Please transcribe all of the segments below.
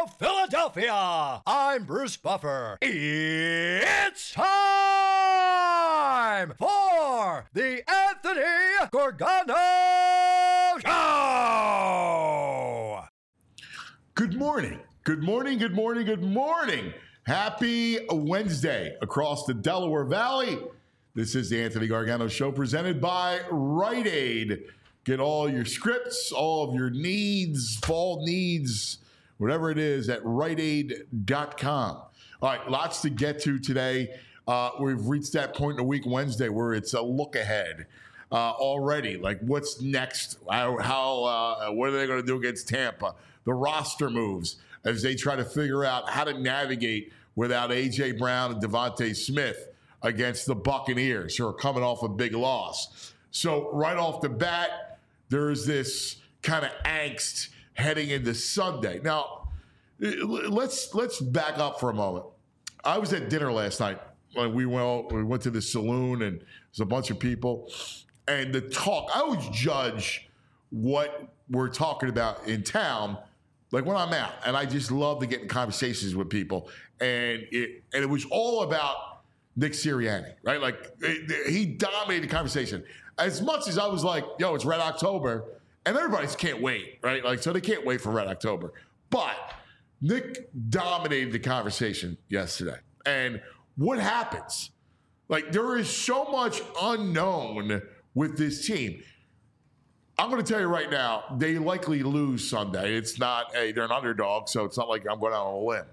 Philadelphia. I'm Bruce Buffer. It's time for the Anthony Gargano Show. Good morning. Good morning. Good morning. Good morning. Happy Wednesday across the Delaware Valley. This is the Anthony Gargano Show presented by Rite Aid. Get all your scripts, all of your needs, fall needs, whatever it is at riteaid.com. All right, lots to get to today. We've reached that point in the week, Wednesday, where it's a look ahead already. Like, what's next? What are they going to do against Tampa? The roster moves as they try to figure out how to navigate without A.J. Brown and Devontae Smith against the Buccaneers, who are coming off a big loss. So right off the bat, there's this kind of angst heading into Sunday. Now, let's back up for a moment. I was at dinner last night when we went to the saloon, and there's a bunch of people. And the talk, I always judge what we're talking about in town, like when I'm out. And I just love to get in conversations with people. And it was all about Nick Sirianni, right? Like, he dominated the conversation. As much as I was like, yo, it's Red October, and everybody can't wait, right? Like, so they can't wait for Red October. But Nick dominated the conversation yesterday. And what happens? Like, there is so much unknown with this team. I'm going to tell you right now, they likely lose Sunday. It's not, they're an underdog, so it's not like I'm going out on a limb.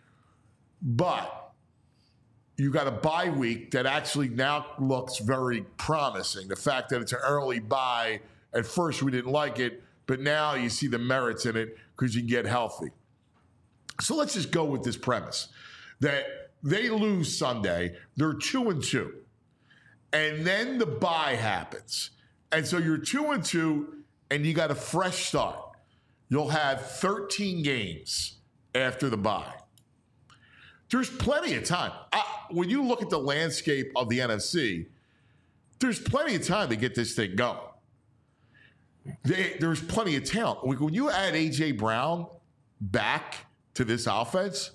But you got a bye week that actually now looks very promising. The fact that it's an early bye, at first we didn't like it, but now you see the merits in it because you can get healthy. So let's just go with this premise that they lose Sunday, they're 2-2, and then the bye happens. And so you're 2-2, and you got a fresh start. You'll have 13 games after the bye. There's plenty of time. When you look at the landscape of the NFC, there's plenty of time to get this thing going. There's plenty of talent. When you add A.J. Brown back to this offense,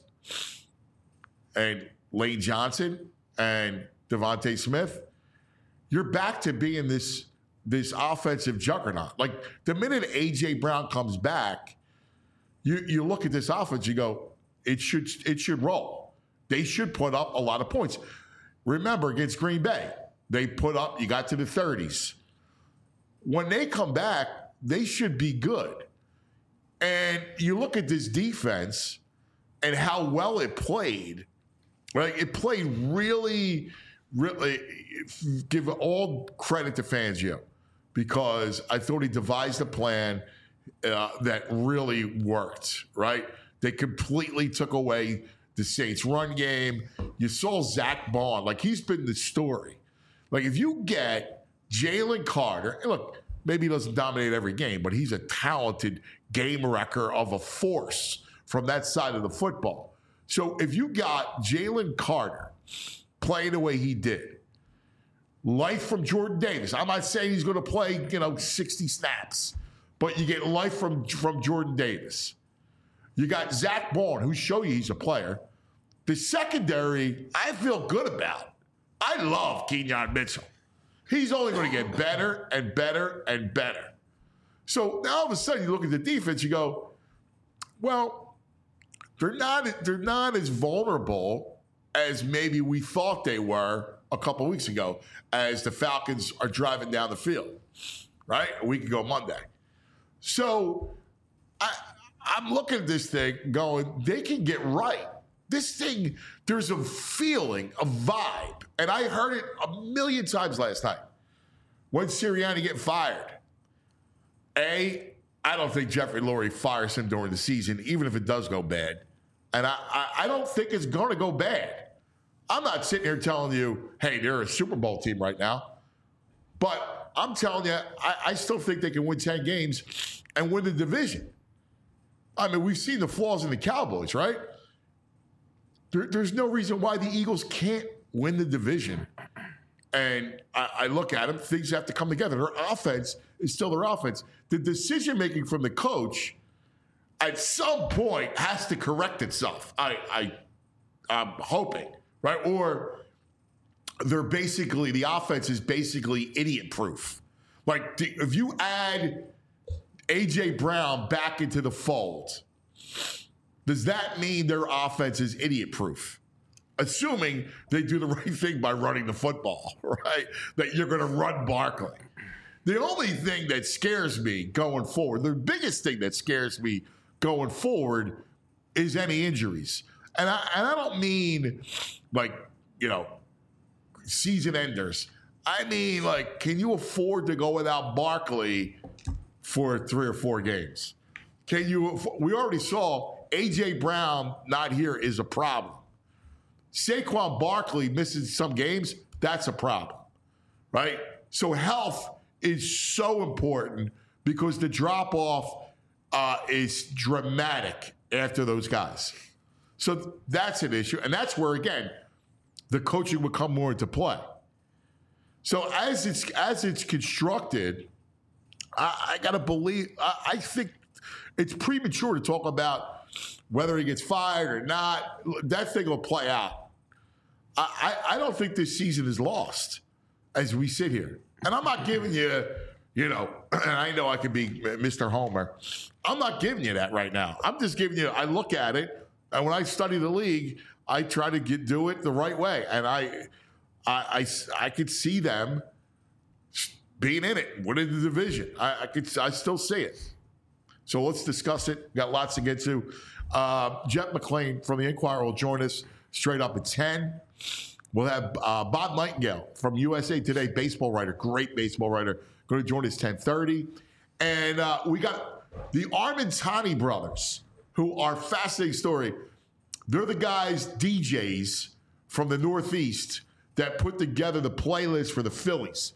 and Lane Johnson and Devontae Smith, you're back to being this offensive juggernaut. Like, the minute A.J. Brown comes back, you look at this offense, you go, it should roll. They should put up a lot of points. Remember, against Green Bay, they put up, you got to the 30s. When they come back, they should be good. And you look at this defense and how well it played. Right? It played really, really, give all credit to Fangio, because I thought he devised a plan that really worked, right? They completely took away the Saints' run game. You saw Zach Bond. Like, he's been the story. Like, if you get Jalen Carter, and look, maybe he doesn't dominate every game, but he's a talented game wrecker of a force from that side of the football. So if you got Jalen Carter playing the way he did, life from Jordan Davis. I'm not saying he's going to play, 60 snaps, but you get life from Jordan Davis. You got Zach Bond, who showed you he's a player. The secondary, I feel good about. I love Kenyon Mitchell. He's only going to get better and better and better. So now all of a sudden you look at the defense, you go, well, they're not as vulnerable as maybe we thought they were a couple weeks ago as the Falcons are driving down the field, right? A week ago Monday. So I'm looking at this thing going, they can get right. This thing, there's a feeling, a vibe, and I heard it a million times last night. When's Sirianni getting fired? I don't think Jeffrey Lurie fires him during the season, even if it does go bad. And I don't think it's going to go bad. I'm not sitting here telling you, hey, they're a Super Bowl team right now. But I'm telling you, I still think they can win 10 games and win the division. I mean, we've seen the flaws in the Cowboys, right? There's no reason why the Eagles can't win the division. And I look at them, things have to come together. Their offense is still their offense. The decision-making from the coach, at some point has to correct itself. I'm hoping, right? Or the offense is basically idiot proof. Like if you add A.J. Brown back into the fold, does that mean their offense is idiot proof? Assuming they do the right thing by running the football, right? That you're going to run Barkley. The only thing that scares me going forward, the biggest thing that scares me going forward is any injuries. And I don't mean like, season enders. I mean, like, can you afford to go without Barkley for 3 or 4 games? We already saw A.J. Brown not here is a problem. Saquon Barkley missing some games, that's a problem, right? So health is so important because the drop-off is dramatic after those guys. So that's an issue. And that's where, again, the coaching would come more into play. So as it's constructed, I got to believe, I think it's premature to talk about whether he gets fired or not. That thing will play out. I don't think this season is lost as we sit here. And I'm not giving you, and I know I could be Mr. Homer. I'm not giving you that right now. I'm just giving you, I look at it, and when I study the league, I try to do it the right way. And I could see them being in it, winning the division. I still see it. So let's discuss it. We've got lots to get to. Jeff McClain from the Inquirer will join us straight up at 10. We'll have Bob Nightingale from USA Today, baseball writer, great baseball writer, going to join us 10:30. And we got the Armentani brothers, who are fascinating story. They're the guys, DJs from the Northeast, that put together the playlist for the Phillies.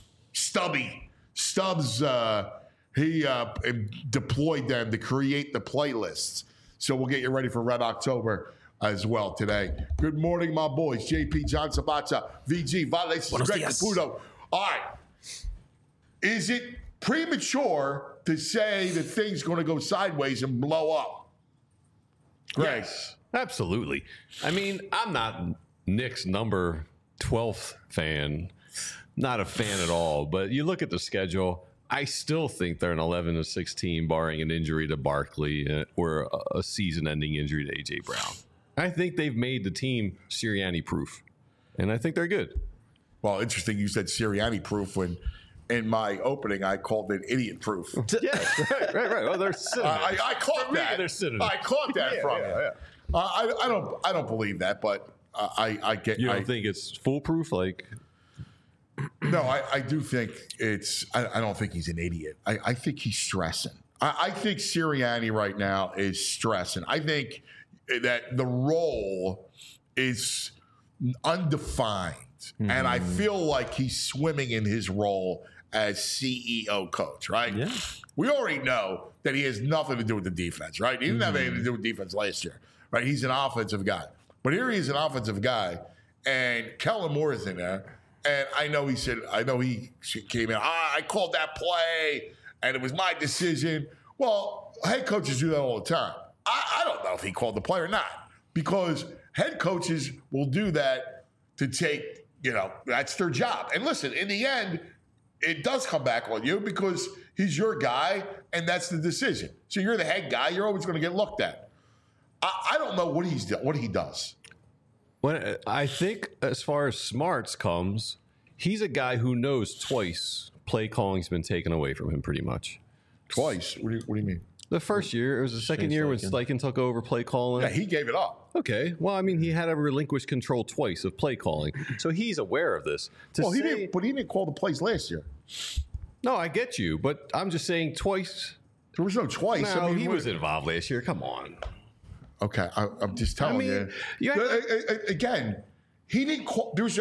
Stubbs, he deployed them to create the playlists. So we'll get you ready for Red October as well today. Good morning, my boys. JP, John Sabata, VG, Violations, Greg Caputo. All right. Is it premature to say that things going to go sideways and blow up? Greg. Yes, absolutely. I mean, I'm not Nick's number 12th fan. Not a fan at all. But you look at the schedule, I still think they're an 11-16, barring an injury to Barkley or a season-ending injury to A.J. Brown. I think they've made the team Sirianni-proof, and I think they're good. Well, interesting you said Sirianni-proof when in my opening I called it idiot-proof. Yeah, right. Well, they're synonyms. I caught that. They're synonyms. I caught that from you. Yeah. I don't believe that, but I get. You don't think it's foolproof? Like, no, I do think it's. I don't think he's an idiot. I think he's stressing. I think Sirianni right now is stressing. I think that the role is undefined, and I feel like he's swimming in his role as CEO coach, right? Yeah. We already know that he has nothing to do with the defense, right? He didn't have anything to do with defense last year, right? He's an offensive guy. But here he is an offensive guy, and Kellen Moore is in there, and I know he came in, I called that play, and it was my decision. Well, head coaches do that all the time. I don't know if he called the play or not, because head coaches will do that to take, that's their job. And listen, in the end, it does come back on you because he's your guy, and that's the decision. So you're the head guy. You're always going to get looked at. I don't know what he does. When I think as far as smarts comes, he's a guy who knows twice play calling's been taken away from him pretty much. Twice? What do you mean? The first year, it was the second year when Steichen took over play calling. Yeah, he gave it up. Okay. Well, I mean, he had to relinquish control twice of play calling. So he's aware of this. He didn't call the plays last year. No, I get you. But I'm just saying twice. There was no twice. No, he was involved last year. Come on. Okay. I'm just telling you. Again, he didn't call. Is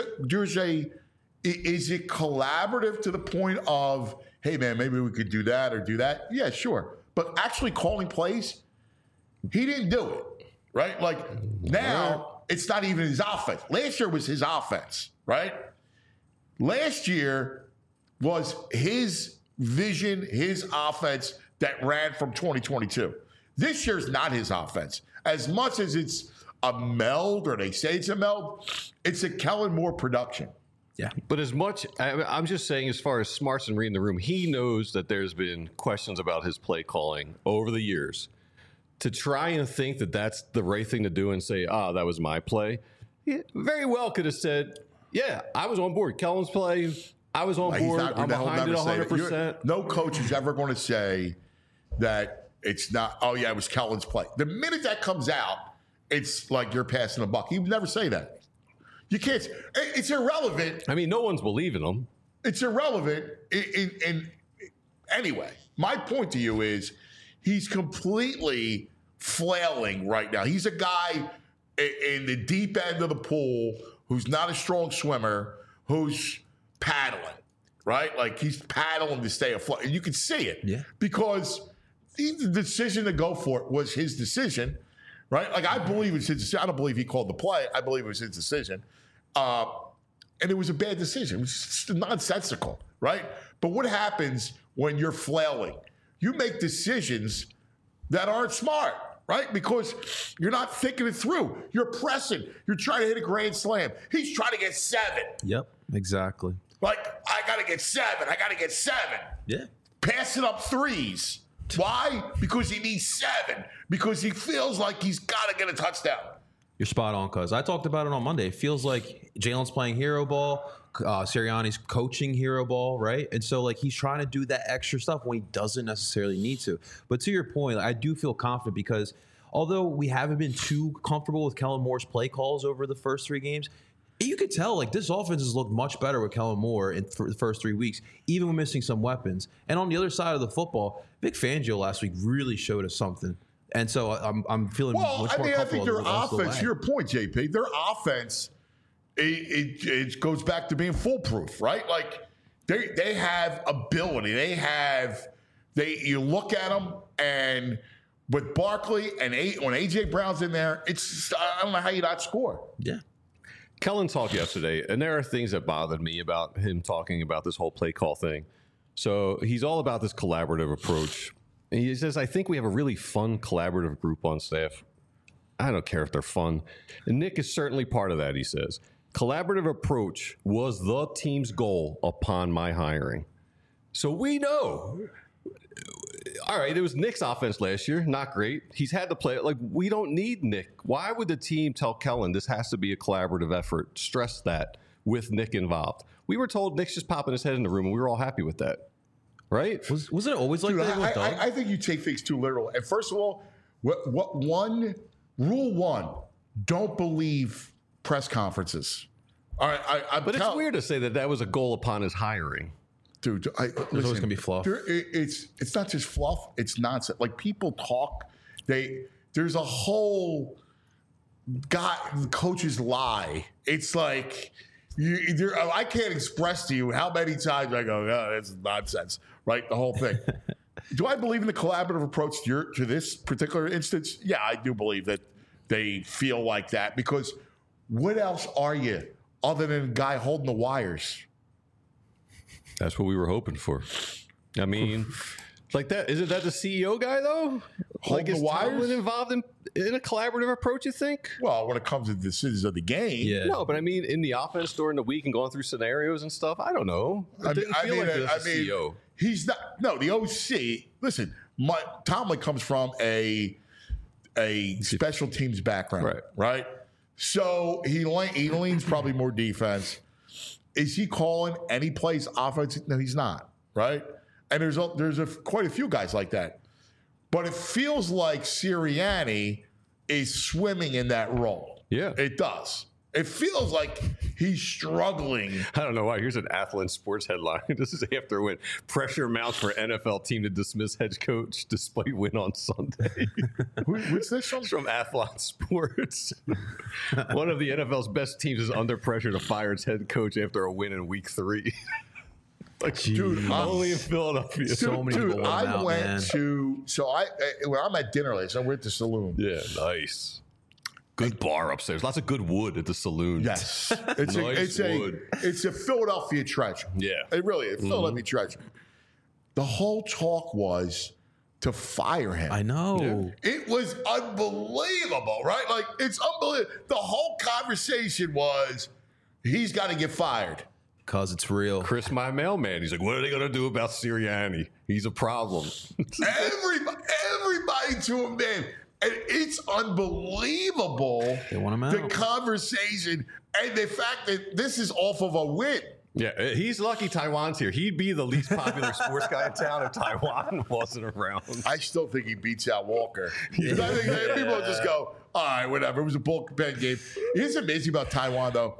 it collaborative to the point of, hey, man, maybe we could do that or do that? Yeah, sure. But actually calling plays, he didn't do it, right? Like now, it's not even his offense. Last year was his offense, right? Last year was his vision, his offense that ran from 2022. This year's not his offense. As much as it's a meld, or they say it's a meld, it's a Kellen Moore production. Yeah. But as much, I'm just saying, as far as smarts and reading the room, he knows that there's been questions about his play calling over the years. To try and think that that's the right thing to do and say, that was my play, he very well could have said, yeah, I was on board. Kellen's play, I was on board. I'm behind it 100%. No coach is ever going to say that it's not, oh, yeah, it was Kellen's play. The minute that comes out, it's like you're passing the buck. He would never say that. You can't. It's irrelevant. I mean, no one's believing him. It's irrelevant. Anyway, my point to you is he's completely flailing right now. He's a guy in the deep end of the pool who's not a strong swimmer, who's paddling, right? Like he's paddling to stay afloat. And you can see it. Yeah. Because the decision to go for it was his decision, right? Like I believe it's his decision. I don't believe he called the play. I believe it was his decision. And it was a bad decision. It was just nonsensical, right? But what happens when you're flailing? You make decisions that aren't smart, right? Because you're not thinking it through. You're pressing. You're trying to hit a grand slam. He's trying to get 7. Yep, exactly. Like, I got to get 7. I got to get 7. Yeah. Passing up threes. Why? Because he needs 7. Because he feels like he's got to get a touchdown. You're spot on, cuz I talked about it on Monday. It feels like Jalen's playing hero ball, Sirianni's coaching hero ball, right? And so, like, he's trying to do that extra stuff when he doesn't necessarily need to. But to your point, I do feel confident because although we haven't been too comfortable with Kellen Moore's play calls over the first 3 games, you could tell, like, this offense has looked much better with Kellen Moore for the first 3 weeks, even when missing some weapons. And on the other side of the football, Vic Fangio last week really showed us something. And so I'm feeling much more comfortable. I think their offense, to your point, JP, their offense, it goes back to being foolproof, right? Like they have ability. You look at them, and with Barkley and when A.J. Brown's in there, it's I don't know how you not score. Yeah. Kellen talked yesterday, and there are things that bothered me about him talking about this whole play call thing. So he's all about this collaborative approach. And he says, I think we have a really fun collaborative group on staff. I don't care if they're fun. And Nick is certainly part of that, he says. Collaborative approach was the team's goal upon my hiring. So we know. All right, it was Nick's offense last year. Not great. He's had to play it. Like, we don't need Nick. Why would the team tell Kellen this has to be a collaborative effort? Stress that with Nick involved. We were told Nick's just popping his head in the room, and we were all happy with that. Right? Was it always like that? I think you take things too literal. And first of all, rule one, don't believe press conferences. All right, but it's weird to say that was a goal upon his hiring. Dude, there's always going to be fluff. It's not just fluff. It's nonsense. Like, people talk. There's a whole coaches lie. It's like I can't express to you how many times I go, oh, that's nonsense, right? The whole thing. Do I believe in the collaborative approach to this particular instance? Yeah, I do believe that they feel like that, because what else are you other than a guy holding the wires? That's what we were hoping for. I mean, like that. Isn't that the CEO guy, though? Hold the wires? Tomlin involved in a collaborative approach, you think? Well, when it comes to the decisions of the game. Yeah. No, but I mean, in the offense during the week and going through scenarios and stuff, I don't know. It didn't feel like the CEO. He's not. No, the OC. Listen, Tomlin comes from a special teams background, right? So he leans probably more defense. Is he calling any plays offense? No, he's not, right? And there's quite a few guys like that. But it feels like Sirianni is swimming in that role. Yeah. It does. It feels like he's struggling. I don't know why. Here's an Athlon Sports headline. This is after a win. Pressure mounts for NFL team to dismiss head coach despite win on Sunday. What's this from? It's from Athlon Sports. One of the NFL's best teams is under pressure to fire its head coach after a win in week 3. Like, dude, only in Philadelphia. So many people I went to when I'm at dinner last night, we're at the saloon. Yeah, nice. Good bar upstairs. Lots of good wood at the saloon. Yes. It's a Philadelphia treasure. Yeah. It really is. Philadelphia treasure. The whole talk was to fire him. I know. It was unbelievable, right? Like, it's unbelievable. The whole conversation was, he's got to get fired. Because it's real. Chris, my mailman, he's like, what are they going to do about Sirianni? He's a problem. Everybody to him, man. And it's unbelievable. They want him out. The conversation and the fact that this is off of a win. Yeah, he's lucky Taiwan's here. He'd be the least popular sports guy in town if Taiwan wasn't around. I still think he beats out Walker. I think that people just go, all right, whatever. It was a bullpen game. Here's what's amazing about Taiwan, though.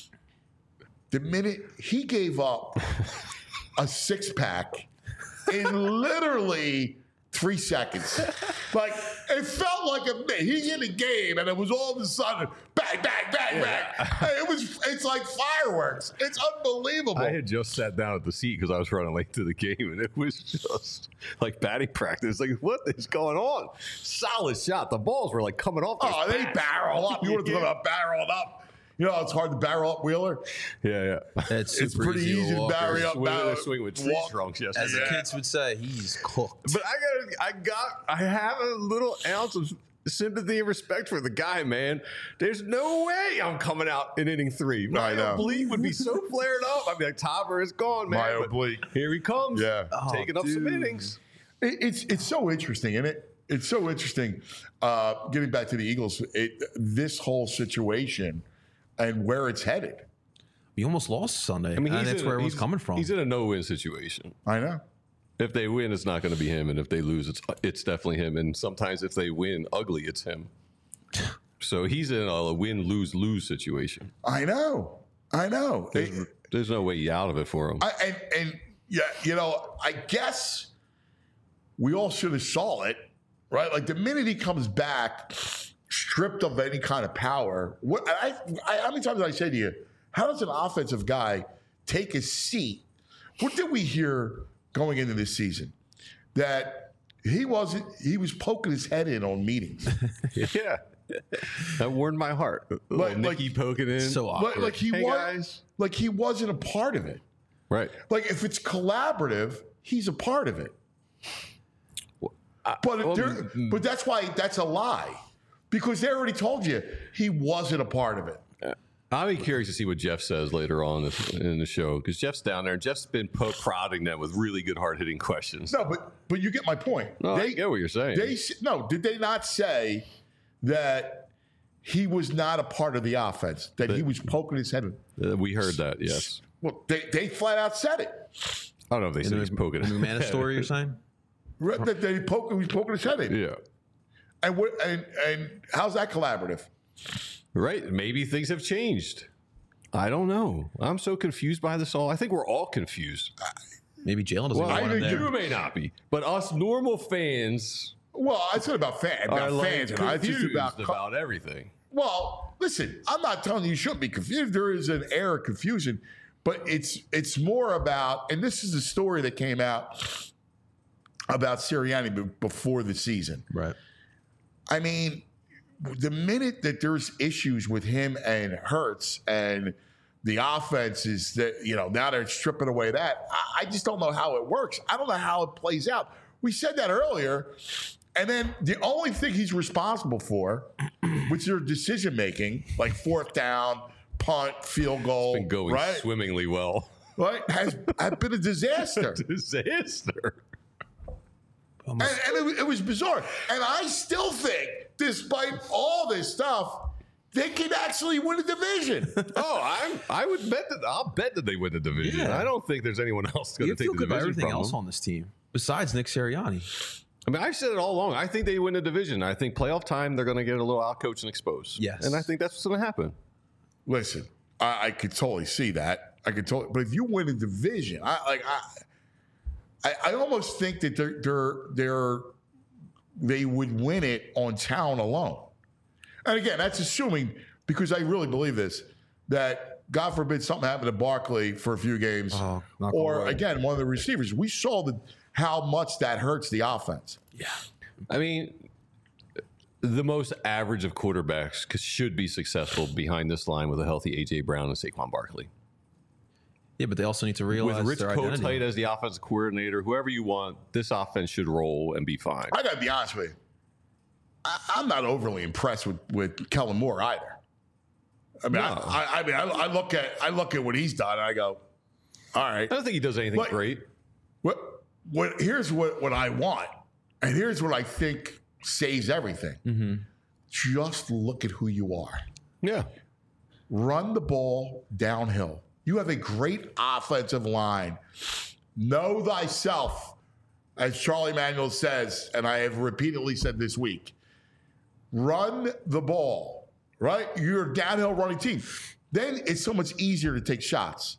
The minute he gave up a 6-pack in literally 3 seconds. Like, it felt like he's in a game, and it was all of a sudden, bang, bang, bang, bang. It's like fireworks. It's unbelievable. I had just sat down at the seat because I was running late to the game, and it was just like batting practice. Like, what is going on? Solid shot. The balls were like coming off. They barrel up. You want to talk about barreling up? You know, it's hard to barrel up Wheeler. Yeah. It's pretty easy to barrel up. They're swinging with tree trunks yesterday. As the kids would say, he's cooked. But I have a little ounce of sympathy and respect for the guy, man. There's no way I'm coming out in inning 3. My oblique would be so flared up. I'd be like, Topper is gone, man. My oblique. Here he comes. Yeah. Taking up some innings. It's so interesting, isn't it? It's so interesting. Getting back to the Eagles, this whole situation and where it's headed. We almost lost Sunday. I mean, that's where it was coming from. He's in a no-win situation. I know. If they win, it's not going to be him, and if they lose, it's definitely him. And sometimes if they win ugly, it's him. So he's in a win-lose-lose situation. I know. There's no way out of it for him. Yeah, you know, I guess we all should have saw it, right? Like the minute he comes back, stripped of any kind of power. How many times did I say to you, how does an offensive guy take a seat? What did we hear going into this season? That he was poking his head in on meetings. Yeah. That warmed my heart. Nicky poking in. So awkward. Like he wasn't a part of it. Right. Like if it's collaborative, he's a part of it. But that's why that's a lie. Because they already told you he wasn't a part of it. I'll be curious to see what Jeff says later on in the show because Jeff's down there and Jeff's been prodding them with really good hard-hitting questions. No, but you get my point. No, I get what you're saying. Did they not say that he was not a part of the offense, that he was poking his head in? We heard that, yes. Well, they flat out said it. I don't know if they said he's poking in the Humana story, you're saying? That he was poking his head in. Yeah. And how's that collaborative? Right. Maybe things have changed. I don't know. I'm so confused by this all. I think we're all confused. Maybe Jalen doesn't want him there. You may not be. But us normal fans. Well, it's not about fans. It's just about everything. Well, listen, I'm not telling you shouldn't be confused. There is an air of confusion. But it's more about, and this is the story that came out about Sirianni before the season. Right. I mean, the minute that there's issues with him and Hurts and the offense is that, you know, now they're stripping away that, I just don't know how it works. I don't know how it plays out. We said that earlier. And then the only thing he's responsible for, which is decision-making, like fourth down, punt, field goal. It's been going swimmingly well. Right? Has been a disaster. And it was bizarre. And I still think, despite all this stuff, they can actually win a division. I would bet that. I'll bet that they win the division. Yeah. I don't think there's anyone else going to take the division everything from else them. on this team besides Nick Sirianni. I mean, I've said it all along. I think they win the division. I think playoff time they're going to get a little outcoached and exposed. Yes, and I think that's what's going to happen. Listen, I could totally see that. But if you win a division, I almost think that they would win it on talent alone. And again, that's assuming, because I really believe this, that God forbid something happened to Barkley for a few games, or again, one of the receivers. We saw how much that hurts the offense. Yeah. I mean, the most average of quarterbacks should be successful behind this line with a healthy A.J. Brown and Saquon Barkley. Yeah, but they also need to realize With Rich their identity. Kotite as the offensive coordinator, whoever you want, this offense should roll and be fine. I got to be honest with you. I'm not overly impressed with Kellen Moore either. I mean, No. I look at what he's done and I go, all right. I don't think he does anything great. Here's what I want, and here's what I think saves everything. Mm-hmm. Just look at who you are. Yeah. Run the ball downhill. You have a great offensive line. Know thyself, as Charlie Manuel says, and I have repeatedly said this week. Run the ball, right? You're a downhill running team. Then it's so much easier to take shots.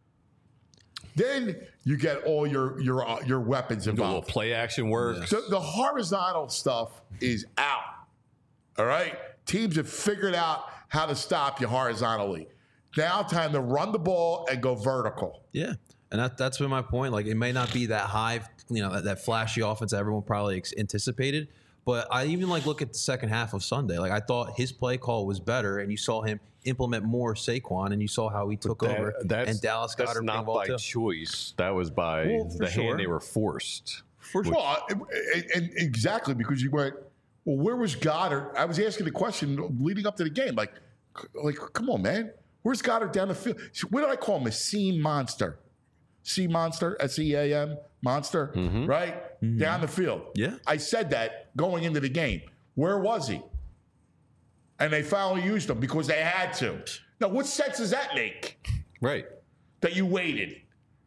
Then you get all your weapons Do a little involved. play action work. So the horizontal stuff is out. All right? Teams have figured out how to stop you horizontally. Now time to run the ball and go vertical. Yeah. And that's been my point. Like, it may not be that high, that flashy offense that everyone probably anticipated. But I even look at the second half of Sunday. Like, I thought his play call was better, and you saw him implement more Saquon, and you saw how he took over. And Dallas got that's not by choice. That was by the hand they were forced. For sure. Well, and exactly, because you went, well, where was Goddard? I was asking the question leading up to the game. Like, come on, man. Where's Goddard down the field? What did I call him? A seam monster. Sea monster, SEAM, monster, right? Mm-hmm. Down the field. Yeah. I said that going into the game. Where was he? And they finally used him because they had to. Now, what sense does that make? Right. That you waited?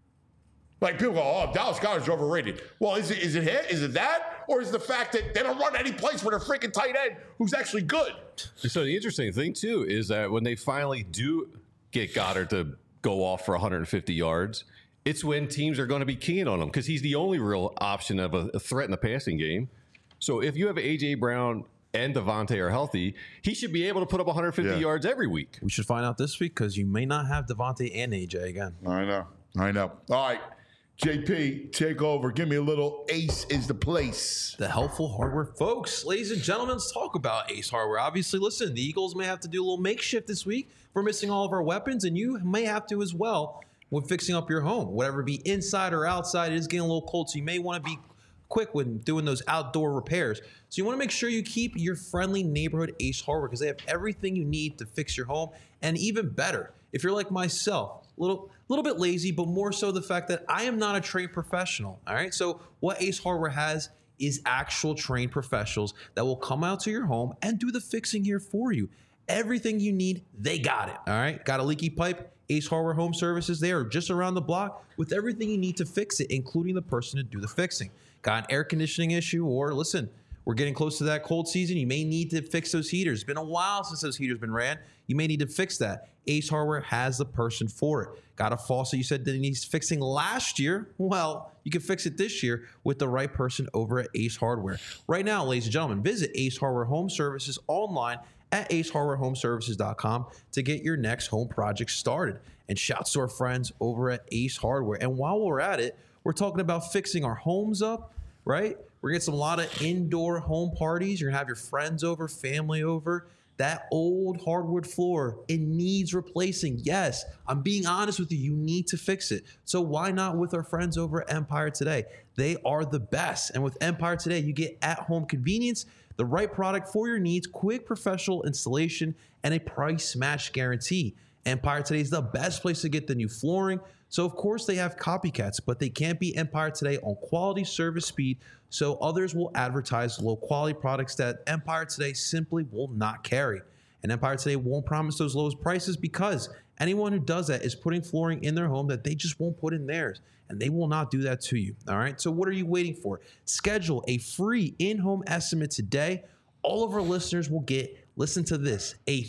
Like, people go, oh, Dallas Goedert's overrated. Well, is it that? Or is it the fact that they don't run any place with a freaking tight end who's actually good? So the interesting thing, too, is that when they finally do get Goddard to go off for 150 yards, it's when teams are going to be keen on him because he's the only real option of a threat in the passing game. So if you have A.J. Brown and Devontae are healthy, he should be able to put up 150 yards every week. We should find out this week because you may not have Devontae and A.J. again. I know. All right. JP, take over. Give me a little Ace is the place. The helpful hardware folks. Ladies and gentlemen, let's talk about Ace Hardware. Obviously, listen, the Eagles may have to do a little makeshift this week. We're missing all of our weapons, and you may have to as well when fixing up your home. Whatever be inside or outside, it is getting a little cold, so you may want to be quick when doing those outdoor repairs. So you want to make sure you keep your friendly neighborhood Ace Hardware because they have everything you need to fix your home, and even better, if you're like myself, a little bit lazy, but more so the fact that I am not a trained professional. All right. So what Ace Hardware has is actual trained professionals that will come out to your home and do the fixing here for you. Everything you need, they got it. All right. Got a leaky pipe? Ace Hardware Home Services, they are just around the block with everything you need to fix it, including the person to do the fixing. Got an air conditioning issue, or listen, we're getting close to that cold season. You may need to fix those heaters. It's been a while since those heaters been ran. You may need to fix that. Ace Hardware has the person for it. Got a faucet you said that needs fixing last year? Well, you can fix it this year with the right person over at Ace Hardware. Right now, ladies and gentlemen, visit Ace Hardware Home Services online at acehardwarehomeservices.com to get your next home project started. And shouts to our friends over at Ace Hardware. And while we're at it, we're talking about fixing our homes up, right? We're getting a lot of indoor home parties. You're going to have your friends over, family over. That old hardwood floor, it needs replacing. Yes, I'm being honest with you. You need to fix it. So why not with our friends over at Empire Today? They are the best. And with Empire Today, you get at-home convenience, the right product for your needs, quick professional installation, and a price match guarantee. Empire Today is the best place to get the new flooring. So, of course, they have copycats, but they can't beat Empire Today on quality, service, speed. So others will advertise low-quality products that Empire Today simply will not carry. And Empire Today won't promise those lowest prices because anyone who does that is putting flooring in their home that they just won't put in theirs. And they will not do that to you. All right. So what are you waiting for? Schedule a free in-home estimate today. All of our listeners will get, listen to this, a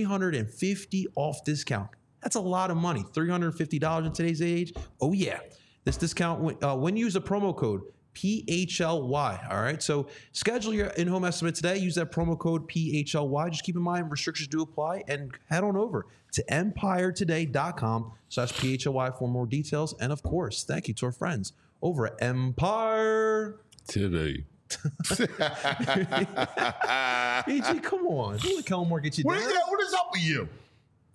$350 off discount. That's a lot of money. $350 in today's age. Oh, yeah. This discount, when you use the promo code PHLY. All right. So schedule your in-home estimate today. Use that promo code PHLY. Just keep in mind restrictions do apply and head on over to empiretoday.com/PHLY for more details. And of course, thank you to our friends over at Empire Today. AJ, come on. Don't let Kellen Moore get you down. What is up with you?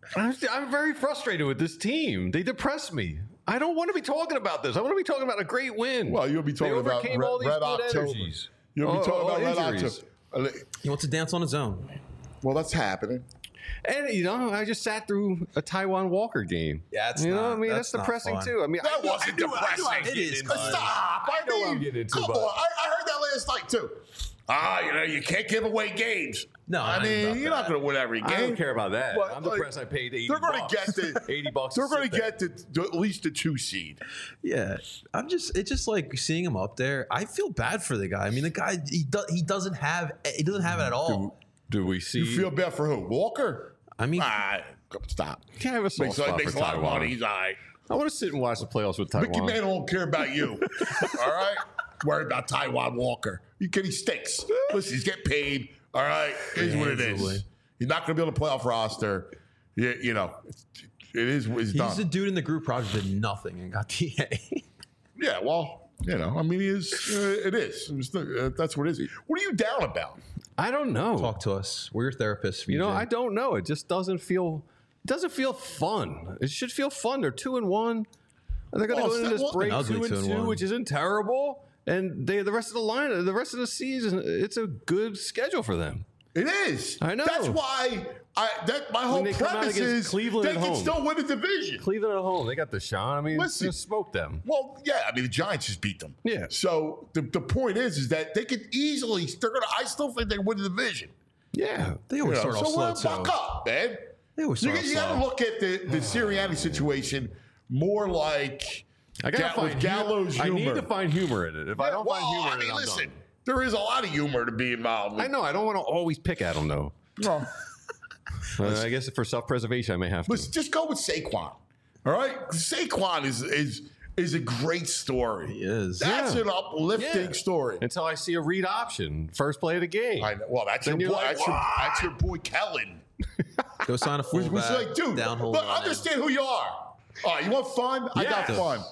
I'm very frustrated with this team. They depress me. I don't want to be talking about this. I want to be talking about a great win. Well, you'll be talking about overcame all these Red good October. energies. You'll be talking about Red injuries. October. He wants to dance on his own. Well, that's happening. And I just sat through a Taiwan Walker game. Yeah, it's you know not- what I mean, that's that's not depressing fun. too. I mean, That I wasn't depressing. It is. Stop. I know I'm getting into, come but- on. I heard that last night too. You can't give away games. No, I I ain't mean, about you're that. not going to win every game. I don't care about that. But, I'm like, depressed. I paid $80. They're going to get the $80. They're going to sit there. get to at least the 2 seed. Yeah, it's just like seeing him up there. I feel bad for the guy. I mean, the guy he doesn't have it at all. Do we see? You feel bad for who? Walker? I mean, Stop. Can I have a soft spot Makes for a lot of Taiwan? money. He's all right. I want to sit and watch the playoffs with Taiwan. Mickey Mantle don't care about you. All right? Worried about Taiwan Walker. He stinks. Listen, he's getting paid. All right? It is what it Handsomely. is. He's not going to be on the playoff roster. You know, it is what it's he's done. the dude in the group project that did nothing and got the A. Yeah, well, I mean, he is. It is. That's what it is. What are you down about? I don't know. Talk to us. We're your therapists. You know, VJ. I don't know. It just doesn't feel. It doesn't feel fun. It should feel fun. They're 2-1. And they're going to go into this break An ugly 2-2, 2-1. which isn't terrible. And the rest of the line, the rest of the season, it's a good schedule for them. It is. I know. That's why my whole they come out premise against is Cleveland they at can home. still win the division. Cleveland at home, they got Deshaun. I mean, Listen. just smoke them. Well, yeah, I mean the Giants just beat them. Yeah. So the point is that they could easily. I still think they win the division. Yeah. They always start off so slow fuck too. up, man. They always You, start off you got to slow. look at the Sirianni situation more like I gotta with find Gallows I humor. need to find humor in it. If I don't find humor in it, I'm listen, done. there is a lot of humor to be involved with. I know. I don't want to always pick at them, though. Well, I guess for self-preservation, I may have to. listen, just go with Saquon. All right, Saquon is a great story. He is. That's Yeah. an uplifting Yeah. story. Until I see a read option, first play of the game. I know. Well, that's your Then boy. you're like, That's your boy Kellen. Go sign a Was fullback. like, dude, downhole but running. understand who you are. All right, you want fun? I got Yes. fun.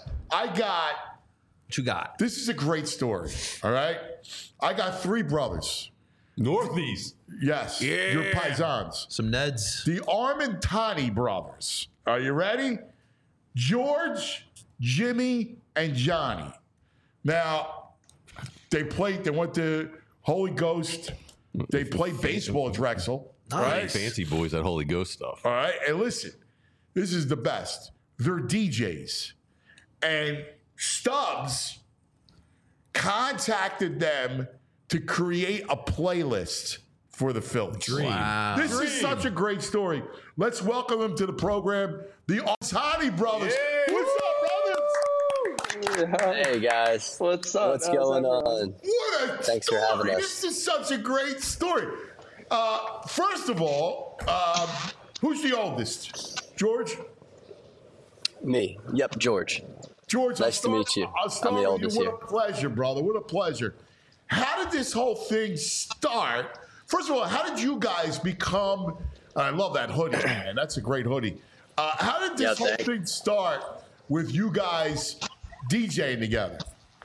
What you got? This is a great story. All right, I got 3 brothers. Northeast. Yes, your paisans. Some Neds. The Armentani brothers. Are you ready? George, Jimmy, and Johnny. Now, they went to Holy Ghost. They played baseball at Drexel. All right? Fancy boys, that Holy Ghost stuff. All right. And listen, this is the best. They're DJs. And Stubbs contacted them to create a playlist for the Phillies. Wow. This is such a great story. Let's welcome them to the program. The Armentani brothers. What's up, brothers? Hey guys, What's up? what's How's going everyone? on? What a Thanks for story. having us. This is such a great story. First of all, who's the oldest? George? Me. Yep, George. George, Nice to meet you. I'll start I'm the with oldest you. here. What a pleasure, brother. What a pleasure. How did this whole thing start? First of all, how did you guys become? I love that hoodie, man. That's a great hoodie. How did this Yeah, whole thanks. thing start with you guys DJing together?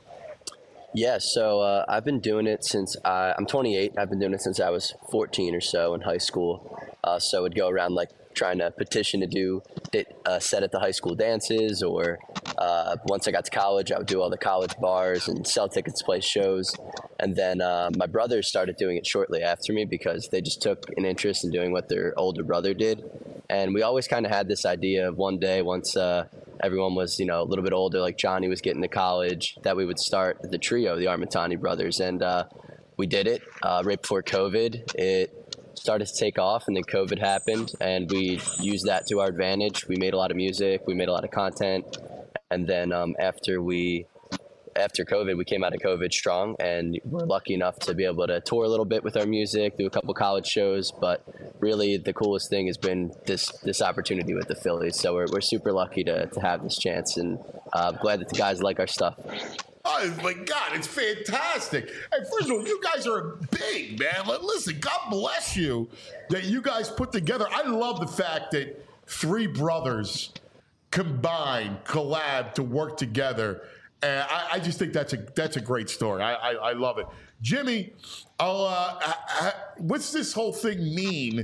Yeah, so I've been doing it since I'm 28. I've been doing it since I was 14 or so in high school. So I would go around like trying to petition to do a set at the high school dances, or once I got to college, I would do all the college bars and sell tickets to play shows. And then my brothers started doing it shortly after me because they just took an interest in doing what their older brother did. And we always kind of had this idea of one day, once everyone was, a little bit older, like Johnny was getting to college, that we would start the trio, the Armentani brothers. And we did it right before COVID. It started to take off, and then COVID happened, and we used that to our advantage. We made a lot of music, we made a lot of content, and then after COVID, we came out of COVID strong, and we're lucky enough to be able to tour a little bit with our music, do a couple college shows. But really, the coolest thing has been this opportunity with the Phillies. So we're super lucky to have this chance, and I'm glad that the guys like our stuff. Oh my God, it's fantastic. And first of all, you guys are big, man. Listen, God bless you that you guys put together. I love the fact that 3 brothers combined, collab to work together. And I just think that's a great story. I love it. Jimmy, what's this whole thing mean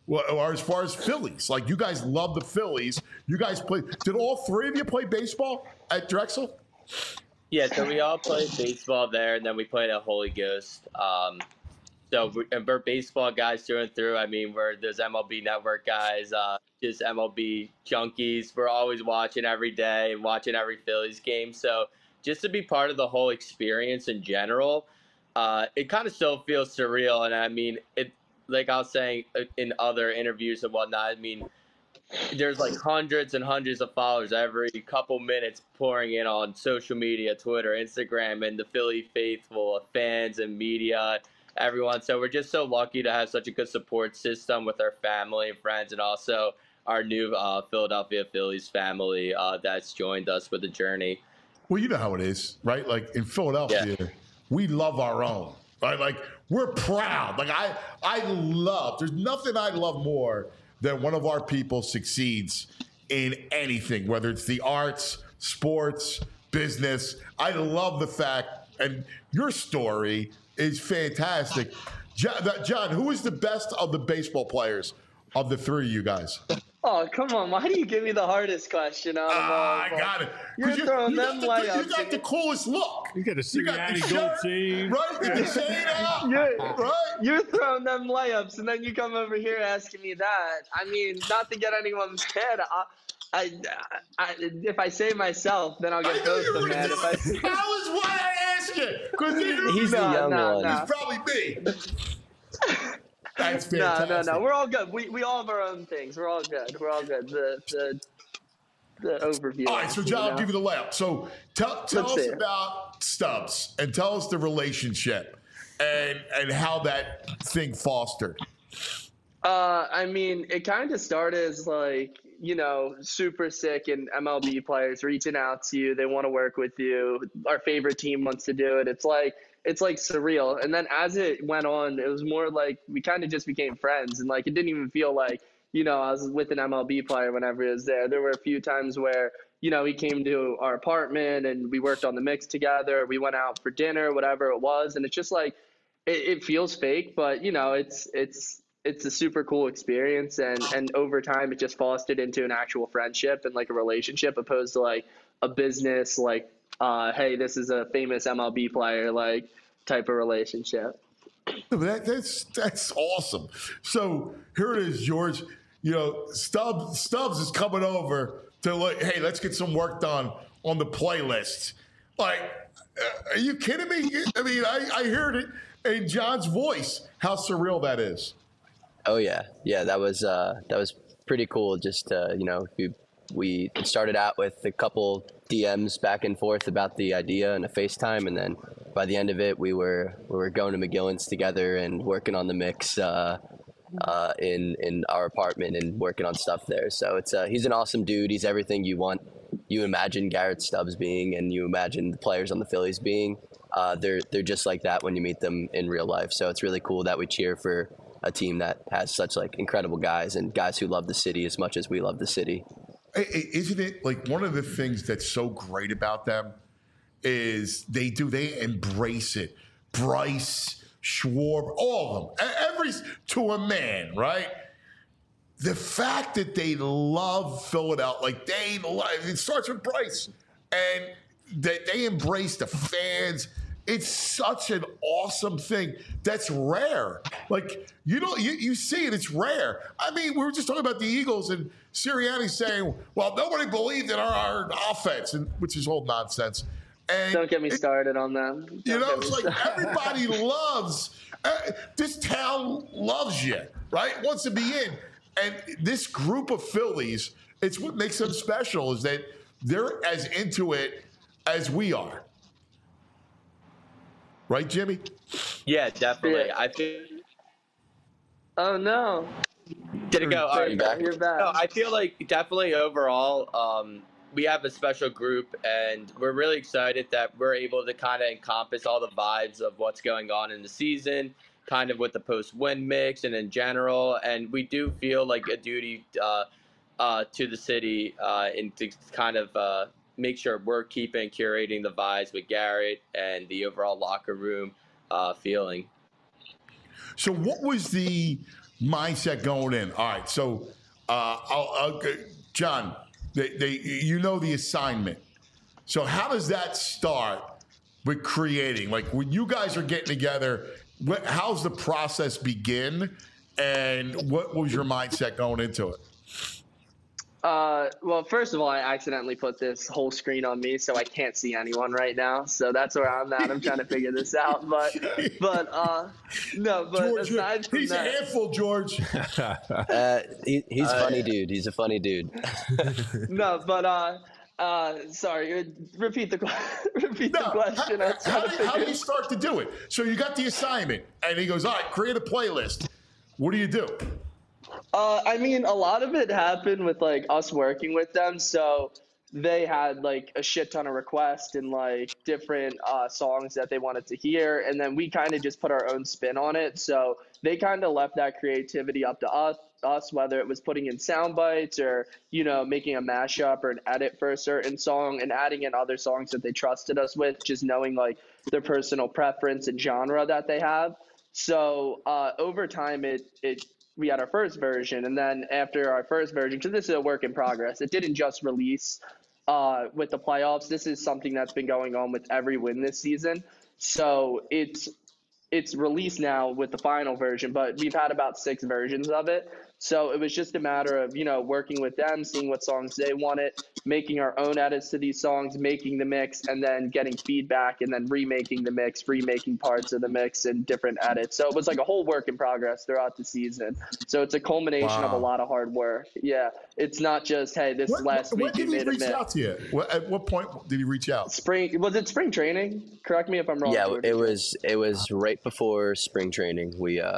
Well, or as far as Phillies, like you guys love the Phillies. You guys play. Did all three of you play baseball at Drexel? Yeah, so we all played baseball there, and then we played at Holy Ghost. We're baseball guys through and through. I mean, we're those MLB Network guys, just MLB junkies. We're always watching every day and watching every Phillies game. So just to be part of the whole experience in general, it kind of still feels surreal. And I mean, it like I was saying in other interviews and whatnot, I mean, there's like hundreds and hundreds of followers every couple minutes pouring in on social media, Twitter, Instagram, and the Philly faithful, fans and media, everyone. So we're just so lucky to have such a good support system with our family and friends, and also our new Philadelphia Phillies family that's joined us with the journey. Well, you know how it is, right? Like in Philadelphia, we love our own, right? Like we're proud. Like I love, there's nothing I love more than one of our people succeeds in anything, whether it's the arts, sports, business. I love the fact, and your story is fantastic. John, who is the best of the baseball players of the three of you guys? Oh, come on. Why do you give me the hardest question out of all? I got it. You're throwing them layups. You got the coolest look. You got a Sirianni gold team. Right? With the chain out. Right? You're throwing them layups, and then you come over here asking me that. I mean, not to get anyone mad. If I say myself, then I'll get both of them mad. That was why I asked you. He's the young one. He's probably me. That's fantastic. No. We're all good. We all have our own things. We're all good. The overview. All right, so John, I'll give you the layup. So tell us about Stubbs and tell us the relationship and how that thing fostered. I mean, it kind of started as like, super sick and MLB players reaching out to you. They want to work with you. Our favorite team wants to do it. It's like surreal. And then as it went on, it was more like we kind of just became friends. And like, it didn't even feel like, I was with an MLB player whenever he was there. There were a few times where, he came to our apartment and we worked on the mix together. We went out for dinner, whatever it was. And it's just like, it feels fake, but it's a super cool experience. And over time, it just fostered into an actual friendship and like a relationship opposed to like a business, like, hey, this is a famous MLB player, like type of relationship. That's awesome. So here it is, George. Stubbs is coming over to like, hey, let's get some work done on the playlist. Like, are you kidding me? I mean, I heard it in John's voice how surreal that is. Oh yeah, that was pretty cool. Just we started out with a couple DMs back and forth about the idea and a FaceTime, and then by the end of it, we were going to McGillen's together and working on the mix in our apartment and working on stuff there. So he's an awesome dude. He's everything you imagine Garrett Stubbs being, and you imagine the players on the Phillies being. They're just like that when you meet them in real life. So it's really cool that we cheer for a team that has such like incredible guys and guys who love the city as much as we love the city. Isn't it like one of the things that's so great about them is they embrace it. Bryce, Schwarber, all of them, to a man, right? The fact that they love Philadelphia, like it starts with Bryce, and that they embrace the fans. It's such an awesome thing. That's rare. Like, you see it, it's rare. I mean, we were just talking about the Eagles and Sirianni saying, well, nobody believed in our offense, which is all nonsense. And don't get me started on them. It's like everybody loves, this town loves you, right? Wants to be in. And this group of Phillies, it's what makes them special is that they're as into it as we are. Right, Jimmy? Yeah, definitely. Yeah. I feel. Oh no! Did it go? Sorry, back. You're back. No, I feel like definitely overall, we have a special group, and we're really excited that we're able to kind of encompass all the vibes of what's going on in the season, kind of with the post-win mix and in general. And we do feel like a duty to the city and to kind of make sure we're curating the vibes with Garrett and the overall locker room feeling. So what was the mindset going in. All right, so John, you know the assignment. So how does that start with creating? Like when you guys are getting together, how's the process begin, and what was your mindset going into it? Well, first of all, I accidentally put this whole screen on me, so I can't see anyone right now. So that's where I'm at. I'm trying to figure this out. But George, aside from he's that, a handful, George. He's a funny dude. He's a funny dude. no, but sorry, repeat the question. How do you start to do it? So you got the assignment, and he goes, all right, create a playlist. What do you do? I mean, a lot of it happened with like us working with them. So they had like a shit ton of requests and like different songs that they wanted to hear. And then we kind of just put our own spin on it. So they kind of left that creativity up to us, whether it was putting in sound bites or, making a mashup or an edit for a certain song and adding in other songs that they trusted us with, just knowing like their personal preference and genre that they have. So over time, we had our first version, and then after our first version, because this is a work in progress, it didn't just release with the playoffs. This is something that's been going on with every win this season. So it's released now with the final version, but we've had about 6 versions of it. So it was just a matter of, working with them, seeing what songs they wanted, making our own edits to these songs, making the mix, and then getting feedback, and then remaking the mix, remaking parts of the mix and different edits. So it was like a whole work in progress throughout the season. So it's a culmination of a lot of hard work. Yeah. It's not just, hey, this last week you made a mix. When did he reach out to you? At what point did he reach out? Was it spring training? Correct me if I'm wrong. Yeah, it was right before spring training.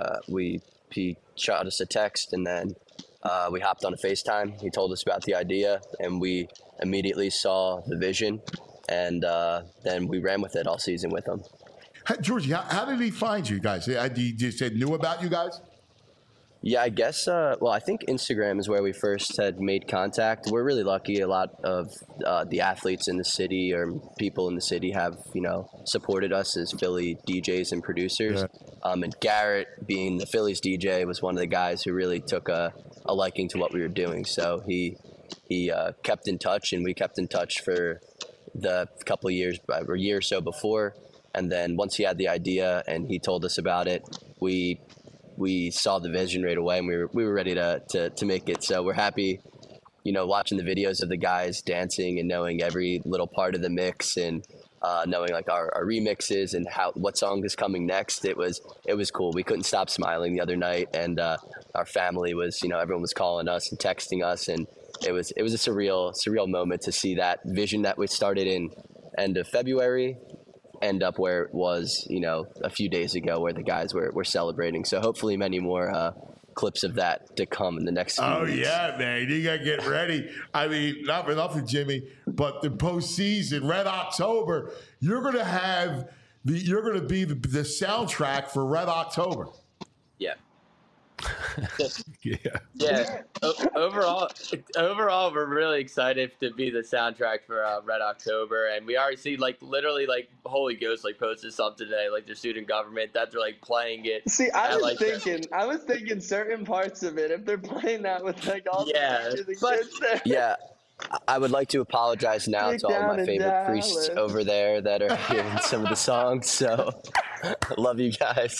He shot us a text, and then we hopped on a FaceTime. He told us about the idea, and we immediately saw the vision, and then we ran with it all season with him. Georgie, how did he find you guys? He just knew about you guys? Yeah, I guess, I think Instagram is where we first had made contact. We're really lucky. A lot of the athletes in the city or people in the city have, supported us as Philly DJs and producers. Yeah. And Garrett, being the Phillies DJ, was one of the guys who really took a liking to what we were doing. So he kept in touch, and we kept in touch for the couple of years, or a year or so before. And then once he had the idea and he told us about it, we saw the vision right away, and we were ready to make it. So we're happy, watching the videos of the guys dancing and knowing every little part of the mix, and knowing like our remixes and what song is coming next. It was cool. We couldn't stop smiling the other night, and our family was, everyone was calling us and texting us, and it was a surreal moment to see that vision that we started in end of February end up where it was, a few days ago, where the guys were celebrating. So hopefully many more clips of that to come in the next few weeks. Yeah, man, you gotta get ready. I mean, not for nothing, Jimmy, but the postseason, Red October, you're gonna be the soundtrack for Red October. Yeah. Yeah. Overall, we're really excited to be the soundtrack for Red October, and we already see literally Holy Ghost posted something today, the student government that they're playing it. See, I was thinking certain parts of it, if they're playing that with all the kids there. Yeah. I would like to apologize now to all of my favorite priests over there that are hearing some of the songs. So, love you guys.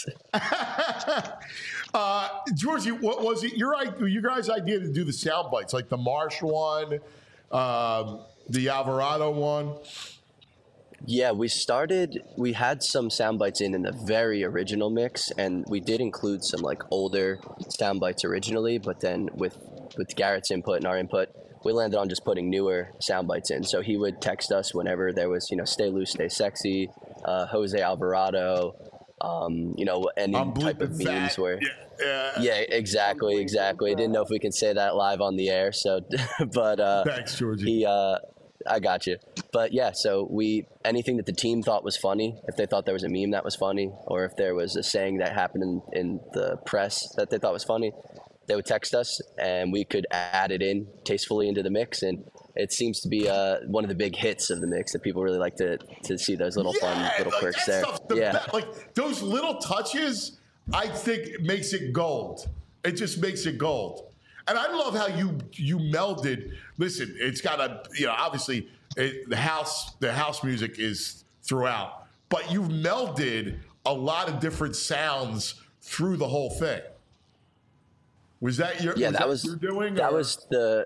Georgie, what was it your guys' idea to do the sound bites, like the Marsh one, the Alvarado one? Yeah, we had some sound bites in the very original mix, and we did include some older sound bites originally, but then with Garrett's input and our input, we landed on just putting newer sound bites in. So he would text us whenever there was, Stay Loose, Stay Sexy, Jose Alvarado, any type of memes where. Yeah, exactly. Didn't know if we could say that live on the air. So, but thanks, Georgie. I got you. But yeah, so anything that the team thought was funny, if they thought there was a meme that was funny, or if there was a saying that happened in the press that they thought was funny, they would text us, and we could add it in tastefully into the mix. And it seems to be one of the big hits of the mix that people really like to see those little fun little quirks there. Those little touches, I think, makes it gold. It just makes it gold. And I love how you melded. Listen, it's got obviously the house music is throughout, but you've melded a lot of different sounds through the whole thing. Was that your doing? That was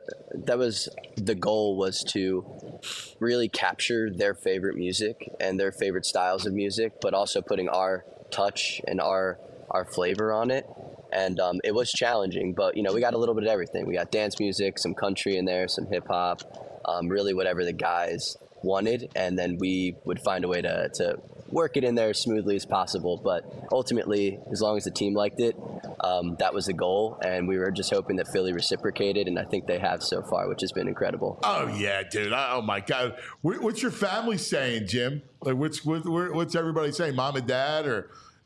the goal, was to really capture their favorite music and their favorite styles of music, but also putting our touch and our flavor on it. And it was challenging, but we got a little bit of everything. We got dance music, some country in there, some hip hop, really whatever the guys wanted, and then we would find a way to work it in there as smoothly as possible. But ultimately, as long as the team liked it, that was the goal, and we were just hoping that Philly reciprocated, and I think they have so far, which has been incredible. Oh yeah, dude! Oh my God, what's your family saying, Jim? Like, what's everybody saying? Mom and dad, or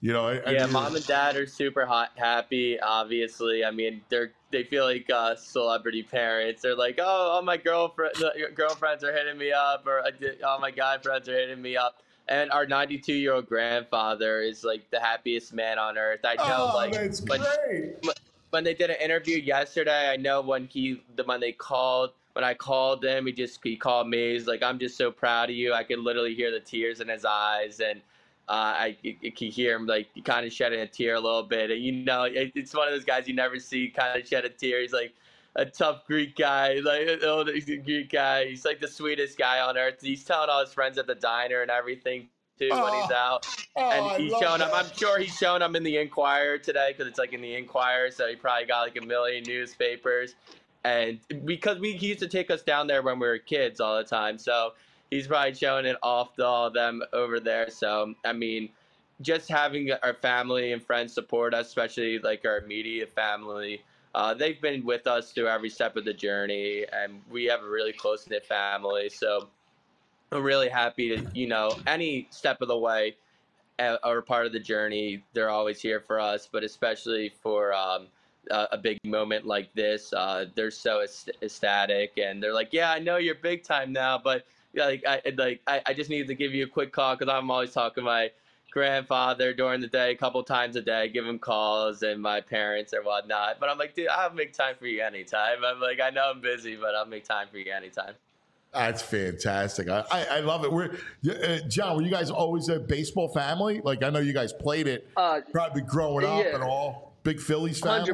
Mom and dad are super happy. Obviously, I mean, they feel like celebrity parents. They're like, oh, my girlfriends are hitting me up, or all my guy friends are hitting me up. And our 92-year-old grandfather is like the happiest man on earth. I know, that's great. When they did an interview yesterday, I know when I called him, he called me. He's like, I'm just so proud of you. I could literally hear the tears in his eyes, and I can hear him like kind of shedding a tear a little bit. And it's one of those guys you never see kind of shed a tear. He's like a tough Greek guy, like an old Greek guy. He's like the sweetest guy on earth. He's telling all his friends at the diner and everything too when he's out. And he's showing them. I'm sure he's showing them in the Inquirer today, because it's like in the Inquirer. So he probably got like a million newspapers. And because he used to take us down there when we were kids all the time, so he's probably showing it off to all of them over there. So I mean, just having our family and friends support us, especially like our immediate family. They've been with us through every step of the journey, and we have a really close-knit family. So I'm really happy to, any step of the way or part of the journey, they're always here for us. But especially for a big moment like this, they're so ecstatic, and they're like, "Yeah, I know you're big time now, but I just needed to give you a quick call, because I'm always talking to my grandfather during the day, a couple times a day, give him calls, and my parents or whatnot." But I'm like, dude, I'll make time for you anytime. I'm like, I know I'm busy, but I'll make time for you anytime. That's fantastic. I love it. John, were you guys always a baseball family? Like, I know you guys played it probably growing up and all. Big Phillies family?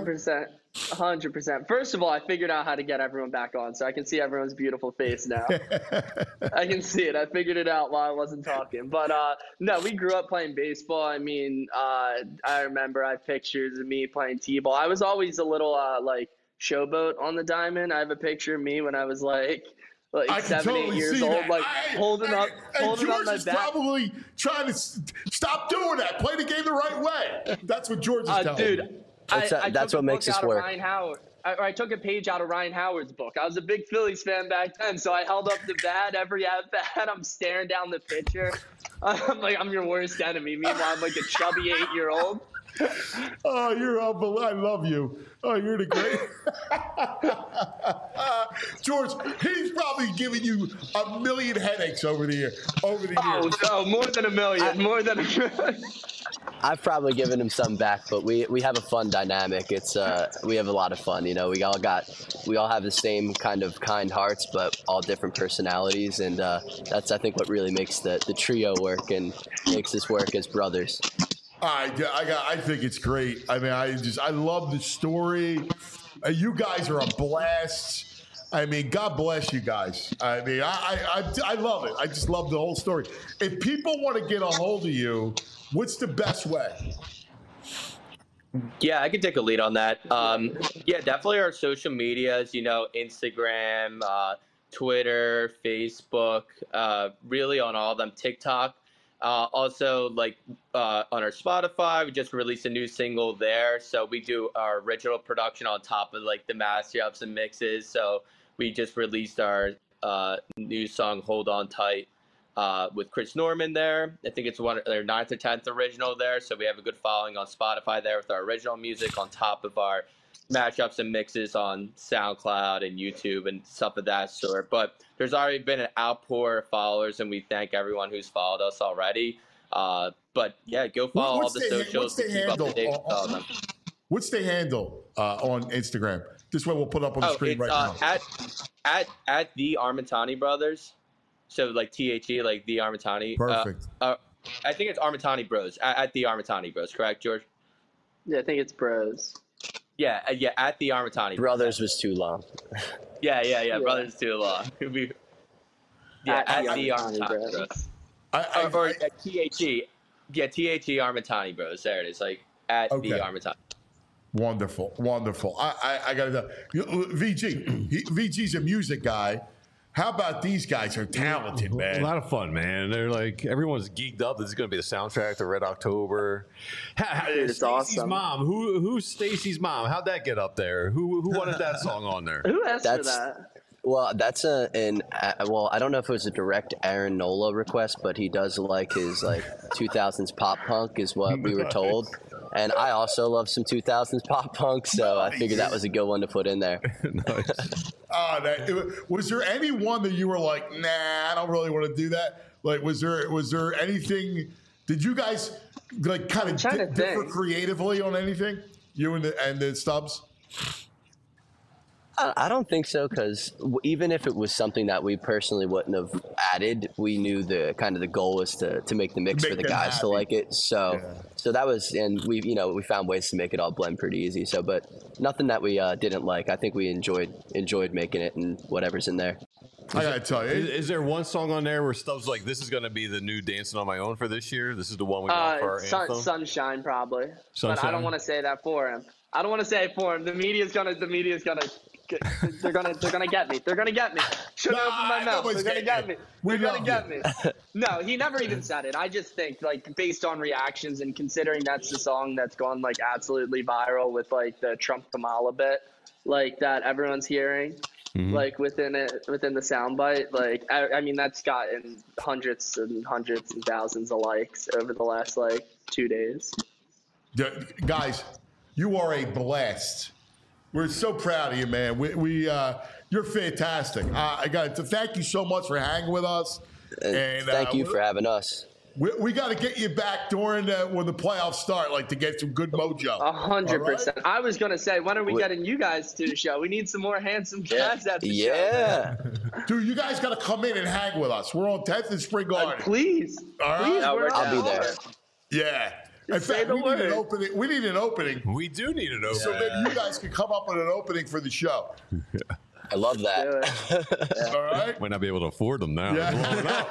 100%. First of all, I figured out how to get everyone back on, so I can see everyone's beautiful face now. I can see it. I figured it out while I wasn't talking. But no, we grew up playing baseball. I mean, I remember I have pictures of me playing t-ball. I was always a little showboat on the diamond. I have a picture of me when I was like 7, 8 years old, like holding up my is bat. Probably trying to stop doing that. Play the game the right way. That's what George is telling me. Dude, that's what makes us work. I took a page out of Ryan Howard's book. I was a big Phillies fan back then, so I held up the bat every at bat. I'm staring down the pitcher. I'm like, I'm your worst enemy. Meanwhile, I'm like a chubby 8-year-old. Oh, you're unbelievable. I love you. Oh, you're the great. George, he's probably giving you a million headaches over the years. Oh, no, more than a million. I've probably given him some back, but we have a fun dynamic. It's we have a lot of fun. We all have the same kind of kind hearts, but all different personalities, and that's, I think, what really makes the trio work and makes us work as brothers. I think it's great. I mean, I love the story. You guys are a blast. I mean, God bless you guys. I mean, I love it. I just love the whole story. If people want to get a hold of you, what's the best way? Yeah, I can take a lead on that. Yeah, definitely our social medias, Instagram, Twitter, Facebook, really on all of them, TikTok. Also, on our Spotify, we just released a new single there. So we do our original production on top of the master ups and mixes. So we just released our new song, Hold On Tight, with Chris Norman there. I think it's their 9th or 10th original there. So we have a good following on Spotify there with our original music on top of our mashups and mixes on SoundCloud and YouTube and stuff of that sort. But there's already been an outpour of followers, and we thank everyone who's followed us already. But yeah, go follow all the socials to keep up to date with all of them. What's the handle on Instagram? This way we'll put up on the screen it's, right now. At the Armentani Brothers. So like THE, like the Armentani. Perfect. I think it's Armentani Bros. At the Armentani Bros. Correct, George? Yeah, I think it's Bros. Yeah. At the Armentani Brothers was too long. Yeah. Brothers too long. At the Armentani Bros. Or at THE. Yeah, THE Armentani Bros. There it is. Like at the Armentani. Wonderful. I got to know. VG's a music guy. How about these guys are talented, man? A lot of fun, man. They're like, everyone's geeked up. This is going to be the soundtrack to Red October. It's Stacey's awesome. mom. Who's Stacey's mom? How'd that get up there? Who wanted that song on there? Who asked for that? Well, that's I don't know if it was a direct Aaron Nola request, but he does like his 2000s pop punk is what we were told. And I also love some 2000s pop punk, so I figured that was a good one to put in there. Nice. Was there any one that you were like, nah, I don't really want to do that? Like, was there anything? Did you guys like kind of differ creatively on anything? You and the Stubbs? I don't think so, because even if it was something that we personally wouldn't have added, we knew the goal was to make the mix for the guys to like it. So that was, and we found ways to make it all blend pretty easy. So, but nothing that we didn't like. I think we enjoyed making it and whatever's in there. I gotta tell you, is there one song on there where Stubbs like, this is going to be the new Dancing on My Own for this year? This is the one we want for our anthem? Sunshine probably. Sunshine? But I don't want to say that for him. The media's gonna. They're gonna get me. They're gonna get me. Shouldn't open my mouth. They're gonna get me. They're gonna get me. No, he never even said it. I just think like based on reactions and considering that's the song that's gone like absolutely viral with like the Trump Kamala bit, like that everyone's hearing, like within the soundbite. Like I mean that's gotten hundreds and thousands of likes over the last like 2 days. Guys, you are a blast. We're so proud of you, man. You're fantastic. I got to thank you so much for hanging with us. And thank you for having us. We got to get you back during when the playoffs start, like to get some good mojo. 100%. I was gonna say, when are we getting you guys to the show? We need some more handsome guys at the show. Yeah. Dude, you guys got to come in and hang with us. We're on 10th and Spring Garden. Please. All right. Please, I'll be there. Yeah. In fact, we need an opening. We do need an opening. So maybe you guys can come up with an opening for the show. I love that. All right. Might not be able to afford them now. Yeah.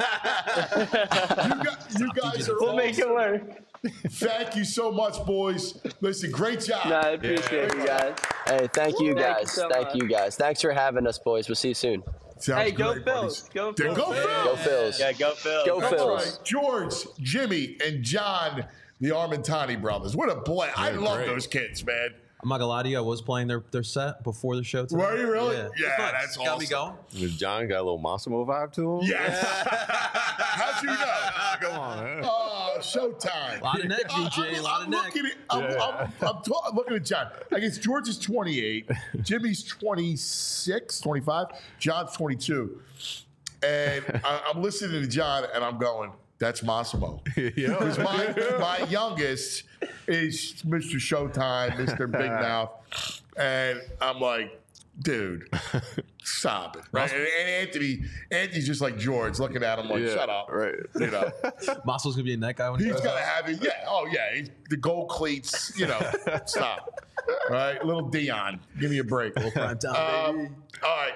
you guys are We'll make it work. Thank you so much, boys. Listen, great job. No, I appreciate you guys. Hey, thank you guys. Thank you so much. You guys. Thanks for having us, boys. We'll see you soon. Sounds Hey, go great, Phils. buddies. Go Phils. Go Phils. Go Phils. Yeah, go Phil. Go That's Phils. right. George, Jimmy, and John, the Armentani brothers. What a blast. I love great. those kids, man. I'm not gonna lie to you. I was playing their set before the show today. Were you really? Yeah, Yeah, It's nice. that's Got me awesome. going. Does John got a little Massimo vibe to him? Yes. How'd you know? Come on, man. Oh, showtime. A lot of neck, DJ. A lot of neck. I'm looking at John. I guess George is 28. Jimmy's 26, 25. John's 22. And I'm listening to John, and I'm going, that's Massimo. Because my youngest is Mr. Showtime, Mr. Big Mouth. And I'm like, dude, stop it. Right? And Anthony's just like George, looking at him like, shut up. Right. You know. Muscle's gonna be a neck guy when he He's goes got to out. have it. Yeah. Oh, yeah. The gold cleats, stop. All right. Little Dion. Give me a break. Prime time, baby. All right.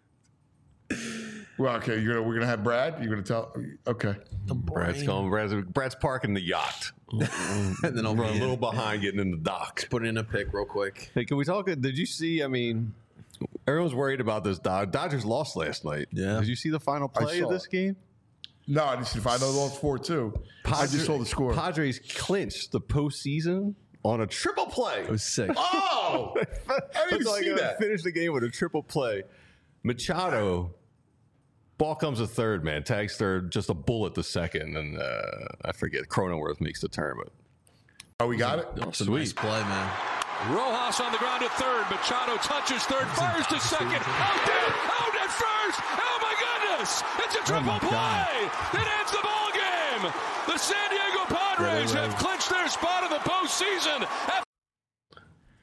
Well, okay. We're going to have Brad. You're going to tell. Okay. Brad's going. Brad's parking the yacht. And then I'll Run a be little behind getting in the dock. put in a pick real quick. Hey, can we talk? Did you see? I mean, everyone's worried about this. Dodgers lost last night. Yeah. Did you see the final play of saw this it. game? No, I just I know those 4-2. I just saw the score. Padres clinched the postseason on a triple play. It was sick. Oh, I didn't see that. Finished the game with a triple play. Machado, ball comes to third, man. Tags third, just a bullet to second, and I forget. Cronenworth makes the turn, but Oh, we got it? It's a nice play, man. Rojas on the ground at third. Machado touches third, fires to second. Out at first. Oh my goodness! It's a triple play that ends the ball game. The San Diego Padres have clinched their spot in the postseason.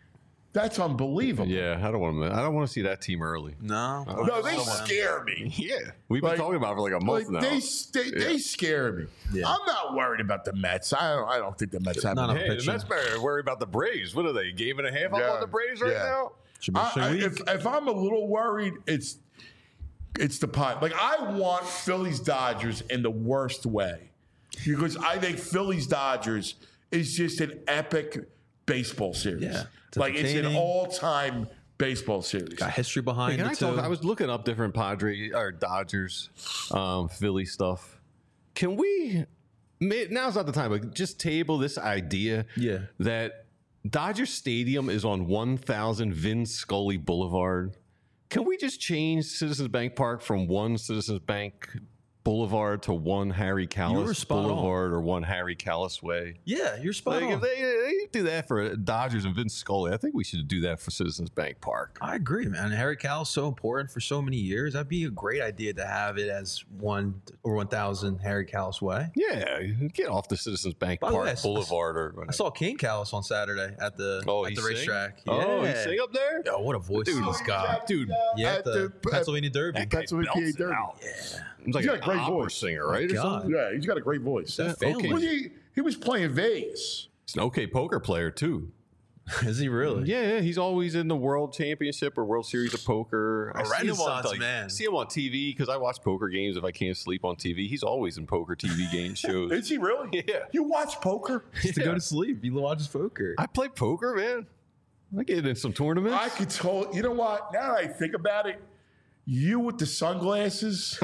That's unbelievable. Yeah, I don't want to see that team early. No. No, they scare me. Yeah, we've been talking about it for like a month now. They scare me. Yeah. I'm not worried about the Mets. I don't think the Mets have. Not a Hey, the pitcher. Mets better worry about the Braves. What are they? Game and a half up on the Braves right now? Should be if I'm a little worried, it's the pot. Like I want Phillies Dodgers in the worst way because I think Phillies Dodgers is just an epic baseball series. Yeah, like it's an entertaining. all-time baseball series. Got history behind it too. I was looking up different Dodgers, Philly stuff. Can we? Now's not the time, but just table this idea. Yeah. That Dodger Stadium is on 1000 Vin Scully Boulevard. Can we just change Citizens Bank Park from one Citizens Bank Boulevard to one Harry Callis Boulevard or one Harry Callis Way? Yeah, you're spot on. If they do that for Dodgers and Vince Scully, I think we should do that for Citizens Bank Park. I agree, man. Harry Callis so important for so many years. That'd be a great idea to have it as 1 or 1000 Harry Callis Way. Yeah, get off the Citizens Bank By the Park way, Boulevard or whatever. I saw King Callis on Saturday at the racetrack. Oh, he Yeah. sing up there? Yo, what a voice he's got. Dude, Yeah, at the Pennsylvania Derby. that guy Pennsylvania belts it Derby. out. Yeah. He's like He's got an a great opera voice. singer, right? Or God. something? Yeah, he's got a great voice. That family. Well, he was playing Vegas. He's an okay poker player, too. Is he really? Yeah, he's always in the World Championship or World Series of Poker. A renaissance man. See him on TV because I watch poker games if I can't sleep on TV. He's always in poker TV game shows. Is he really? Yeah. You watch poker? To go to sleep. He watches poker. I play poker, man. I get in some tournaments. I could tell. You know what? Now that I think about it, you with the sunglasses.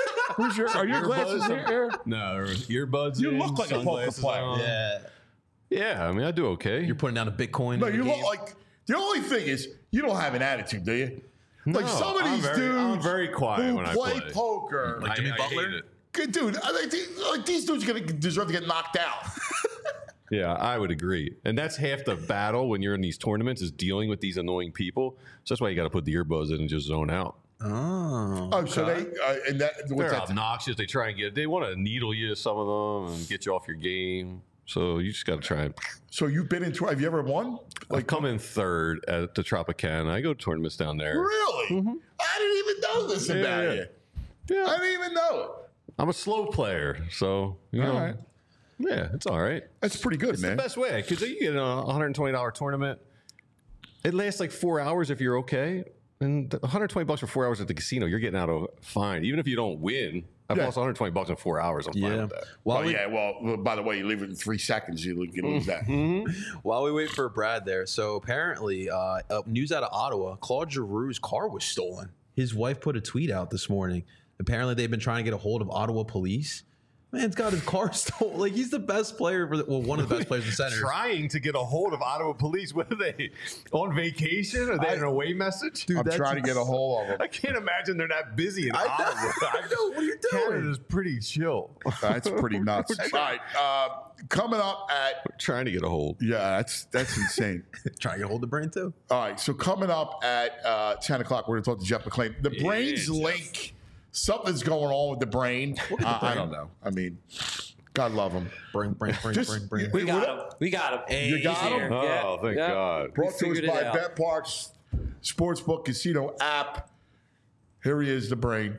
Are your glasses here? No, earbuds. You in, look like a poker sunglasses player. on. Yeah. Yeah, I mean, I do okay. You're putting down a Bitcoin. No, in you the look game. like. The only thing is, you don't have an attitude, do you? Like No, some of I'm these very- dudes I'm very quiet who when I play play. poker. Like Jimmy I Butler? hate it. Good dude, I think these dudes deserve to get knocked out. Yeah, I would agree. And that's half the battle when you're in these tournaments is dealing with these annoying people. So that's why you got to put the earbuds in and just zone out. Oh. Oh, so they and that what's They're that? obnoxious. They try and they want to needle you, some of them, and get you off your game. So you just got to try and So you've been in. Have you ever won? like come in third at the Tropicana. I go to tournaments down there. Really? I didn't even know this about Yeah. you. Yeah. I didn't even know it. I'm a slow player, so you know, right. yeah, it's all right. That's pretty good, It's man. the best way because you get a $120 tournament. It lasts like 4 hours if you're okay, and $120 for 4 hours at the casino, you're getting out of fine. Even if you don't win, I've lost $120 in 4 hours. I'm fine Yeah. with that. Well, by the way, you leave it in 3 seconds, you lose that. While we wait for Brad there, so apparently, news out of Ottawa, Claude Giroux's car was stolen. His wife put a tweet out this morning. Apparently, they've been trying to get a hold of Ottawa police. Man's got his car stolen. Like, he's the best player for one of the best players in the Senators. Trying to get a hold of Ottawa police. What are they on vacation? Are they an away message? Dude, I'm trying to get a hold of him. I can't imagine they're that busy in Ottawa. I know. What are you doing? Canada's pretty chill. That's pretty nuts. All right, coming up at Trying to get a hold. that's insane. Trying to get a hold of the brain, too. All right, so coming up at 10 o'clock, we're going to talk to Jeff McClain. The brain's Jeff. link. Something's going on with the brain. I don't know. I mean, God love him. Brain. We got him. We got him. Hey, You got He's him? here. Oh, Yeah. thank Yeah. God. Brought to us figured it by out. Bet Parks Sportsbook Casino app. Here he is, the brain.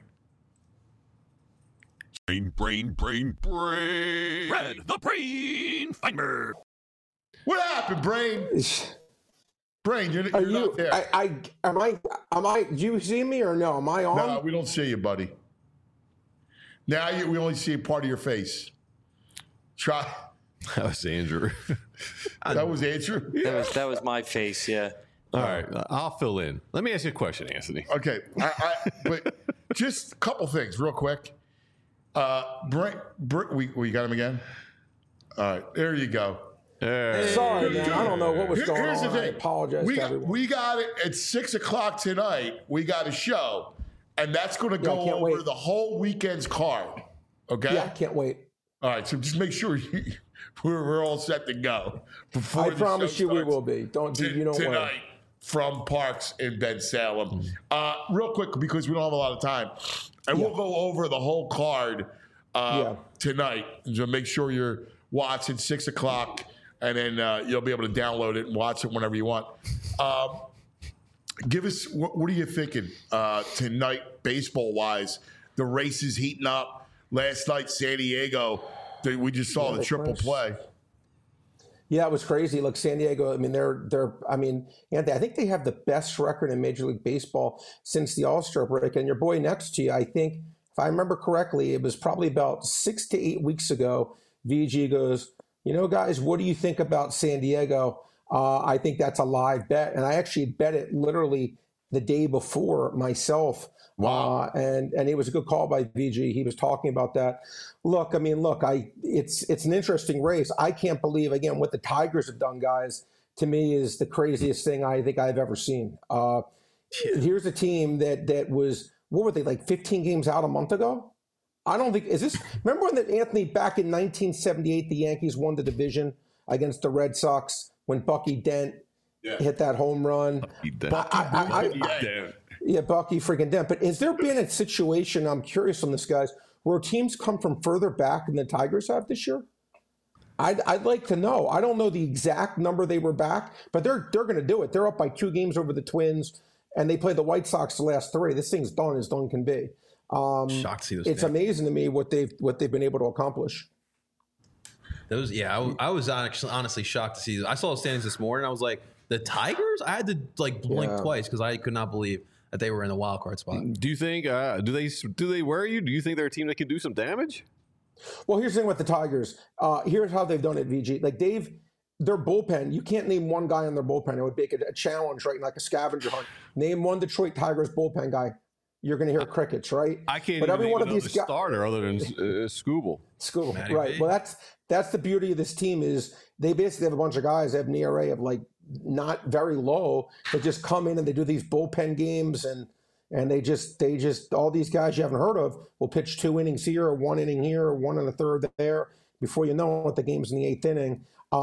Brain. Red, the brain finder. What happened, brain? Brain, you're Are you? not there. Am I? Do you see me or no? Am I on? No, we don't see you, buddy. Now we only see a part of your face. Try. That was Andrew. That was Andrew. That was my face. Yeah. All right, I'll fill in. Let me ask you a question, Anthony. Okay, but just a couple things real quick. We got him again. All right, there you go. Sorry, man. I don't know what was going Here's on. the I thing. apologize to everyone. We got it at 6 o'clock tonight. We got a show, and that's going to Yeah, I go can't over wait. the whole weekend's card. Okay. Yeah, I can't wait. All right, so just make sure we're all set to go. Before I the promise show you we starts will be. Don't worry. tonight from Parks in Ben Salem. Real quick, because we don't have a lot of time, and we'll go over the whole card tonight. So make sure you're watching 6 o'clock, and then you'll be able to download it and watch it whenever you want. Give us what are you thinking tonight, baseball wise? The race is heating up. Last night, San Diego, we just saw the triple play. Yeah, it was crazy. Look, San Diego. I mean, Anthony, I think they have the best record in Major League Baseball since the All-Star break. And your boy next to you, I think, if I remember correctly, it was probably about 6 to 8 weeks ago. VG goes, guys, what do you think about San Diego? I think that's a live bet, and I actually bet it literally the day before myself. Wow. And it was a good call by VG. He was talking about that. Look, it's an interesting race. I can't believe, again, what the Tigers have done, guys, to me is the craziest thing I think I've ever seen. Here's a team that was, what were they, like 15 games out a month ago? I don't think, remember when Anthony, back in 1978, the Yankees won the division against the Red Sox when Bucky Dent hit that home run? Yeah, Bucky freaking Dent. But has there been a situation, I'm curious on this, guys, where teams come from further back than the Tigers have this year? I'd like to know. I don't know the exact number they were back, but they're going to do it. They're up by 2 games over the Twins, and they play the White Sox the last 3. This thing's done as done can be. Shocked to see this. It's amazing to me what they've been able to accomplish. I was honestly shocked to see this. I saw the standings this morning. I was like, the Tigers? I had to blink twice because I could not believe that they were in the wild card spot. Do you think do they worry you? Do you think they're a team that can do some damage? Well, here's the thing with the Tigers. Here's how they've done it, VG. Like their bullpen, you can't name one guy on their bullpen. It would make it a challenge, right? Like a scavenger hunt. Name one Detroit Tigers bullpen guy. You're going to hear crickets, right? I can't but every one of these starter other than Skubal. Skubal, right. B. Well, that's the beauty of this team is they basically have a bunch of guys that have an ERA of like not very low, but just come in and they do these bullpen games and they just all these guys you haven't heard of will pitch 2 innings here or 1 inning here or 1 1/3 there. Before you know it, the game's in the 8th inning.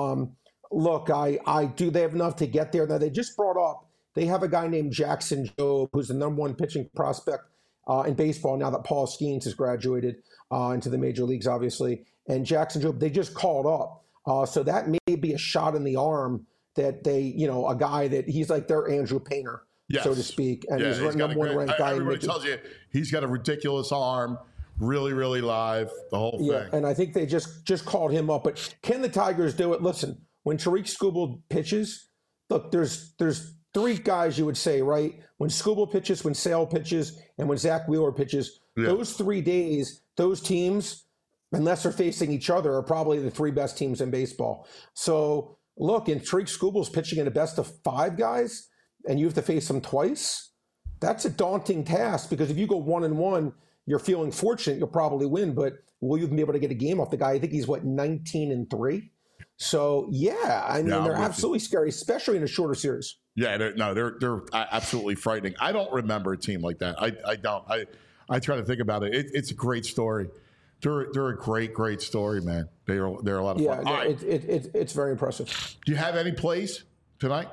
Look, they have enough to get there. Now they just brought up. They have a guy named Jackson Jobe, who's the #1 pitching prospect in baseball now that Paul Skeens has graduated into the major leagues, obviously. And Jackson Jobe, they just called up. So that may be a shot in the arm that they, a guy that he's like their Andrew Painter, so to speak. And he's #1 ranked guy. Everybody tells you he's got a ridiculous arm, really, really live, the whole thing. Yeah, and I think they just called him up. But can the Tigers do it? Listen, when Tariq Skubal pitches, look, there's 3 guys you would say, right? When Skubal pitches, when Sale pitches, and when Zach Wheeler pitches, those 3 days, those teams, unless they're facing each other, are probably the 3 best teams in baseball. So, look, and Tariq Skubal's pitching in a best of 5 guys, and you have to face them twice. That's a daunting task because if you go 1-1, you're feeling fortunate, you'll probably win, but will you even be able to get a game off the guy? I think he's, 19-3? So, they're absolutely scary, especially in a shorter series. Yeah, they're absolutely frightening. I don't remember a team like that. I don't. I try to think about it. It's a great story. They're a great story, man. They're a lot of fun. Yeah, it's very impressive. Do you have any plays tonight?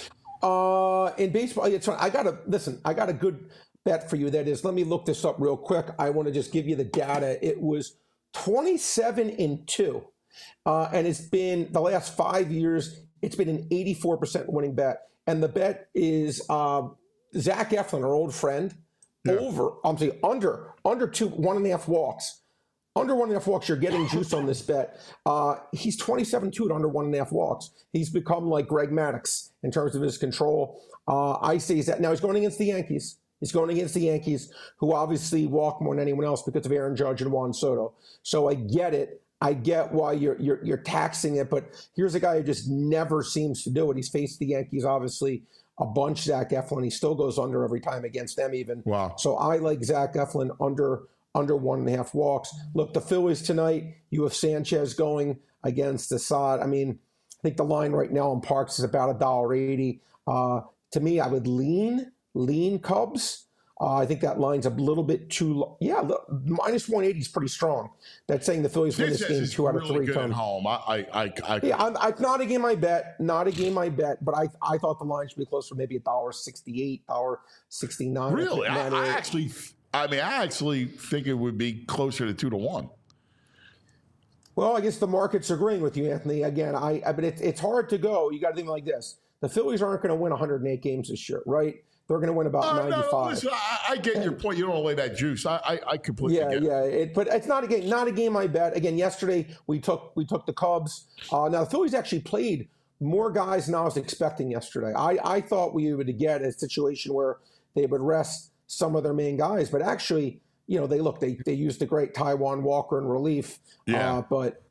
In baseball, it's fun. I got a good bet for you. That is, let me look this up real quick. I want to just give you the data. It was 27-2. And it's been the last 5 years, it's been an 84% winning bet. And the bet is Zach Eflin, our old friend, under 1.5 walks. Under 1.5 walks, you're getting juice on this bet. He's 27-2 at under 1.5 walks. He's become like Greg Maddux in terms of his control. I say he's now he's going against the Yankees. He's going against the Yankees, who obviously walk more than anyone else because of Aaron Judge and Juan Soto. So I get it. I get why you're taxing it, but here's a guy who just never seems to do it. He's faced the Yankees, obviously, a bunch, Zach Eflin. He still goes under every time against them even. Wow. So I like Zach Eflin under 1.5 walks. Look, the Phillies tonight, you have Sanchez going against Assad. I mean, I think the line right now on Parks is about $1.80. To me, I would lean Cubs. I think that line's a little bit too low. Yeah, minus 180 is pretty strong. That's saying the Phillies win this game 2 out of 3 times. Home. It's not a game I bet. But I thought the line should be closer, maybe $1.68, $1.69. Really, I actually think it would be closer to 2-1. Well, I guess the market's agreeing with you, Anthony. Again, but it's hard to go. You got to think like this. The Phillies aren't going to win 108 games this year, right? They're going to win about 95. No, listen, I get your point. You don't want to lay that juice. I completely get it. But it's not a game I bet. Again, yesterday we took the Cubs. Now the Phillies actually played more guys than I was expecting yesterday. I thought we would get a situation where they would rest some of their main guys, but actually, they used the great Taijuan Walker in relief. Yeah.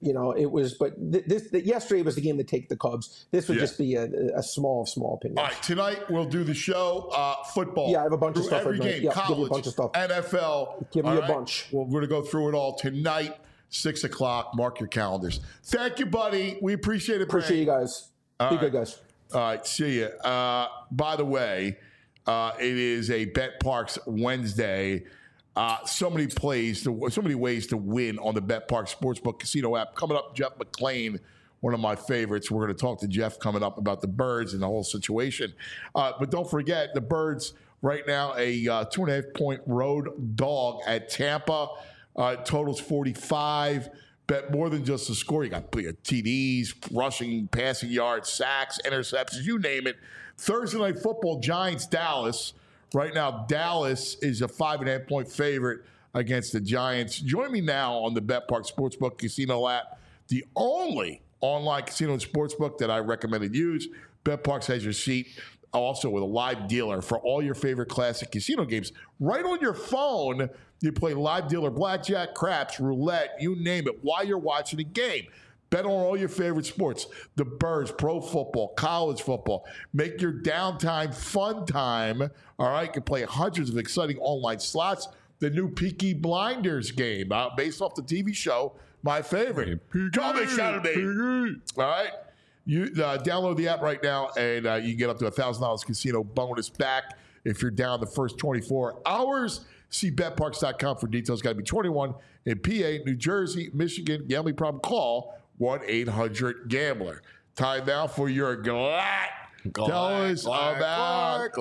Yesterday was the game to take the Cubs. This would just be a small opinion. All right, tonight we'll do the show. Football. Yeah, I have a bunch of stuff. Every game, college, give you a bunch of stuff. NFL. Give me a bunch. Well, we're going to go through it all tonight, 6 o'clock. Mark your calendars. Thank you, buddy. We appreciate it. Appreciate you guys. Be good, guys. All right, see you. By the way, it is a Bet Parks Wednesday. So many ways to win on the Bet Parks Sportsbook Casino app. Coming up, Jeff McClain, one of my favorites. We're going to talk to Jeff coming up about the Birds and the whole situation. But don't forget, the Birds right now a 2.5-point road dog at Tampa. Totals 45. Bet more than just the score. You got TDs, rushing, passing yards, sacks, interceptions, you name it. Thursday Night Football, Giants, Dallas. Right now, Dallas is a 5.5-point favorite against the Giants. Join me now on the BetPark Sportsbook Casino app, the only online casino and sportsbook that I recommend and use. BetParks has your seat also with a live dealer for all your favorite classic casino games. Right on your phone, you play live dealer blackjack, craps, roulette, you name it, while you're watching a game. Bet on all your favorite sports, the Birds, pro football, college football. Make your downtime fun time. All right, you can play hundreds of exciting online slots. The new Peaky Blinders game, based off the TV show, my favorite. Coming Saturday. All right, you download the app right now, and you get up to $1,000 casino bonus back if you're down the first 24 hours. See betparks.com for details. Got to be 21 in PA, New Jersey, Michigan. Gambling problem? Call 1-800-GAMBLER. Time now for your Glad. Tell us about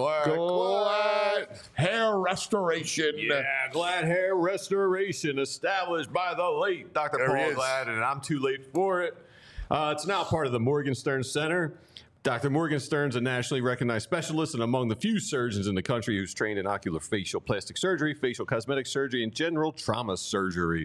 Glad Hair Restoration. Yeah, Glad Hair Restoration, established by the late Dr. Paul Glad, and I'm too late for it. It's now part of the Morgenstern Center. Dr. Morgenstern's a nationally recognized specialist and among the few surgeons in the country who's trained in oculofacial plastic surgery, facial cosmetic surgery, and general trauma surgery.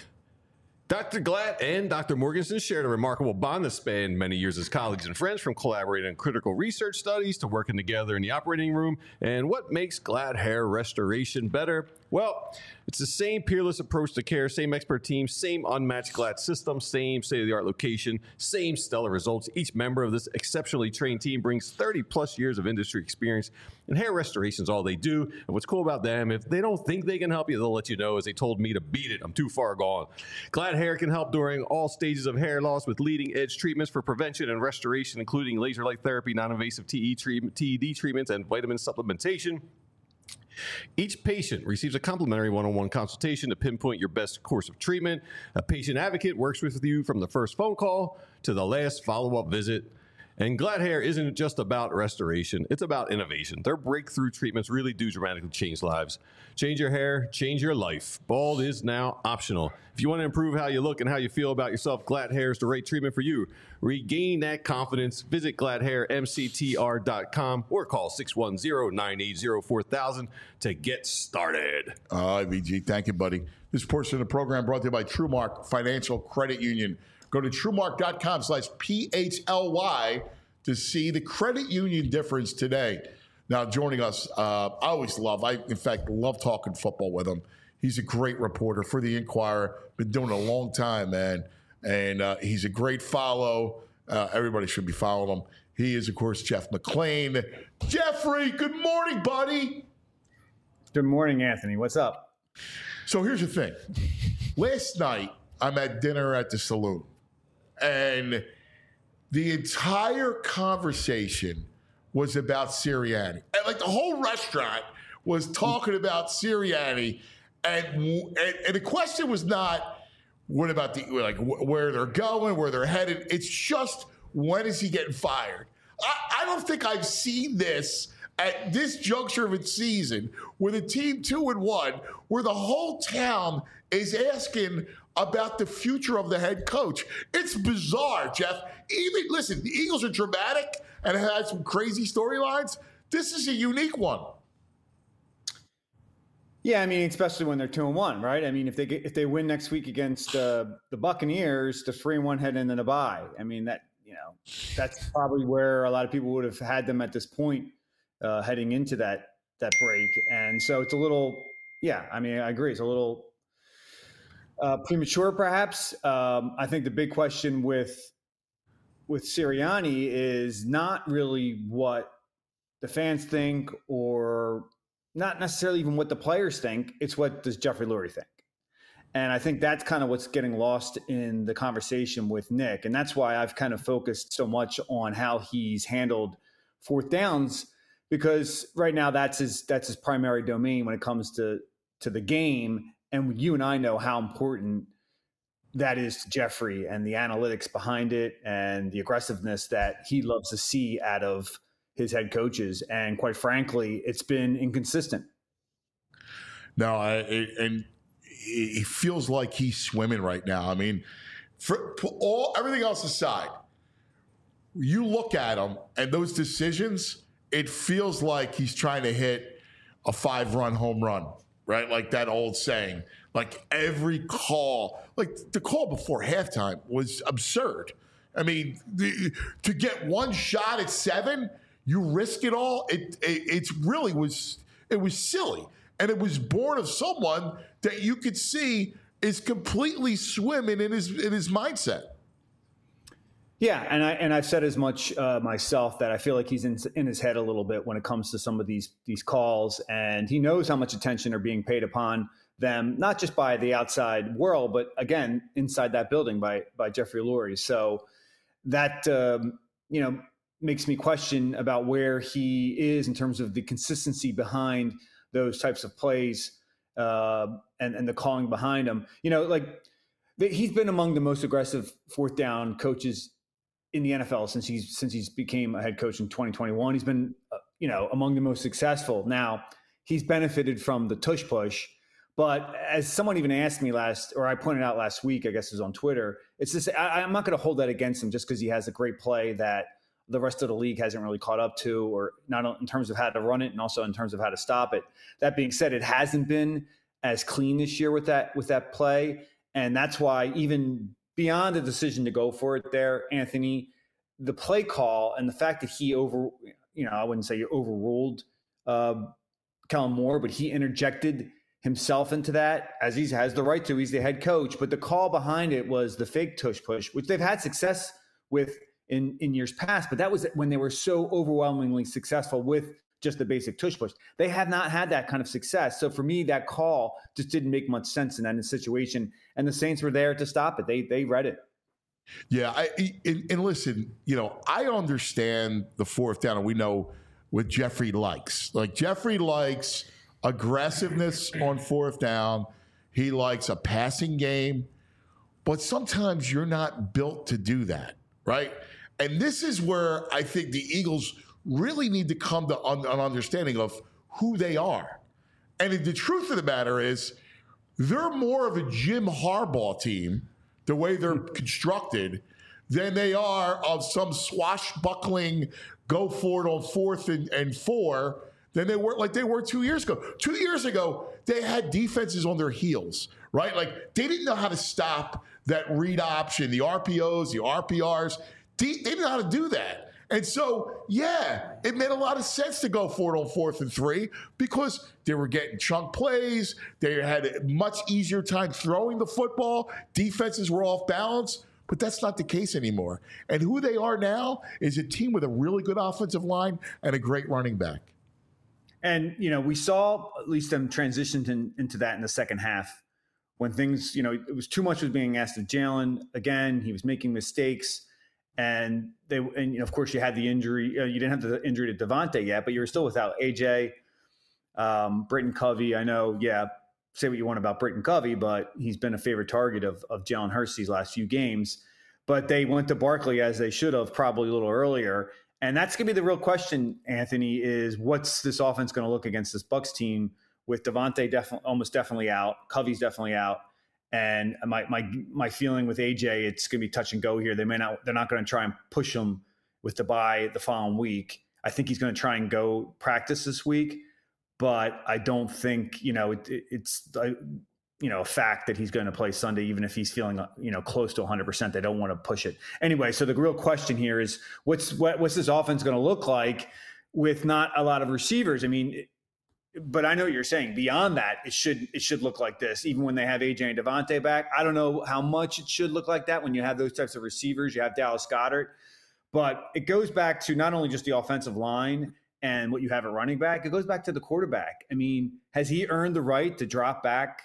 Dr. Glad and Dr. Morgenstern shared a remarkable bond that spanned many years as colleagues and friends, from collaborating on critical research studies to working together in the operating room. And what makes Glad Hair Restoration better? Well, it's the same peerless approach to care, same expert team, same unmatched Glad system, same state-of-the-art location, same stellar results. Each member of this exceptionally trained team brings 30-plus years of industry experience, and hair restoration is all they do. And what's cool about them, if they don't think they can help you, they'll let you know, as they told me to beat it. I'm too far gone. Glad Hair can help during all stages of hair loss with leading-edge treatments for prevention and restoration, including laser light therapy, non-invasive TED treatments, and vitamin supplementation. Each patient receives a complimentary one-on-one consultation to pinpoint your best course of treatment. A patient advocate works with you from the first phone call to the last follow-up visit. And Glad Hair isn't just about restoration, it's about innovation. Their breakthrough treatments really do dramatically change lives. Change your hair, change your life. Bald is now optional. If you want to improve how you look and how you feel about yourself, Glad Hair is the right treatment for you. Regain that confidence. Visit GladHairMCTR.com or call 610-980-4000 to get started. VG, thank you, buddy. This portion of the program brought to you by TrueMark Financial Credit Union. Go to TrueMark.com/PHLY to see the credit union difference today. Now, joining us, I in fact love talking football with him. He's a great reporter for the Inquirer. Been doing it a long time, man. And he's a great follow. Everybody should be following him. He is, of course, Jeff McClain. Jeffrey, good morning, buddy. Good morning, Anthony. What's up? So here's the thing. Last night, I'm at dinner at the saloon. And the entire conversation was about Sirianni. And like the whole restaurant was talking about Sirianni. And the question was not what about where they're going, where they're headed. It's just, when is he getting fired? I don't think I've seen this at this juncture of its season with a team 2-1, where the whole town is asking about the future of the head coach. It's bizarre, Jeff. Listen, the Eagles are dramatic and have had some crazy storylines. This is a unique one. Yeah, I mean, especially when they're 2-1, right? I mean, if they win next week against the Buccaneers, the 3-1 head into the bye. I mean, that's probably where a lot of people would have had them at this point heading into that break. And so it's a little, yeah, I mean, I agree. It's a little premature, perhaps. I think the big question with Sirianni is not really what the fans think, or not necessarily even what the players think. It's what does Jeffrey Lurie think? And I think that's kind of what's getting lost in the conversation with Nick. And that's why I've kind of focused so much on how he's handled fourth downs, because right now that's his primary domain when it comes to the game. And you and I know how important that is to Jeffrey, and the analytics behind it and the aggressiveness that he loves to see out of his head coaches. And quite frankly, it's been inconsistent. No, and it feels like he's swimming right now. I mean, for everything else aside, you look at him and those decisions, it feels like he's trying to hit a 5-run home run, right? Like that old saying. Like every call, like the call before halftime was absurd. I mean, to get one shot at 7, you risk it all. It really was. It was silly, and it was born of someone that you could see is completely swimming in his mindset. Yeah, and I've said as much myself, that I feel like he's in his head a little bit when it comes to some of these calls, and he knows how much attention are being paid upon them, not just by the outside world, but again inside that building by Jeffrey Lurie. So that makes me question about where he is in terms of the consistency behind those types of plays and the calling behind them. He's been among the most aggressive fourth down coaches in the NFL since he's became a head coach in 2021. He's been among the most successful. Now he's benefited from the tush push, but as someone even asked me I pointed out last week, I guess it was on Twitter, it's just I'm not going to hold that against him just because he has a great play that the rest of the league hasn't really caught up to, or not in terms of how to run it and also in terms of how to stop it. That being said, it hasn't been as clean this year with that play. And that's why, even beyond the decision to go for it there, Anthony, the play call and the fact that he I wouldn't say overruled Kellen Moore, but he interjected himself into that, as he has the right to. He's the head coach. But the call behind it was the fake tush push, which they've had success with in years past, but that was when they were so overwhelmingly successful with just the basic tush push. They have not had that kind of success. So for me, that call just didn't make much sense in that situation. And the Saints were there to stop it. They read it. Yeah, and listen, I understand the fourth down, and we know what Jeffrey likes. Like, Jeffrey likes aggressiveness on fourth down. He likes a passing game, but sometimes you're not built to do that, right? And this is where I think the Eagles really need to come to an understanding of who they are. And the truth of the matter is, they're more of a Jim Harbaugh team, the way they're constructed, than they are of some swashbuckling go for it on 4th and 4 than they were 2 years ago. 2 years ago, they had defenses on their heels, right? Like, they didn't know how to stop that read option, the RPOs, the RPRs. They didn't know how to do that. And so, yeah, it made a lot of sense to go for it on 4th and 3 because they were getting chunk plays. They had a much easier time throwing the football. Defenses were off balance, but that's not the case anymore. And who they are now is a team with a really good offensive line and a great running back. And, we saw at least them transition into that in the second half when things, it was too much was being asked of Jalen. Again, he was making mistakes. And of course, you had the injury. You didn't have the injury to Devontae yet, but you were still without AJ, Britton Covey. I know, say what you want about Britton Covey, but he's been a favorite target of Jalen Hurts these last few games. But they went to Barkley, as they should have, probably a little earlier. And that's going to be the real question, Anthony, is what's this offense going to look against this Bucs team with Devontae almost definitely out, Covey's definitely out. And my feeling with AJ, it's going to be touch and go here. They're not going to try and push him with the bye the following week. I think he's going to try and go practice this week, but I don't think, it's a fact that he's going to play Sunday, even if he's feeling, close to 100%. They don't want to push it anyway. So the real question here is what's this offense going to look like with not a lot of receivers? I mean, but I know what you're saying. Beyond that, it should look like this, even when they have AJ and Devontae back. I don't know how much it should look like that when you have those types of receivers. You have Dallas Goedert, but it goes back to not only just the offensive line and what you have at running back. It goes back to the quarterback. I mean, has he earned the right to drop back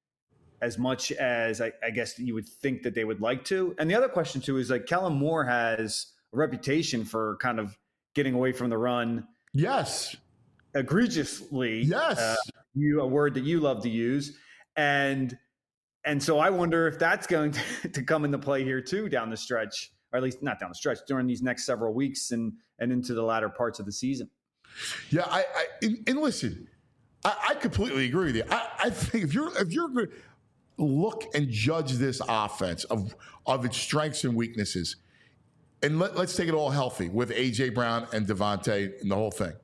as much as I guess you would think that they would like to? And the other question too is like Kellen Moore has a reputation for kind of getting away from the run. Yes. Egregiously. Yes. A word that you love to use. And so I wonder if that's going to come into play here too down the stretch, or at least not down the stretch, during these next several weeks and into the latter parts of the season. Yeah. And listen, I completely agree with you. I think if you're going to look and judge this offense of its strengths and weaknesses, and let's take it all healthy with A.J. Brown and Devontae and the whole thing,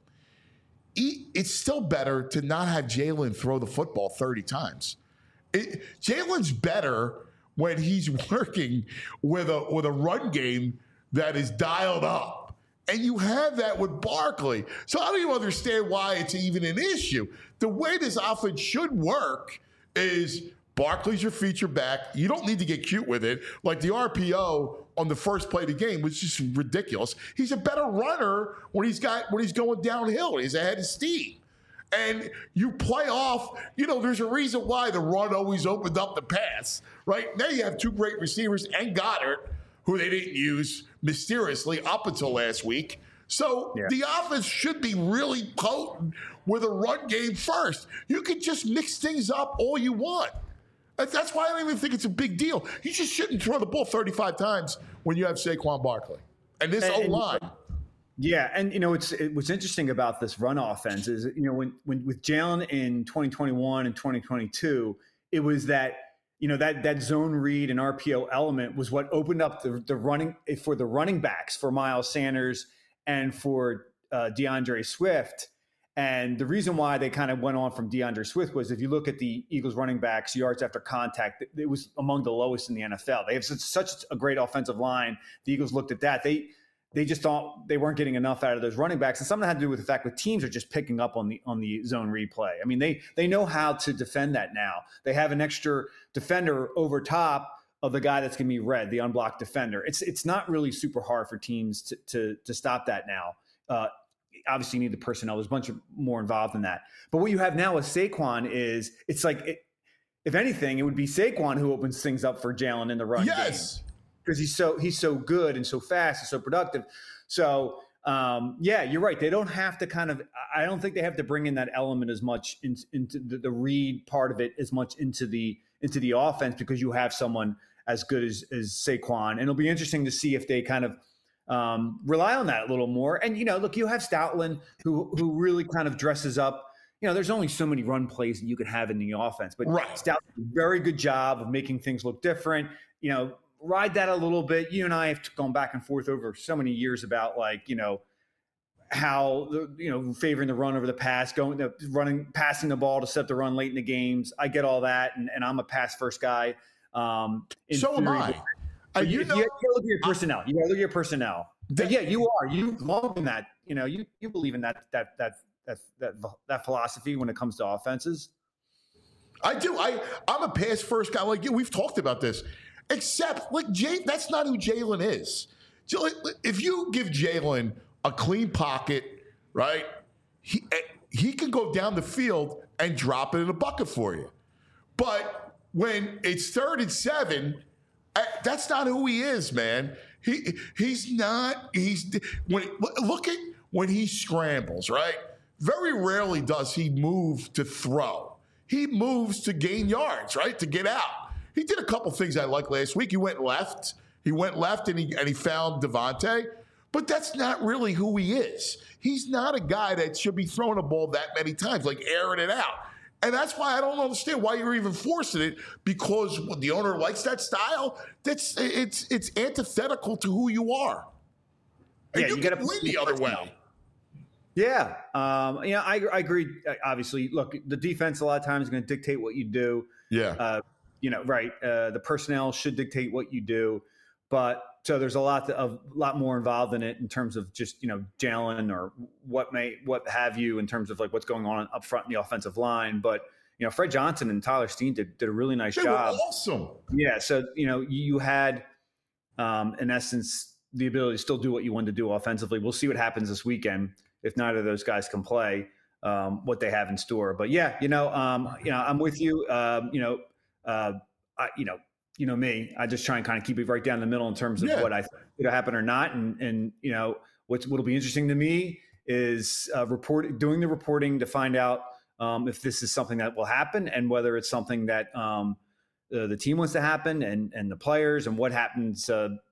it's still better to not have Jalen throw the football 30 times. Jalen's better when he's working with a run game that is dialed up. And you have that with Barkley. So I don't even understand why it's even an issue. The way this offense should work is Barkley's your feature back. You don't need to get cute with it. Like the RPO on the first play of the game was just ridiculous. He's a better runner when he's going downhill. He's ahead of steam. And you play off, there's a reason why the run always opened up the pass, right? Now you have two great receivers and Goddard, who they didn't use mysteriously up until last week. So the offense should be really potent with a run game first. You can just mix things up all you want. That's why I don't even think it's a big deal. You just shouldn't throw the ball 35 times when you have Saquon Barkley. And this O-line. Yeah, and what's interesting about this run offense is when with Jalen in 2021 and 2022, it was that that zone read and RPO element was what opened up the running for the running backs for Miles Sanders and for DeAndre Swift. And the reason why they kind of went on from DeAndre Swift was if you look at the Eagles running backs yards after contact, it was among the lowest in the NFL. They have such a great offensive line. The Eagles looked at that. They just thought they weren't getting enough out of those running backs. And some of that had to do with the fact that teams are just picking up on the zone replay. I mean, they know how to defend that now. They have an extra defender over top of the guy that's going to be red, the unblocked defender. It's not really super hard for teams to stop that now. Obviously, you need the personnel. There's a bunch of more involved in that. But what you have now with Saquon is it's like, if anything, it would be Saquon who opens things up for Jalen in the run game. Because he's so good and so fast and so productive. So, you're right. They don't have to I don't think they have to bring in that element as much into the read part of it as much into the offense, because you have someone as good as Saquon. And it'll be interesting to see if they kind of rely on that a little more. And, look, you have Stoutland who really kind of dresses up. There's only so many run plays that you could have in the offense. But Stoutland does a very good job of making things look different. Ride that a little bit. You and I have gone back and forth over so many years about how favoring the run over the pass, passing the ball to set the run late in the games. I get all that, and I'm a pass first guy. So am I. You gotta look at your personnel. You gotta look at your personnel. Yeah, you are. You love in that. You believe in that philosophy when it comes to offenses. I do. I'm a pass first guy. Like we've talked about this. Except, that's not who Jalen is. If you give Jalen a clean pocket, right, he can go down the field and drop it in a bucket for you. But when it's 3rd and 7, that's not who he is, man. He's not. Look at when he scrambles, right? Very rarely does he move to throw. He moves to gain yards, right, to get out. He did a couple things I liked last week. He went left and he found Devontae. But that's not really who he is. He's not a guy that should be throwing a ball that many times, like airing it out. And that's why I don't understand why you're even forcing it, because the owner likes that style. It's antithetical to who you are. And you got to win the other way. Yeah. I agree. Obviously, look, the defense a lot of times is going to dictate what you do. Yeah. The personnel should dictate what you do. But so there's a lot more involved in it in terms of just, Jalen or what have you in terms of like what's going on up front in the offensive line. But, Fred Johnson and Tyler Steen did a really nice job. They were awesome. Yeah. So, you had, in essence, the ability to still do what you wanted to do offensively. We'll see what happens this weekend if neither of those guys can play, what they have in store. But yeah, I'm with you. Me, I just try and kind of keep it right down the middle in terms of what I think could happen or not. And what'll be interesting to me is doing the reporting to find out if this is something that will happen and whether it's something that the team wants to happen and the players and what happens,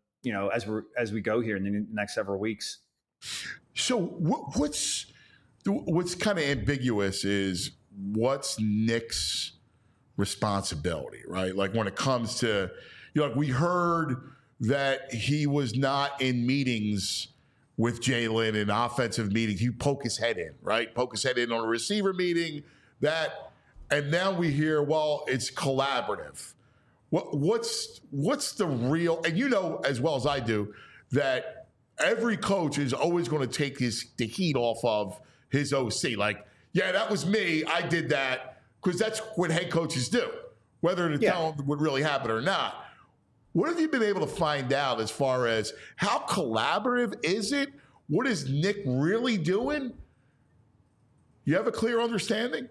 as we go here in the next several weeks. So what's kind of ambiguous is what's Nick's responsibility, right? Like when it comes to, we heard that he was not in meetings with Jalen, in offensive meetings. He poke his head in, right? Poke his head in on a receiver meeting, and now we hear, well, it's collaborative. What's the real, and as well as I do, that every coach is always going to take the heat off of his OC. Like, yeah, that was me. I did that, because that's what head coaches do, whether to tell them what really happened or not. What have you been able to find out as far as how collaborative is it? What is Nick really doing? You have a clear understanding?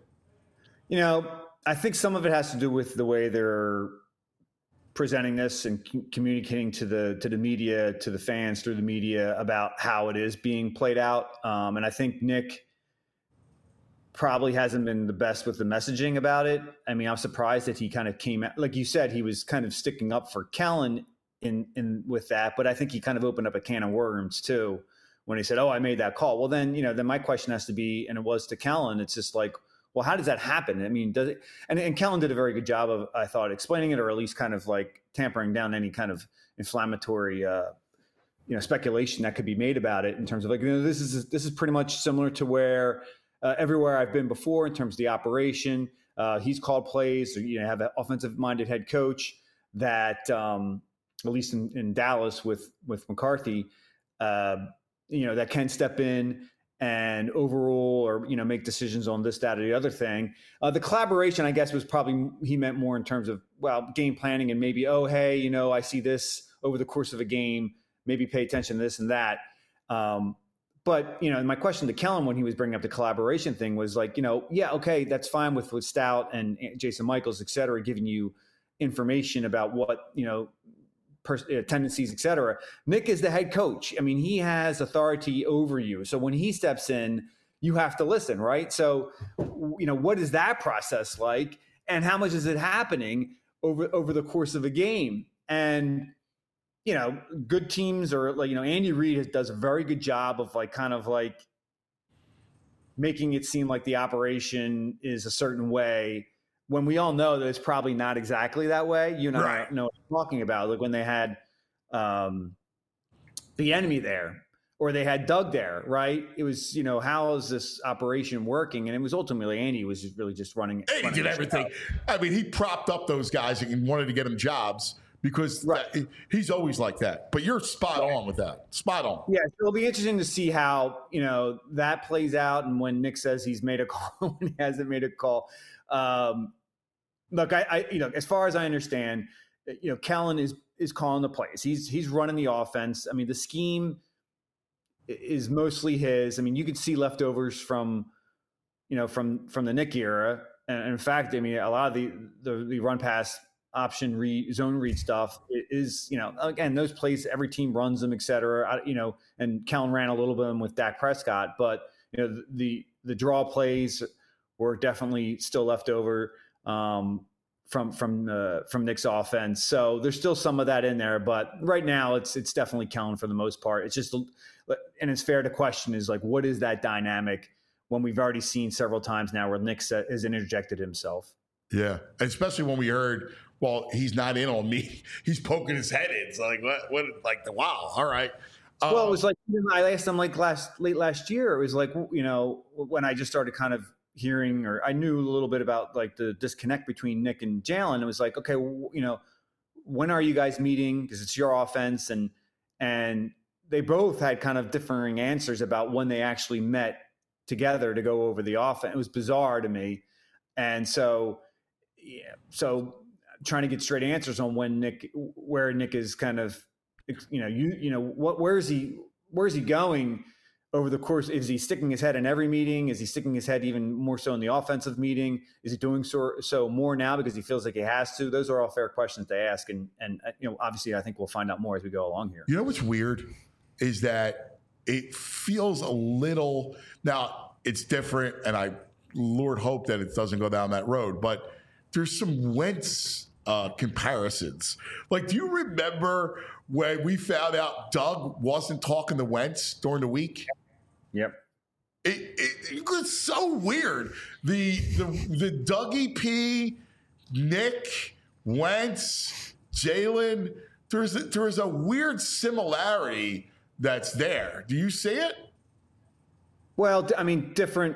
I think some of it has to do with the way they're presenting this and communicating to the media, to the fans through the media about how it is being played out. And I think Nick probably hasn't been the best with the messaging about it. I mean, I'm surprised that he kind of came out, like you said, he was kind of sticking up for Kellen in with that, but I think he kind of opened up a can of worms too when he said, "Oh, I made that call." Well, then my question has to be, and it was to Kellen. It's just like, well, how does that happen? I mean, does it? And Kellen did a very good job of, I thought, explaining it, or at least kind of like tampering down any kind of inflammatory, speculation that could be made about it in terms of like, this is pretty much similar to where. Everywhere I've been before in terms of the operation, he's called plays. Have an offensive-minded head coach that, at least in Dallas with McCarthy, that can step in and overrule or make decisions on this, that, or the other thing. The collaboration, I guess, was probably he meant more in terms of game planning and maybe I see this over the course of a game. Maybe pay attention to this and that. But, my question to Kellen when he was bringing up the collaboration thing was like, okay, that's fine with Stout and Jason Michaels, et cetera, giving you information about what, tendencies, et cetera. Nick is the head coach. I mean, he has authority over you. So when he steps in, you have to listen, right? So, what is that process like? And how much is it happening over the course of a game? And good teams or Andy Reid does a very good job of kind of making it seem like the operation is a certain way when we all know that it's probably not exactly that way. I know what I'm talking about. Like when they had the enemy there or they had Doug there, right? It was, how is this operation working? And it was ultimately Andy was really just running. He did everything. I mean, he propped up those guys and wanted to get them jobs. Because he's always like that. But you're spot on with that. Spot on. Yeah, so it'll be interesting to see how, that plays out and when Nick says he's made a call, when he hasn't made a call. Look, I as far as I understand, Kellen is calling the plays. He's running the offense. I mean, the scheme is mostly his. I mean, you could see leftovers from the Nick era. And in fact, I mean, a lot of the run pass option zone read stuff is, again, those plays, every team runs them, et cetera, and Kellen ran a little bit of them with Dak Prescott, but, the draw plays were definitely still left over from Nick's offense. So there's still some of that in there, but right now it's definitely Kellen for the most part. It's just and it's fair to question is like, what is that dynamic when we've already seen several times now where Nick has interjected himself? Yeah, especially when we heard, well, he's not in on me. He's poking his head in. It's like, what, like, wow, all right. Well, it was like, I asked him like late last year. It was like, when I just started kind of hearing, or I knew a little bit about like the disconnect between Nick and Jalen. It was like, okay, when are you guys meeting? Because it's your offense. And they both had kind of differing answers about when they actually met together to go over the offense. It was bizarre to me. And so trying to get straight answers on where Nick is kind of, where is he going over the course? Is he sticking his head in every meeting? Is he sticking his head even more so in the offensive meeting? Is he doing so more now because he feels like he has to? Those are all fair questions to ask. And obviously I think we'll find out more as we go along here. You know what's weird is that it feels a little, now it's different, and I Lord hope that it doesn't go down that road, but there's some Wentz comparisons. Like, do you remember when we found out Doug wasn't talking to Wentz during the week? Yep. It was so weird. The Dougie P, Nick, Wentz, Jalen, there's a weird similarity that's there. Do you see it? Well, I mean, different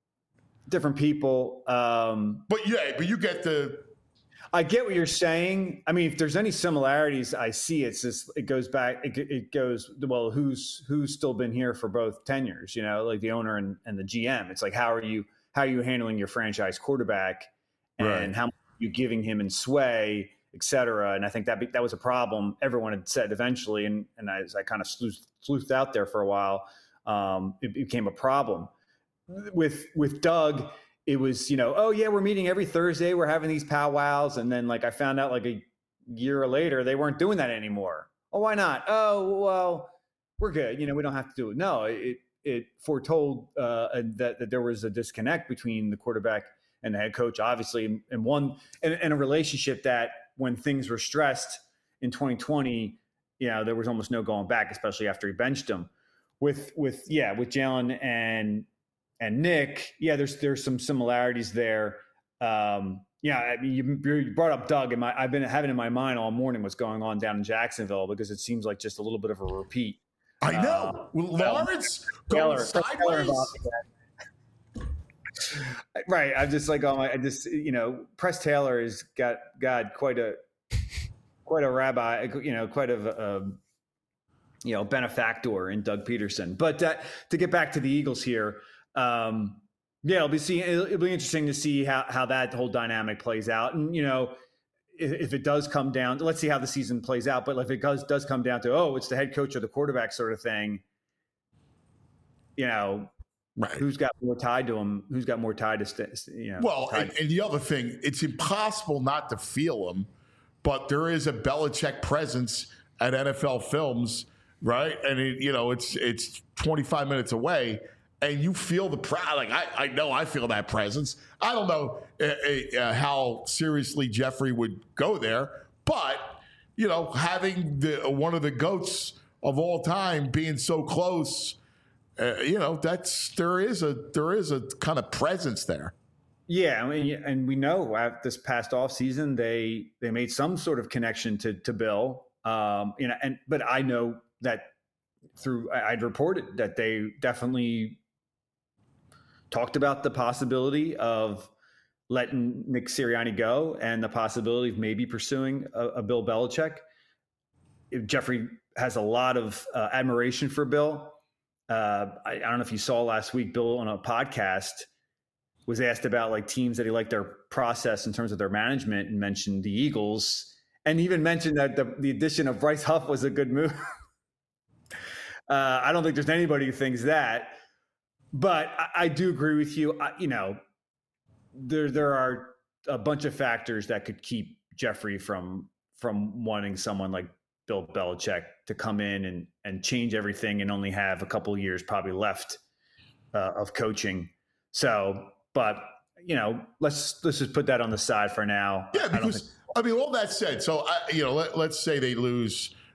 people. But you get I get what you're saying. I mean, if there's any similarities, I see it's just, it goes back, it goes, well, who's still been here for both tenures, like the owner and the GM. It's like, how are you handling your franchise quarterback, and right, how much are you giving him in sway, et cetera. And I think that was a problem everyone had said eventually. And as I kind of sleuthed out there for a while, it became a problem with Doug. It was, oh yeah, we're meeting every Thursday. We're having these powwows. And then like I found out like a year later, they weren't doing that anymore. Oh, why not? Oh, well, we're good. We don't have to do it. No, it foretold that there was a disconnect between the quarterback and the head coach, obviously, and a relationship that when things were stressed in 2020, there was almost no going back, especially after he benched him. With Jalen and Nick, there's some similarities there. I mean, you brought up Doug, and I've been having in my mind all morning what's going on down in Jacksonville, because it seems like just a little bit of a repeat. I know. Lawrence going sideways. Right. I'm just like, Press Taylor has got quite a rabbi, quite a benefactor in Doug Peterson. But to get back to the Eagles here, it'll be interesting to see how that whole dynamic plays out. And, if it does come down, let's see how the season plays out. But if it does come down to, it's the head coach or the quarterback sort of thing, right, who's got more tied to him? Who's got more tied to, Well, and the other thing, it's impossible not to feel him, but there is a Belichick presence at NFL Films, right? And it's 25 minutes away, and you feel the pride. Like I know I feel that presence. I don't know how seriously Jeffrey would go there, but having one of the GOATs of all time being so close, there is a kind of presence there. Yeah, I mean, and we know this past off season they made some sort of connection to Bill, but I know that I'd reported that they definitely talked about the possibility of letting Nick Sirianni go and the possibility of maybe pursuing a Bill Belichick. Jeffrey has a lot of admiration for Bill. I don't know if you saw last week, Bill on a podcast was asked about like teams that he liked their process in terms of their management, and mentioned the Eagles, and even mentioned that the addition of Bryce Huff was a good move. I don't think there's anybody who thinks that, but I do agree with you. There are a bunch of factors that could keep Jeffrey from wanting someone like Bill Belichick to come in and change everything and only have a couple of years probably left of coaching. So, but let's just put that on the side for now. Yeah, because I mean, all that said, so let's say they lose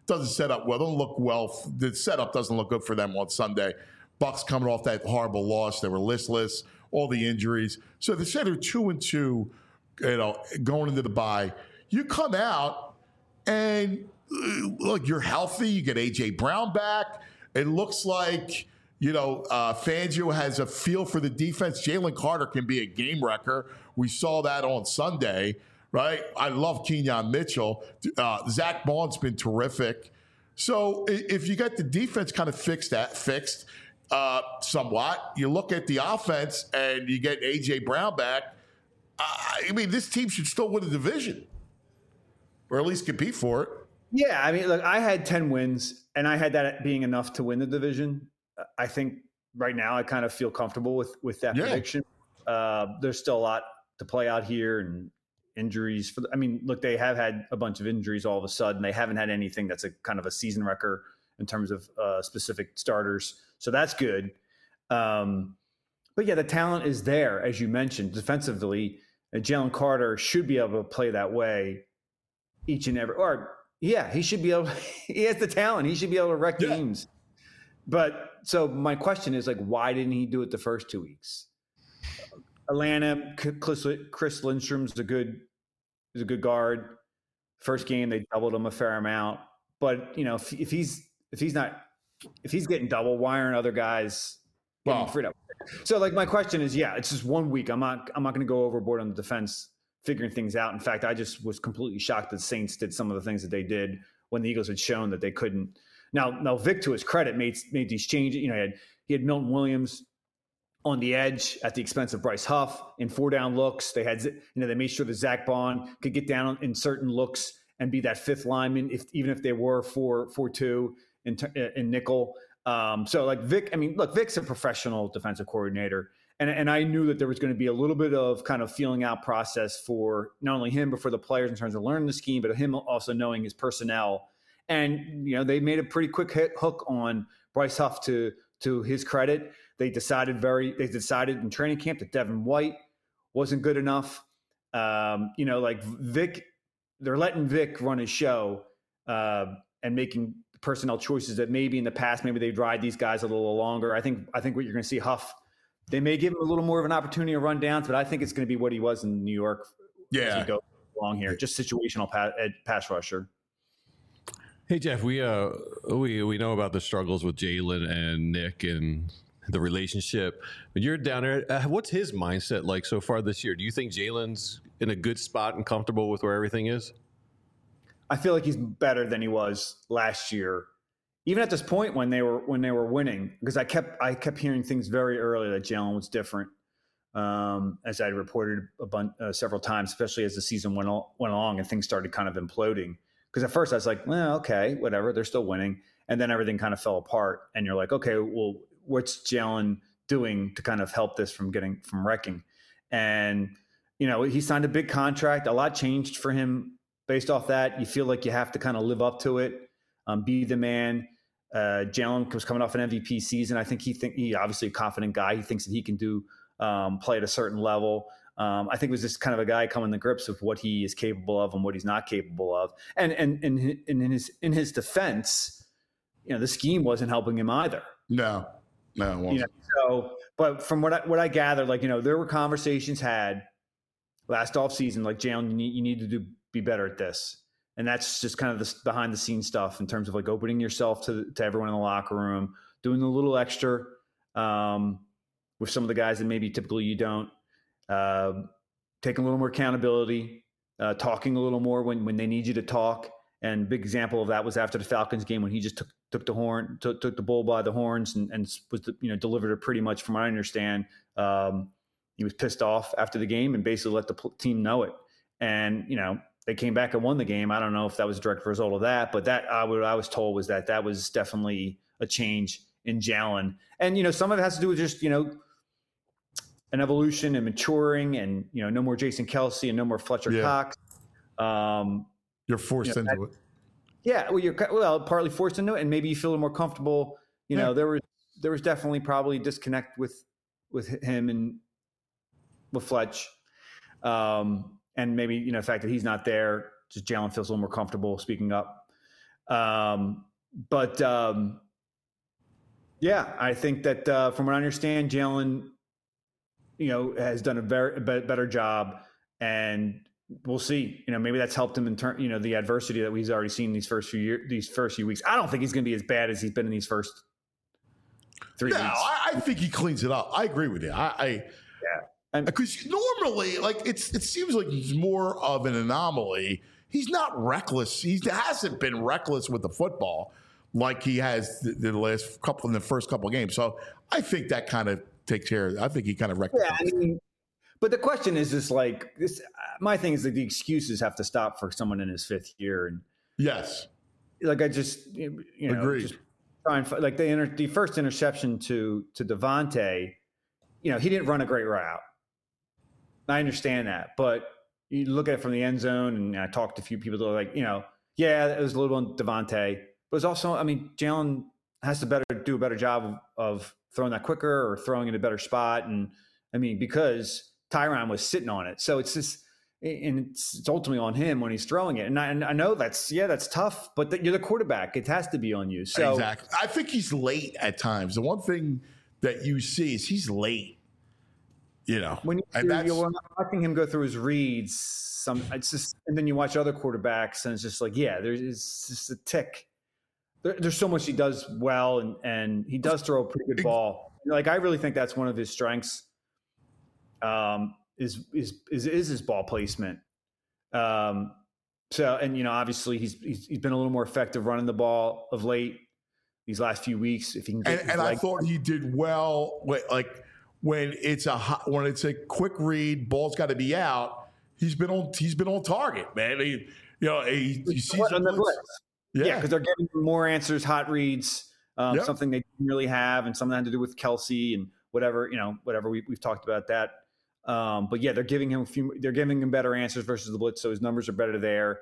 doesn't set up well. Don't look well. The setup doesn't look good for them on Sunday. Bucks coming off that horrible loss. They were listless, all the injuries. So they said they're 2-2, going into the bye. You come out and look, you're healthy. You get A.J. Brown back. It looks like, Fangio has a feel for the defense. Jalen Carter can be a game wrecker. We saw that on Sunday, right? I love Kenyon Mitchell. Zach Baun's been terrific. So if you get the defense kind of fixed somewhat, you look at the offense and you get A.J. Brown back, this team should still win the division or at least compete for it. Yeah, look, I had 10 wins, and I had that being enough to win the division. I think right now I kind of feel comfortable with that prediction. There's still a lot to play out here, and injuries. Look, they have had a bunch of injuries all of a sudden. They haven't had anything that's a kind of a season wrecker in terms of specific starters. So that's good. But yeah, the talent is there, as you mentioned, defensively. Jalen Carter should be able to play that way each and every, he should be able, he has the talent. He should be able to wreck games. But so my question is, why didn't he do it the first 2 weeks? Atlanta, Chris Lindstrom's a good guard. First game, they doubled him a fair amount. But, if he's getting double, why aren't other guys getting freed up? So my question is, it's just 1 week. I'm not going to go overboard on the defense figuring things out. In fact, I just was completely shocked that Saints did some of the things that they did when the Eagles had shown that they couldn't. Now Vic, to his credit, made these changes. He had Milton Williams on the edge at the expense of Bryce Huff in 4-down looks. They had, they made sure that Zach Baun could get down in certain looks and be that fifth lineman, even if they were 4-2 in nickel. So Vic, Vic's a professional defensive coordinator. And I knew that there was going to be a little bit of kind of feeling out process for not only him, but for the players in terms of learning the scheme, but him also knowing his personnel. And, they made a pretty quick hook on Bryce Huff to his credit. They decided in training camp that Devin White wasn't good enough. Vic, they're letting Vic run his show and making personnel choices that maybe in the past, maybe they'd ride these guys a little longer. I think what you're going to see Huff, they may give him a little more of an opportunity to run downs, but I think it's going to be what he was in New York. As he goes along here, just situational pass rusher. Hey Jeff, we know about the struggles with Jalen and Nick and the relationship. When you're down there, what's his mindset like so far this year? Do you think Jalen's in a good spot and comfortable with where everything is? I feel like he's better than he was last year, even at this point when they were winning. Because I kept hearing things very early that Jalen was different, as I reported several times, especially as the season went along and things started kind of imploding. Because at first I was like, well, okay, whatever, they're still winning, and then everything kind of fell apart, and you're like, okay, well, what's Jalen doing to kind of help this from wrecking? And he signed a big contract. A lot changed for him based off that. You feel like you have to kind of live up to it, be the man. Jalen was coming off an MVP season. I think he obviously a confident guy. He thinks that he can do play at a certain level. I think it was just kind of a guy coming to grips with what he is capable of and what he's not capable of. And in his defense, the scheme wasn't helping him either. No, it wasn't. But from what I gathered, there were conversations had last offseason, Jalen, you need to be better at this. And that's just kind of the behind the scenes stuff in terms of opening yourself to everyone in the locker room, doing a little extra with some of the guys that maybe typically you don't. Taking a little more accountability, talking a little more when they need you to talk. And big example of that was after the Falcons game when he just took the bull by the horns and was delivered it pretty much from what I understand. He was pissed off after the game and basically let the team know it. And they came back and won the game. I don't know if that was a direct result of that, but what I was told was that was definitely a change in Jalen. And some of it has to do with just an evolution and maturing, and no more Jason Kelce and no more Fletcher Cox. You're forced into it. Yeah, well, you're partly forced into it, and maybe you feel a little more comfortable. There was definitely probably disconnect with him and with Fletch, and maybe the fact that he's not there, just Jalen feels a little more comfortable speaking up. Yeah, I think that from what I understand, Jalen, has done a better job, and we'll see. Maybe that's helped him in turn. The adversity that he's already seen these first few weeks. I don't think he's going to be as bad as he's been in these first 3 weeks. I think he cleans it up. I agree with you. Because normally, it seems like he's more of an anomaly. He's not reckless. He hasn't been reckless with the football like he has the first couple of games. So I think that kind of takes care of it. I think he kind of rectifies. Yeah, but the question is this: my thing is that the excuses have to stop for someone in his fifth year. And yes, I just agreed. Just try and the first interception to Devontae. He didn't run a great route. I understand that, but you look at it from the end zone, and I talked to a few people that are like, yeah, it was a little on Devontae, but it's also, Jalen has to do a better job of throwing that quicker or throwing in a better spot, and because Tyron was sitting on it, so it's just, and it's ultimately on him when he's throwing it, and I know that's tough, but you're the quarterback; it has to be on you. So exactly, I think he's late at times. The one thing that you see is he's late. When you're watching him go through his reads, it's just, and then you watch other quarterbacks, and it's just there's just a tick. There's so much he does well, and he does throw a pretty good ball. I really think that's one of his strengths. Is his ball placement. Obviously he's been a little more effective running the ball of late these last few weeks. If he can get I thought he did well. When it's a quick read, ball's got to be out. He's been on target, man. He sees on the blitz. Yeah, because they're getting more answers, hot reads, something they didn't really have, and something had to do with Kelsey and whatever. We've talked about that. But yeah, they're giving him better answers versus the blitz, so his numbers are better there.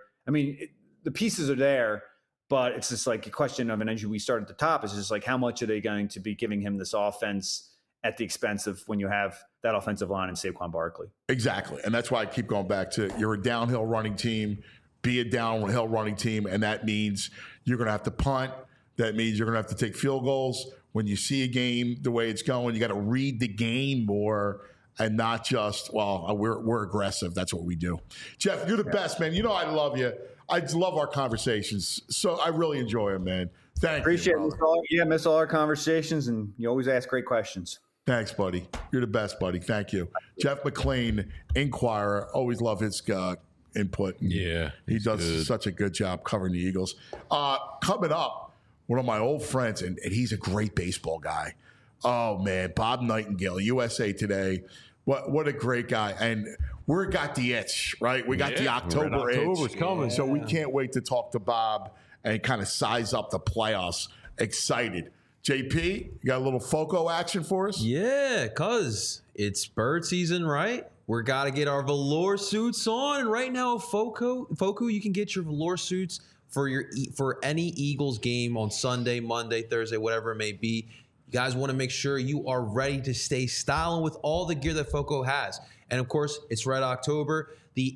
The pieces are there, but it's just a question of, and as we start at the top, it's just how much are they going to be giving him this offense at the expense of when you have that offensive line and Saquon Barkley. Exactly. And that's why I keep going back to, you're a downhill running team, be a downhill running team. And that means you're going to have to punt. That means you're going to have to take field goals. When you see a game the way it's going, you got to read the game more and not just, we're aggressive. That's what we do. Jeff, you're the best, man. I love you. I love our conversations. So I really enjoy them, man. Thank Appreciate you. Appreciate it. Miss all our conversations, and you always ask great questions. Thanks, buddy. You're the best, buddy. Thank you. Jeff McLean, Inquirer. Always love his input. Yeah. He does such a good job covering the Eagles. Coming up, one of my old friends, and he's a great baseball guy. Oh, man. Bob Nightingale, USA Today. What a great guy. And we got the itch, right? We got the October itch. October's coming. So we can't wait to talk to Bob and kind of size up the playoffs. Excited. JP, you got a little FOCO action for us? Yeah, because it's bird season, right? We're got to get our velour suits on. And right now, FOCO, you can get your velour suits for any Eagles game on Sunday, Monday, Thursday, whatever it may be. You guys want to make sure you are ready to stay styling with all the gear that FOCO has. And, of course, it's Red October. The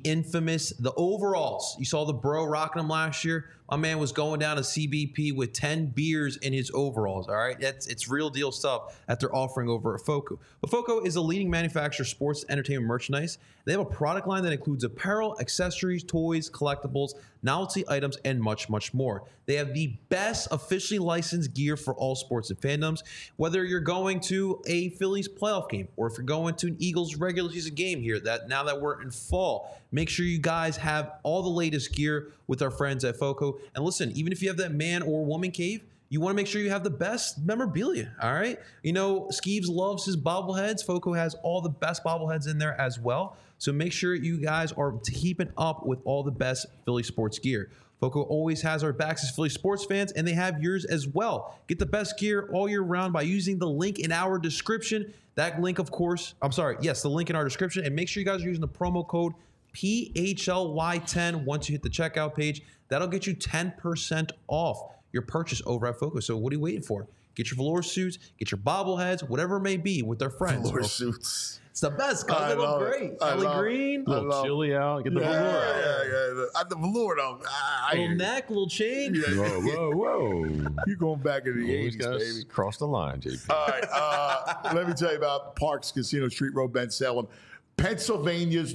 overalls. You saw the bro rocking them last year. My man was going down to CBP with 10 beers in his overalls, all right? It's real deal stuff that they're offering over at FOCO. But FOCO is a leading manufacturer of sports entertainment merchandise. They have a product line that includes apparel, accessories, toys, collectibles, novelty items, and much, much more. They have the best officially licensed gear for all sports and fandoms. Whether you're going to a Phillies playoff game or if you're going to an Eagles regular season game here, now that we're in fall, make sure you guys have all the latest gear with our friends at FOCO. And listen, even if you have that man or woman cave, you want to make sure you have the best memorabilia, all right? Skeeves loves his bobbleheads. FOCO has all the best bobbleheads in there as well. So make sure you guys are keeping up with all the best Philly sports gear. FOCO always has our backs as Philly sports fans, and they have yours as well. Get the best gear all year round by using the link in our description. That link, of course, the link in our description. And make sure you guys are using the promo code PHLY10 once you hit the checkout page. That'll get you 10% off your purchase over at FOCO. So what are you waiting for? Get your velour suits, get your bobbleheads, whatever it may be with their friends. Velour suits. It's the best, because they look great. Kelly Green. A little chilly out. Get the velour out. The velour, though. Little neck, little chain. Whoa. You're going back into the 80s, baby. Cross the line, JP. All right. Let me tell you about Parks Casino, Street Road, Ben Salem. Pennsylvania's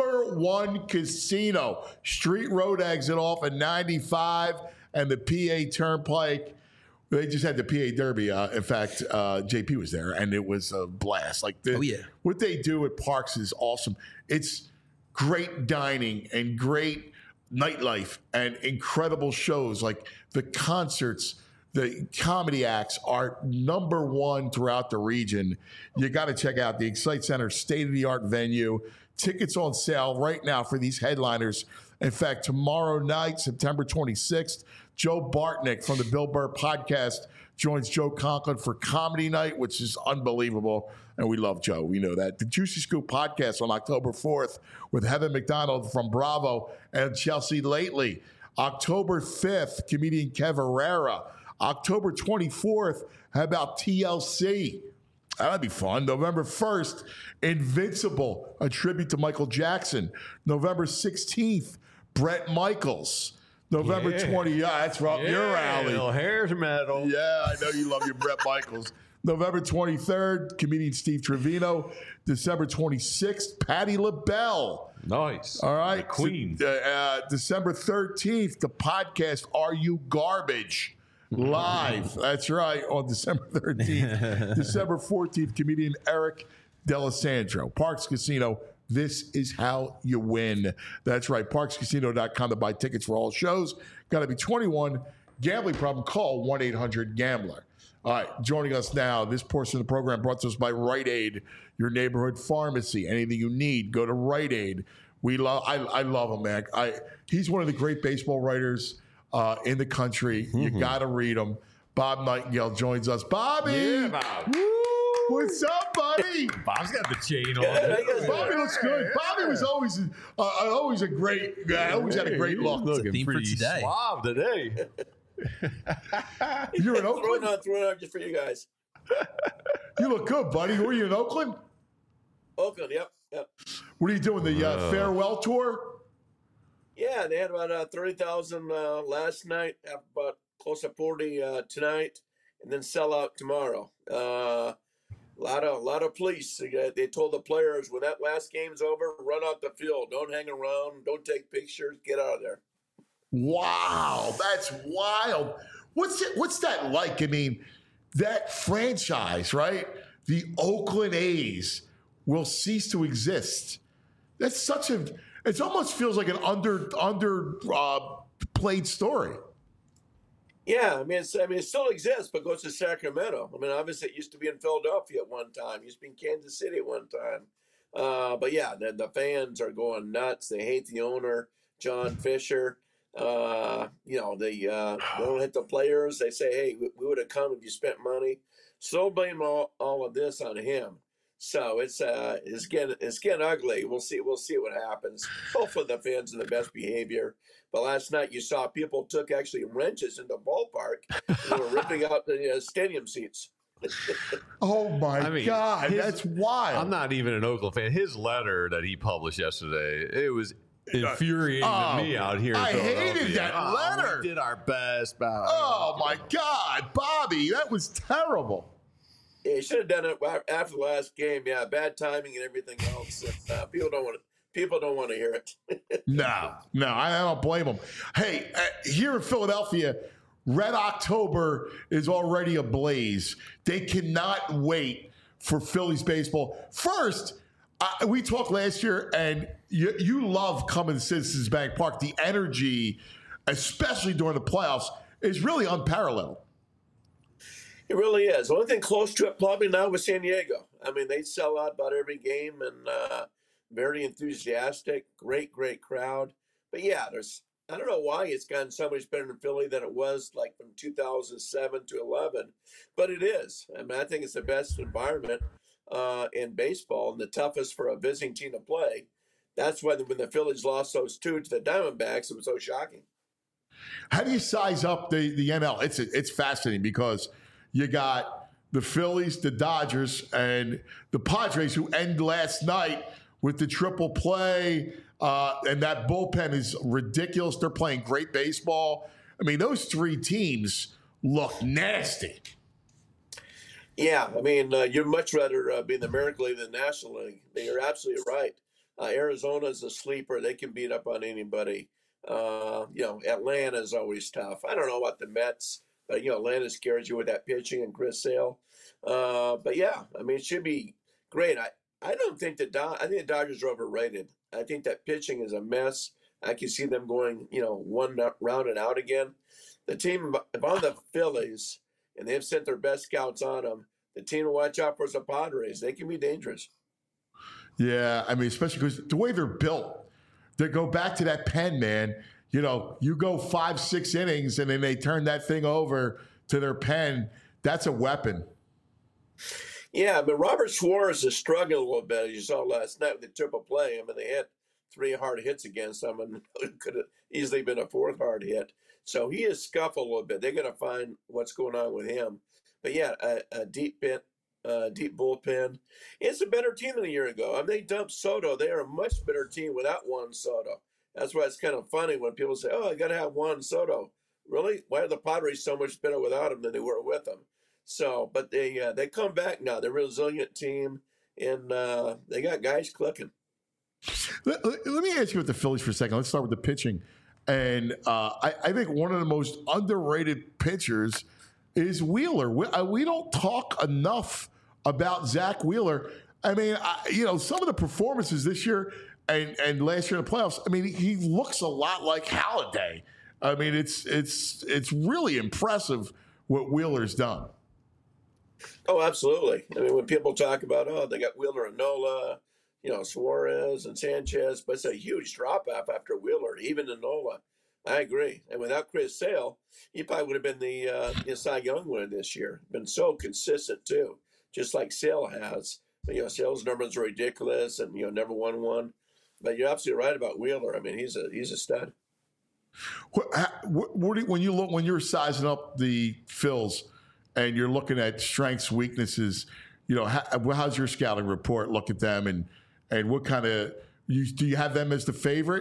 #1 casino. Street Road exit off at 95 and the PA Turnpike. They just had the PA Derby. In fact, JP was there, and it was a blast. What they do at Parks is awesome. It's great dining and great nightlife and incredible shows. Like the concerts, the comedy acts are #1 throughout the region. You got to check out the Excite Center, state-of-the-art venue. Tickets on sale right now for these headliners. In fact, tomorrow night, September 26th, Joe Bartnick from the Bill Burr podcast joins Joe Conklin for Comedy Night, which is unbelievable. And we love Joe. We know that. The Juicy Scoop podcast on October 4th with Heather McDonald from Bravo and Chelsea Lately. October 5th, comedian Kev Herrera. October 24th, how about TLC? That'd be fun. November 1st, Invincible, a tribute to Michael Jackson. November 16th, Bret Michaels. November 20th, that's up your alley. Hair metal. Yeah, I know you love your Bret Michaels. November 23rd, comedian Steve Trevino. December 26th, Patti LaBelle. Nice. All right. The queen. December 13th, the podcast Are You Garbage? Live. That's right, on December 13th. December 14th, comedian Eric D'Alessandro. Parks Casino, this is how you win. That's right, parkscasino.com to buy tickets for all shows. Got to be 21. Gambling problem, call 1-800-GAMBLER. All right, joining us now, this portion of the program brought to us by Rite Aid, your neighborhood pharmacy. Anything you need, go to Rite Aid. I love him, man. He's one of the great baseball writers in the country. You got to read them. Bob Nightingale joins us. Bobby! Yeah, Bob. Woo! What's up, buddy? Bob's got the chain on. Bobby looks good. Bobby was always a great guy. Always had a great look. Looking pretty suave today. You're in Oakland? Throwing out just for you guys. You look good, buddy. Were you in Oakland? Oakland, yep. What are you doing, the farewell tour? Yeah, they had about 30,000 last night, have about close to 40 tonight, and then sell out tomorrow. A lot of police. They told the players when that last game's over, run out the field. Don't hang around. Don't take pictures. Get out of there. Wow, that's wild. What's that like? I mean, that franchise, right? The Oakland A's will cease to exist. That's such a. It almost feels like an played story. Yeah, I mean, it still exists, but goes to Sacramento. I mean, obviously, it used to be in Philadelphia at one time. It used to be in Kansas City at one time. But yeah, the fans are going nuts. They hate the owner, John Fisher. They don't hit the players. They say, hey, we would have come if you spent money. So blame all of this on him. So it's getting ugly. We'll see what happens. Hopefully the fans in the best behavior. But last night you saw people took actually wrenches in the ballpark and were ripping out the stadium seats. Oh my God, that's wild. I'm not even an Oakland fan. His letter that he published yesterday, it was infuriating to me out here. I hated that letter. We did our best. Oh my God, Bobby, that was terrible. Yeah, he should have done it after the last game. Yeah, bad timing and everything else. People don't want to hear it. No, I don't blame them. Hey, here in Philadelphia, Red October is already ablaze. They cannot wait for Phillies baseball. First, we talked last year, and you love coming to Citizens Bank Park. The energy, especially during the playoffs, is really unparalleled. It really is. The only thing close to it probably now was San Diego. I mean, they sell out about every game and very enthusiastic, great crowd. But yeah, I don't know why it's gotten so much better in Philly than it was like from 2007 to 11, but it is. I mean, I think it's the best environment in baseball and the toughest for a visiting team to play. That's why when the Phillies lost those two to the Diamondbacks, it was so shocking. How do you size up the NL? It's fascinating because you got the Phillies, the Dodgers, and the Padres, who end last night with the triple play. And that bullpen is ridiculous. They're playing great baseball. I mean, those three teams look nasty. Yeah, I mean, you'd much rather be in the American League than the National League. You're absolutely right. Arizona's a sleeper. They can beat up on anybody. Atlanta is always tough. I don't know about the Mets, but, Atlanta scares you with that pitching and Chris Sale. But, yeah, I mean, it should be great. I don't think I think the Dodgers are overrated. I think that pitching is a mess. I can see them going, one round and out again. The team, if I'm the Phillies, and they've sent their best scouts on them, the team to watch out for is the Padres. They can be dangerous. Yeah, I mean, especially because the way they're built, they go back to that pen, man. You go 5-6 innings, and then they turn that thing over to their pen. That's a weapon. Yeah, but Robert Suarez is struggling a little bit, as you saw last night with the triple play. I mean, they had 3 hard hits against them, and it could have easily been a 4th hard hit. So he is scuffled a little bit. They're going to find what's going on with him. But yeah, a deep bullpen. It's a better team than a year ago. I mean, they dumped Soto. They are a much better team without Juan Soto. That's why it's kind of funny when people say, "Oh, I got to have Juan Soto." Really? Why are the Padres so much better without him than they were with him? So, but they come back now. They're a resilient team, and they got guys clicking. Let me ask you about the Phillies for a second. Let's start with the pitching. And I think one of the most underrated pitchers is Wheeler. We don't talk enough about Zach Wheeler. I mean, some of the performances this year and last year in the playoffs, I mean, he looks a lot like Halladay. I mean, it's really impressive what Wheeler's done. Oh, absolutely. I mean, when people talk about, they got Wheeler and Nola, Suarez and Sanchez, but it's a huge drop-off after Wheeler, even in Nola. I agree. And without Chris Sale, he probably would have been the Cy Young winner this year. Been so consistent, too, just like Sale has. But, Sale's numbers are ridiculous and, never won one. But you're absolutely right about Wheeler. I mean, he's a stud. When you're sizing up the Phils and you're looking at strengths, weaknesses, how's your scouting report look at them and what kind of do you have them as the favorite?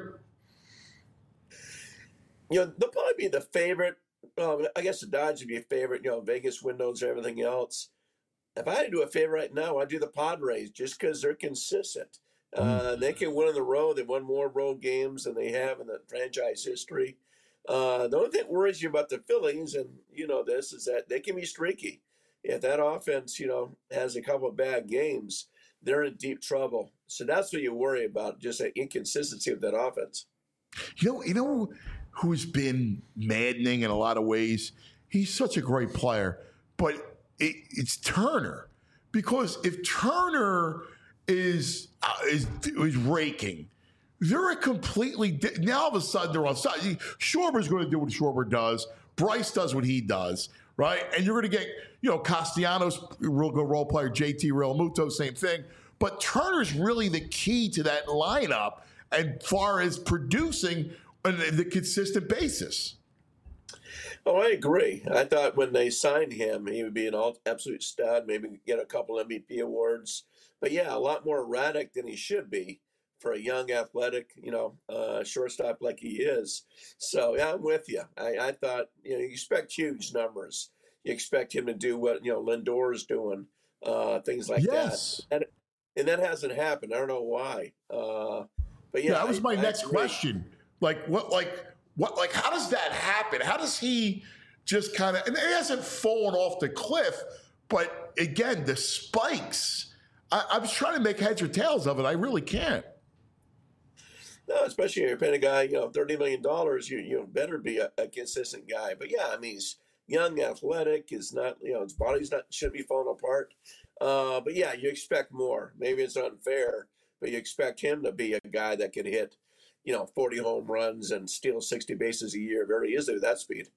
They'll probably be the favorite. I guess the Dodgers would be a favorite. Vegas windows, everything else. If I had to do a favorite right now, I'd do the Padres just because they're consistent. They can win on the road. They've won more road games than they have in the franchise history. The only thing that worries you about the Phillies, and this, is that they can be streaky. If that offense, has a couple of bad games, they're in deep trouble. So that's what you worry about, just the inconsistency of that offense. You know who's been maddening in a lot of ways? He's such a great player, but it's Turner. Because if Turner is raking, they're a completely now all of a sudden they're on side. Schwarber's going to do what Schwarber does. Bryce does what he does, right? And you're going to get Castellanos, real good role player. JT Realmuto, same thing. But Turner's really the key to that lineup as far as producing on the consistent basis. Oh, I agree. I thought when they signed him, he would be an absolute stud, maybe get a couple MVP awards. But yeah, a lot more erratic than he should be for a young, athletic, shortstop like he is. So yeah, I'm with you. I thought, you expect huge numbers. You expect him to do what Lindor is doing, things like that. And that hasn't happened. I don't know why. But yeah, that was my next question. How does that happen? How does he just kind of, and it hasn't fallen off the cliff, but again, the spikes, I was trying to make heads or tails of it. I really can't. No, especially if you're paying a guy, $30 million, you better be a consistent guy. But yeah, I mean, he's young, athletic, is not, his body's shouldn't be falling apart. But yeah, you expect more. Maybe it's unfair, but you expect him to be a guy that can hit, 40 home runs and steal 60 bases a year very easily with that speed.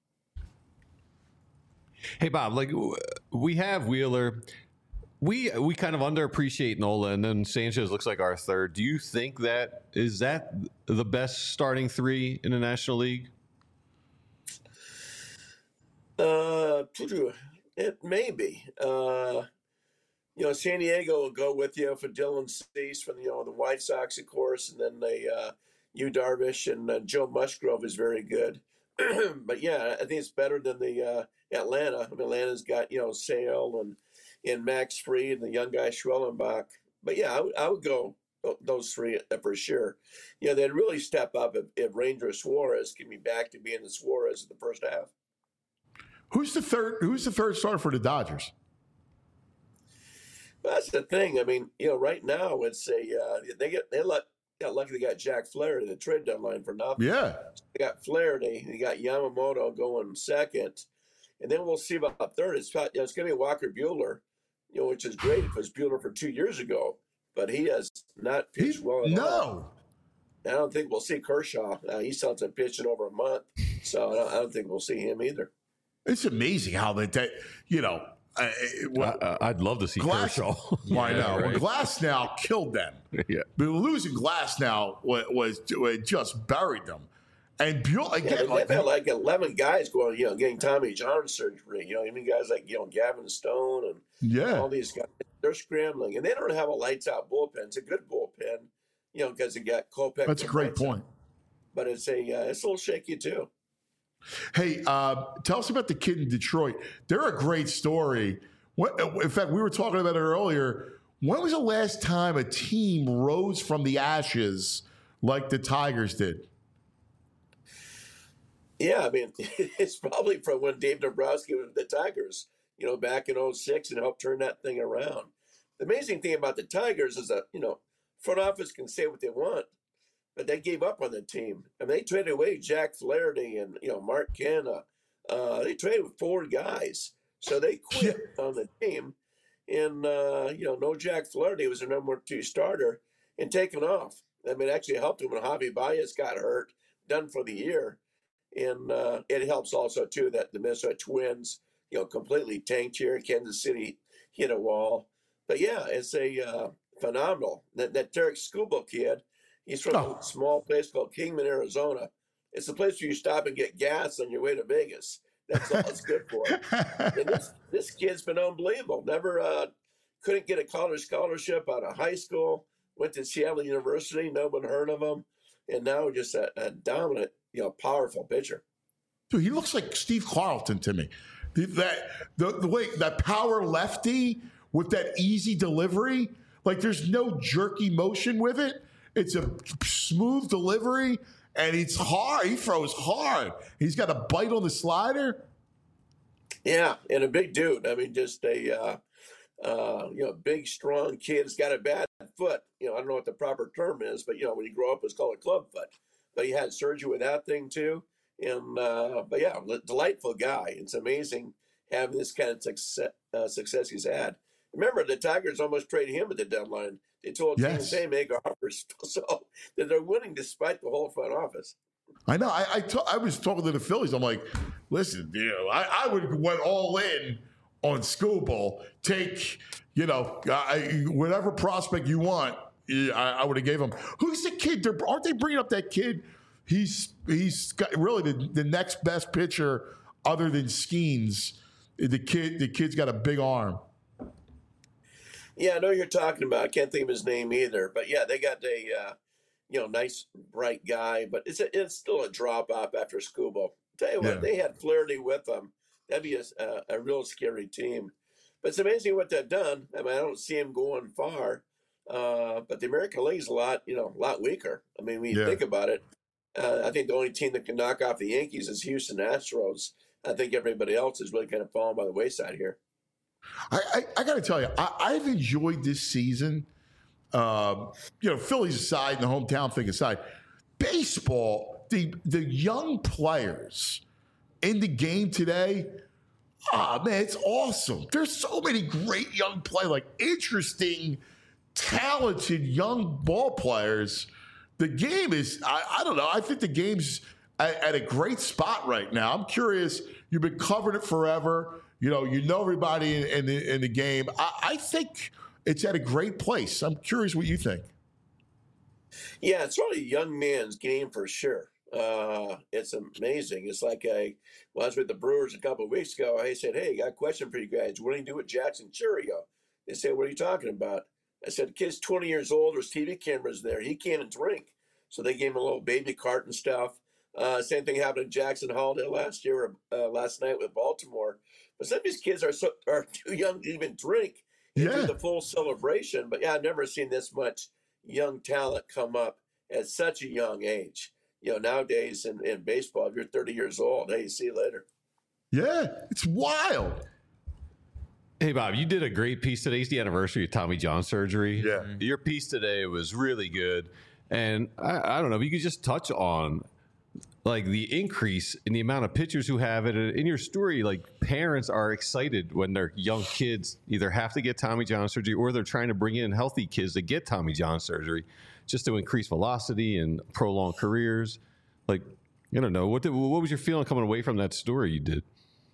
Hey, Bob, we have Wheeler. We kind of underappreciate Nola, and then Sanchez looks like our third. Do you think is that the best starting three in the National League? It may be. San Diego will go with you for Dylan Cease from the White Sox, of course, and then Yu Darvish and Joe Musgrove is very good. But yeah, I think it's better than the Atlanta. I mean, Atlanta's got Sale and Max Fried and the young guy Schwellenbach. But yeah, I would go those three for sure. They'd really step up if Ranger Suarez can be back to being the Suarez in the first half. Who's the third starter for the Dodgers? Well, that's the thing. I mean, right now it's got lucky they got Jack Flaherty at the trade deadline for nothing. Yeah. They got Flaherty, they got Yamamoto going second, and then we'll see about third. It's going to be Walker Buehler, which is great. It was Buehler for 2 years ago, but he has not pitched well at all. I don't think we'll see Kershaw. He still hasn't pitched in over a month, so I don't think we'll see him either. It's amazing how I'd love to see Kershaw. Why not? Right. Well, Glasnow killed them. Yeah. But losing Glasnow was just buried them. And Buell again, they've had like 11 guys going, getting Tommy John surgery. I mean, guys like Gavin Stone and all these guys, they're scrambling, and they don't have a lights out bullpen. It's a good bullpen, because they got Kopech. That's a great point. But it's a little shaky too. Hey, tell us about the kid in Detroit. They're a great story. In fact, we were talking about it earlier. When was the last time a team rose from the ashes like the Tigers did? Yeah, I mean, it's probably from when Dave Dombrowski was with the Tigers, back in 2006 and helped turn that thing around. The amazing thing about the Tigers is that, front office can say what they want, but they gave up on the team. I mean, they traded away Jack Flaherty and, Mark Canha. They traded 4 guys. So they quit on the team. And, no Jack Flaherty was their number 2 starter and taken off. I mean, it actually helped him when Javi Baez got hurt, done for the year. And it helps also, too, that the Minnesota Twins, completely tanked here. Kansas City hit a wall. But, yeah, it's a phenomenal. That Derek Skubal kid, he's from a small place called Kingman, Arizona. It's a place where you stop and get gas on your way to Vegas. That's all it's good for. And this kid's been unbelievable. Never couldn't get a college scholarship out of high school. Went to Seattle University. No one heard of him. And now just a dominant, powerful pitcher. Dude, he looks like Steve Carlton to me. The way that power lefty with that easy delivery, like there's no jerky motion with it. It's a smooth delivery, and it's hard. He throws hard. He's got a bite on the slider. Yeah, and a big dude. I mean, just a big, strong kid. He's got a bad foot. I don't know what the proper term is, but when you grow up, it's called a club foot. But he had surgery with that thing too. And but yeah, delightful guy. It's amazing having this kind of success he's had. Remember, the Tigers almost traded him at the deadline. They told teams, "Hey, make offers," so that they're winning despite the whole front office. I know. I was talking to the Phillies. I'm like, listen, I would went all in on Skubal. Take whatever prospect you want. I would have gave him. Who's the kid? Aren't they bringing up that kid? He's got really the next best pitcher other than Skeens. The kid's got a big arm. Yeah, I know you're talking about. I can't think of his name either. But yeah, they got a nice bright guy, but it's still a drop off after Skubal. Tell you what, they had Flaherty with them. That'd be a real scary team. But it's amazing what they've done. I mean, I don't see him going far. But the American League's a lot weaker. I mean, when you think about it, I think the only team that can knock off the Yankees is Houston Astros. I think everybody else is really kind of falling by the wayside here. I got to tell you, I've enjoyed this season. Phillies aside and the hometown thing aside, baseball, the young players in the game today, man, it's awesome. There's so many great young players, like interesting, talented young ball players. The game is, I don't know, I think the game's at a great spot right now. I'm curious, you've been covering it forever. You know everybody in the game. I think it's at a great place. I'm curious what you think. Yeah, it's really a young man's game for sure. It's amazing. It's like I was with the Brewers a couple of weeks ago. I said, "Hey, got a question for you guys. What do you do with Jackson Chourio?" They said, "What are you talking about?" I said, "The kid's 20 years old. There's TV cameras there. He can't drink." So they gave him a little baby cart and stuff. Same thing happened to Jackson Holiday last night with Baltimore. But some of these kids are too young to even drink and do the full celebration. But yeah, I've never seen this much young talent come up at such a young age. Nowadays in baseball, if you're 30 years old, hey, see you later. Yeah, it's wild. Hey, Bob, you did a great piece today. It's the anniversary of Tommy John surgery. Yeah. Your piece today was really good. And I don't know if you could just touch on like the increase in the amount of pitchers who have it. In your story, like parents are excited when their young kids either have to get Tommy John surgery or they're trying to bring in healthy kids to get Tommy John surgery just to increase velocity and prolong careers. Like, I don't know. What was your feeling coming away from that story you did?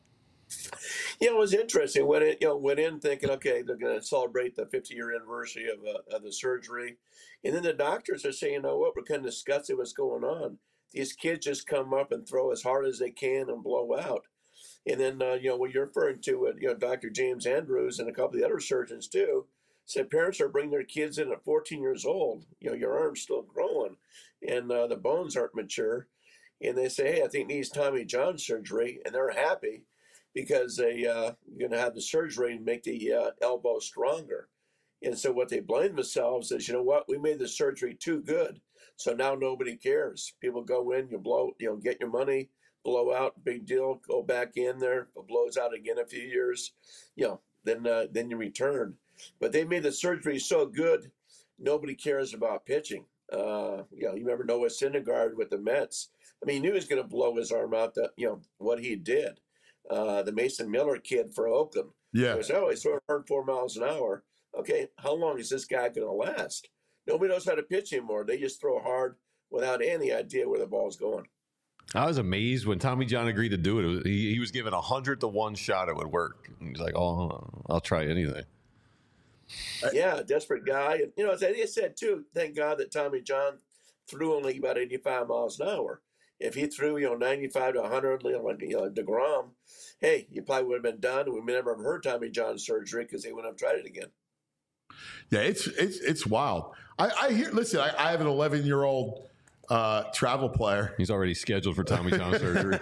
Yeah, it was interesting. Went in thinking, okay, they're going to celebrate the 50-year anniversary of the surgery, and then the doctors are saying, "You know what? We're kind of disgusted what's going on. These kids just come up and throw as hard as they can and blow out." And then what you're referring to, Dr. James Andrews and a couple of the other surgeons too, said parents are bringing their kids in at 14 years old. Your arm's still growing, and the bones aren't mature, and they say, "Hey, I think needs Tommy John surgery," and they're happy because they're going to have the surgery and make the elbow stronger. And so what they blame themselves is, you know what, we made the surgery too good, so now nobody cares. People go in, get your money, blow out, big deal, go back in there, it blows out again a few years, then you return. But they made the surgery so good, nobody cares about pitching. You remember Noah Syndergaard with the Mets. I mean, he knew he was going to blow his arm out, what he did. The Mason Miller kid for Oakland. Yeah. He's throwing 104 miles an hour. Okay, how long is this guy going to last? Nobody knows how to pitch anymore. They just throw hard without any idea where the ball's going. I was amazed when Tommy John agreed to do it. He was given 100-to-1 shot it would work. He's like, "Oh, I'll try anything." Yeah, desperate guy. And, as I said, too, thank God that Tommy John threw only about 85 miles an hour. If he threw, 95 to 100, like DeGrom, hey, you probably would have been done. We never have heard Tommy John surgery because they wouldn't have tried it again. Yeah, it's wild. I hear. Listen, I have an 11-year-old travel player. He's already scheduled for Tommy John surgery.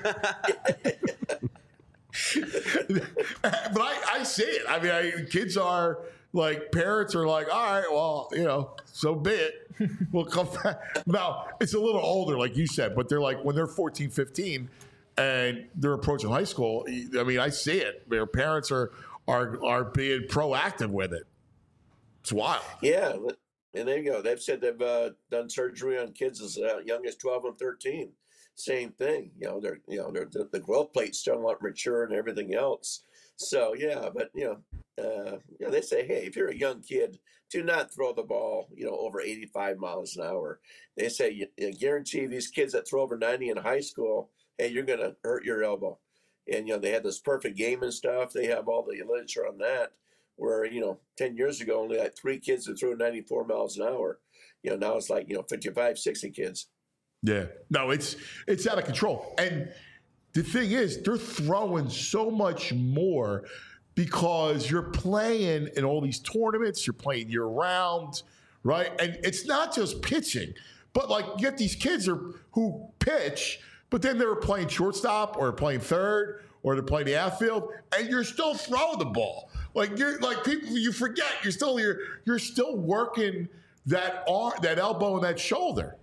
But I see it. I mean, kids are like, parents are like, all right, well, so be it. We'll come back. Now, it's a little older, like you said, but they're like, when they're 14, 15, and they're approaching high school, I mean, I see it. Their parents are being proactive with it. It's wild. Yeah, and there you go. They've said they've done surgery on kids as young as 12 and 13. Same thing. The growth plate's still not mature and everything else. So yeah, but they say, hey, if you're a young kid, do not throw the ball, over 85 miles an hour. They say you guarantee these kids that throw over 90 in high school, hey, you're going to hurt your elbow. And they had this perfect game and stuff. They have all the literature on that. Where 10 years ago only like 3 kids that threw 94 miles an hour. Now it's like 55, 60 kids. Yeah, no, it's out of control. And the thing is, they're throwing so much more because you're playing in all these tournaments. You're playing year round, right? And it's not just pitching, but like you get these kids who pitch, but then they're playing shortstop or playing third or they're playing the outfield, and you're still throwing the ball. Like people, you forget you're still working that arm, that elbow, and that shoulder.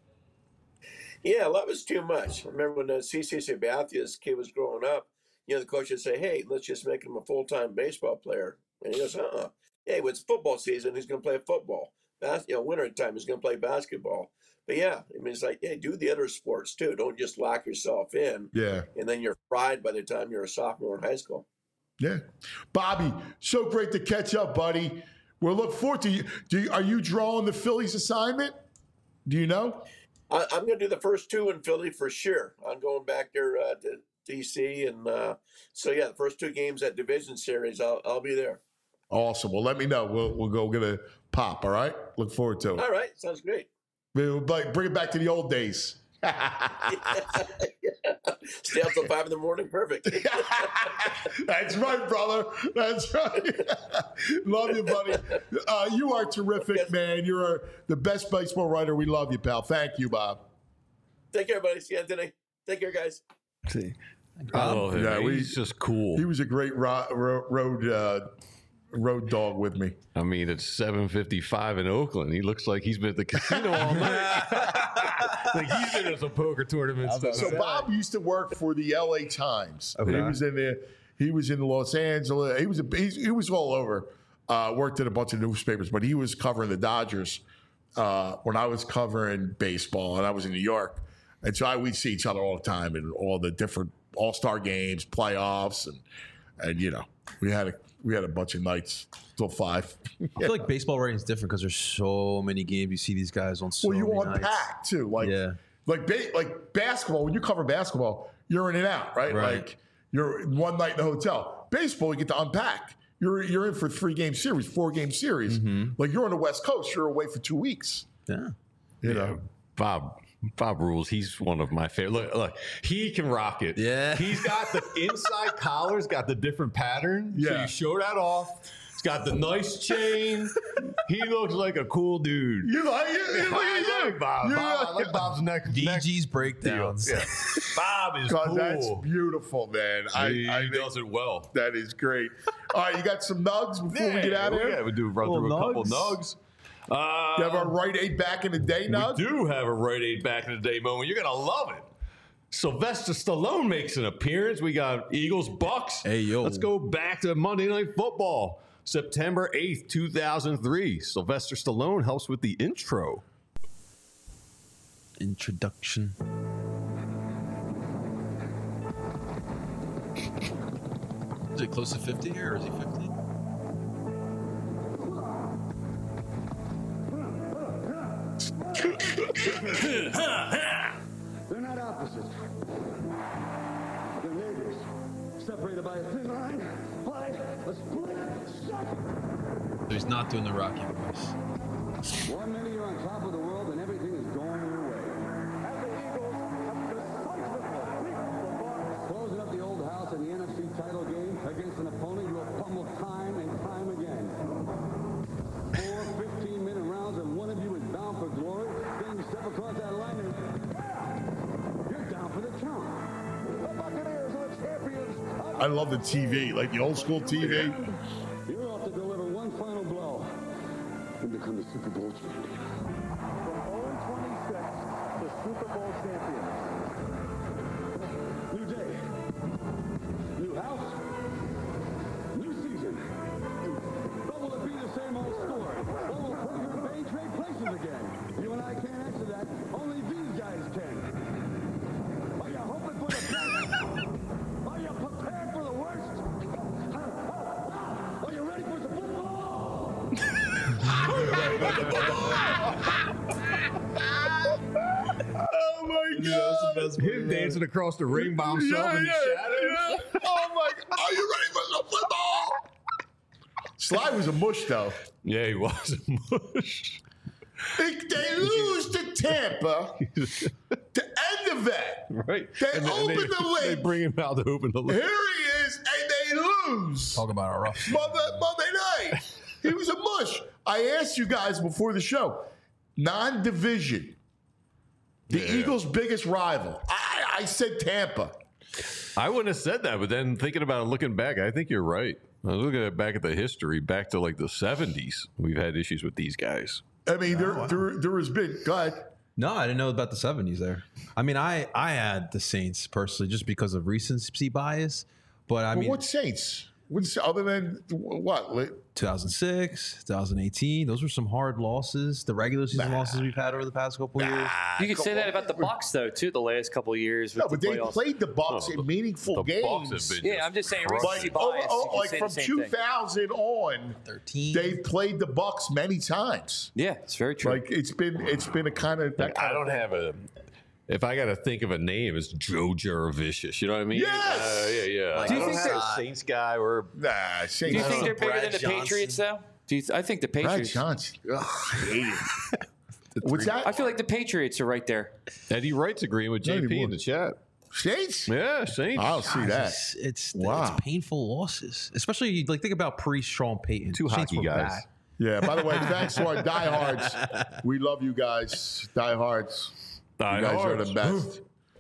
Yeah, that was too much. I remember when CC Sabathia's kid was growing up, the coach would say, hey, let's just make him a full-time baseball player. And he goes, hey, it's football season, he's going to play football. Winter time, he's going to play basketball. But yeah, I mean, it's like, hey, do the other sports too. Don't just lock yourself in. Yeah. And then you're fried by the time you're a sophomore in high school. Yeah. Bobby, so great to catch up, buddy. We'll look forward to you. Are you drawing the Phillies assignment? Do you know? I'm going to do the first 2 in Philly for sure. I'm going back there to D.C. And so, yeah, the first 2 games at Division Series, I'll be there. Awesome. Well, let me know. We'll go get a pop, all right? Look forward to it. All right. Sounds great. We'll bring it back to the old days. Stay up till 5 a.m. Perfect. That's right, brother. That's right. Love you, buddy. You are terrific, man. You're the best baseball writer. We love you, pal. Thank you, Bob. Take care, buddy. See you Anthony. Take care, guys. See. Yeah, he's just cool. He was a great road dog with me. I mean, it's 7:55 in Oakland. He looks like he's been at the casino all night. Like he's been at some poker tournaments. So Bob used to work for the LA Times. Okay. He was in there. He was in Los Angeles. He was all over. Worked at a bunch of newspapers, but he was covering the Dodgers when I was covering baseball, and I was in New York. And so we'd see each other all the time in all the different All-Star games, playoffs, and you know, we had a bunch of nights till 5. I feel like baseball writing is different because there's so many games. You see these guys on so many nights. Unpack too, like basketball. When you cover basketball, you're in and out, right? Like you're one night in the hotel. Baseball, you get to unpack. You're in for 3-game series, 4-game series. Mm-hmm. Like you're on the West Coast, you're away for 2 weeks. Yeah, you know, Bob rules. He's one of my favorite. Look, he can rock it. Yeah. He's got the inside collar's got the different pattern. Yeah. So you show that off. He's got the nice chain. He looks like a cool dude. You like it? I like Bob. I like Bob's neck. DG's breakdowns. Yeah. Bob is cool. That's beautiful, man. He does it well. That is great. All right, you got some nugs before we get out of here? Yeah, we do run through a couple nugs. You have our Rite Aid back in the day, Nug? We do have a Rite Aid back in the day moment. You're going to love it. Sylvester Stallone makes an appearance. We got Eagles, Bucks. Hey, yo. Let's go back to Monday Night Football. September 8th, 2003. Sylvester Stallone helps with the intro. Introduction. Is it close to 50 here, or is he 50? They're not opposites. They're neighbors. Separated by a thin line, by a split second. So he's not doing the Rocky voice. 1 minute you're on top of the world and everything is going your way. And the Eagles have decisively beaten the Bucs. Closing up the old house in the NFC title game against an opponent you have pummeled time and time again. 4 15-minute rounds and one of you is bound for glory. Then you step across that line and you're down for the count. The Buccaneers are the champions. I love the TV, like the old school TV. You're off to deliver one final blow and become the Super Bowl champion. From 0-26, the Super Bowl champions. New day, new house, new season. But will it be the same old story? Or will Porter and Bay trade places again? You and I can't answer that. Only these guys can. Are you hoping for the best? Are you prepared for the worst? Are you ready for some football? Oh my God! Him dancing across the ring by himself in the shadows. Yeah. Oh my! Are you ready for some football? Sly was a mush, though. Yeah, he was a mush. They lose to Tampa to end the vet. Right. They And open the They lid. bring him out to open the lid. Here he is, and they lose. Talk about a rough. Monday night. He was a mush. I asked you guys before the show. Non-division. The Eagles' biggest rival. I said Tampa. I wouldn't have said that, but then thinking about it, looking back, I think you're right. I was looking back at the history, back to like the 70s. We've had issues with these guys. I mean, there has been. Go ahead. No, I didn't know about the 70s there. I mean, I had the Saints personally just because of recency bias. But I mean, what Saints? What's other than what? 2006, 2018. Those were some hard losses. The regular season losses we've had over the past couple of years. You could say that about the Bucs though, too. The last couple of years. No, but they played the Bucs in meaningful games. Yeah, I'm just saying recency bias. Like from 2000 on, 13. They've played the Bucs many times. Yeah, it's very true. Like it's been a kind of. I don't have a. If I got to think of a name, it's Joe Juravicious. You know what I mean? Yes. Yeah. Like, do you think they're a Saints guy or Saints? Do you think they're bigger than the Patriots though? I think the Patriots. Brad Johnson. Ugh, I hate him. What's that? I feel like the Patriots are right there. Eddie Wright's agreeing with JP in the chat. Saints? Yeah, Saints. I don't see that. It's Wow. painful losses, especially like think about pre-Sean Payton. Two Saints hockey were guys. bad. Yeah, by the way, thanks to our diehards. We love you guys. Diehards. You guys are the best.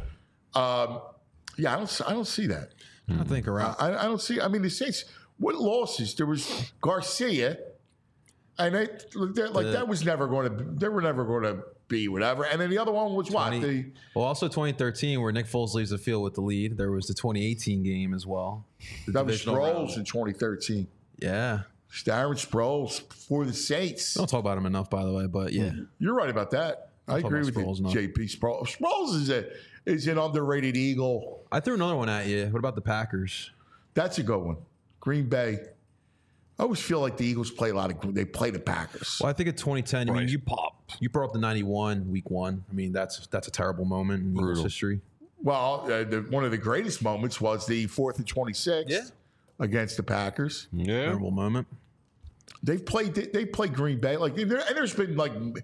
Yeah, I don't see that. I think around. I don't see. I mean, the Saints. What losses? There was Garcia, and that was never going to. They were never going to be whatever. And then the other one was what? Also 2013, where Nick Foles leaves the field with the lead. There was the 2018 game as well. That was Sproles in 2013. Yeah. Darren Sproles for the Saints. Don't talk about him enough, by the way, but yeah. You're right about that. I agree with you, JP. Sproles is an underrated Eagle. I threw another one at you. What about the Packers? That's a good one. Green Bay. I always feel like the Eagles play they play the Packers. Well, I think at 2010, I mean, you brought up the 91 week one. I mean, that's a terrible moment in Eagles history. Well, one of the greatest moments was the 4th and 26th against the Packers. Yeah, terrible moment. They played Green Bay and there's been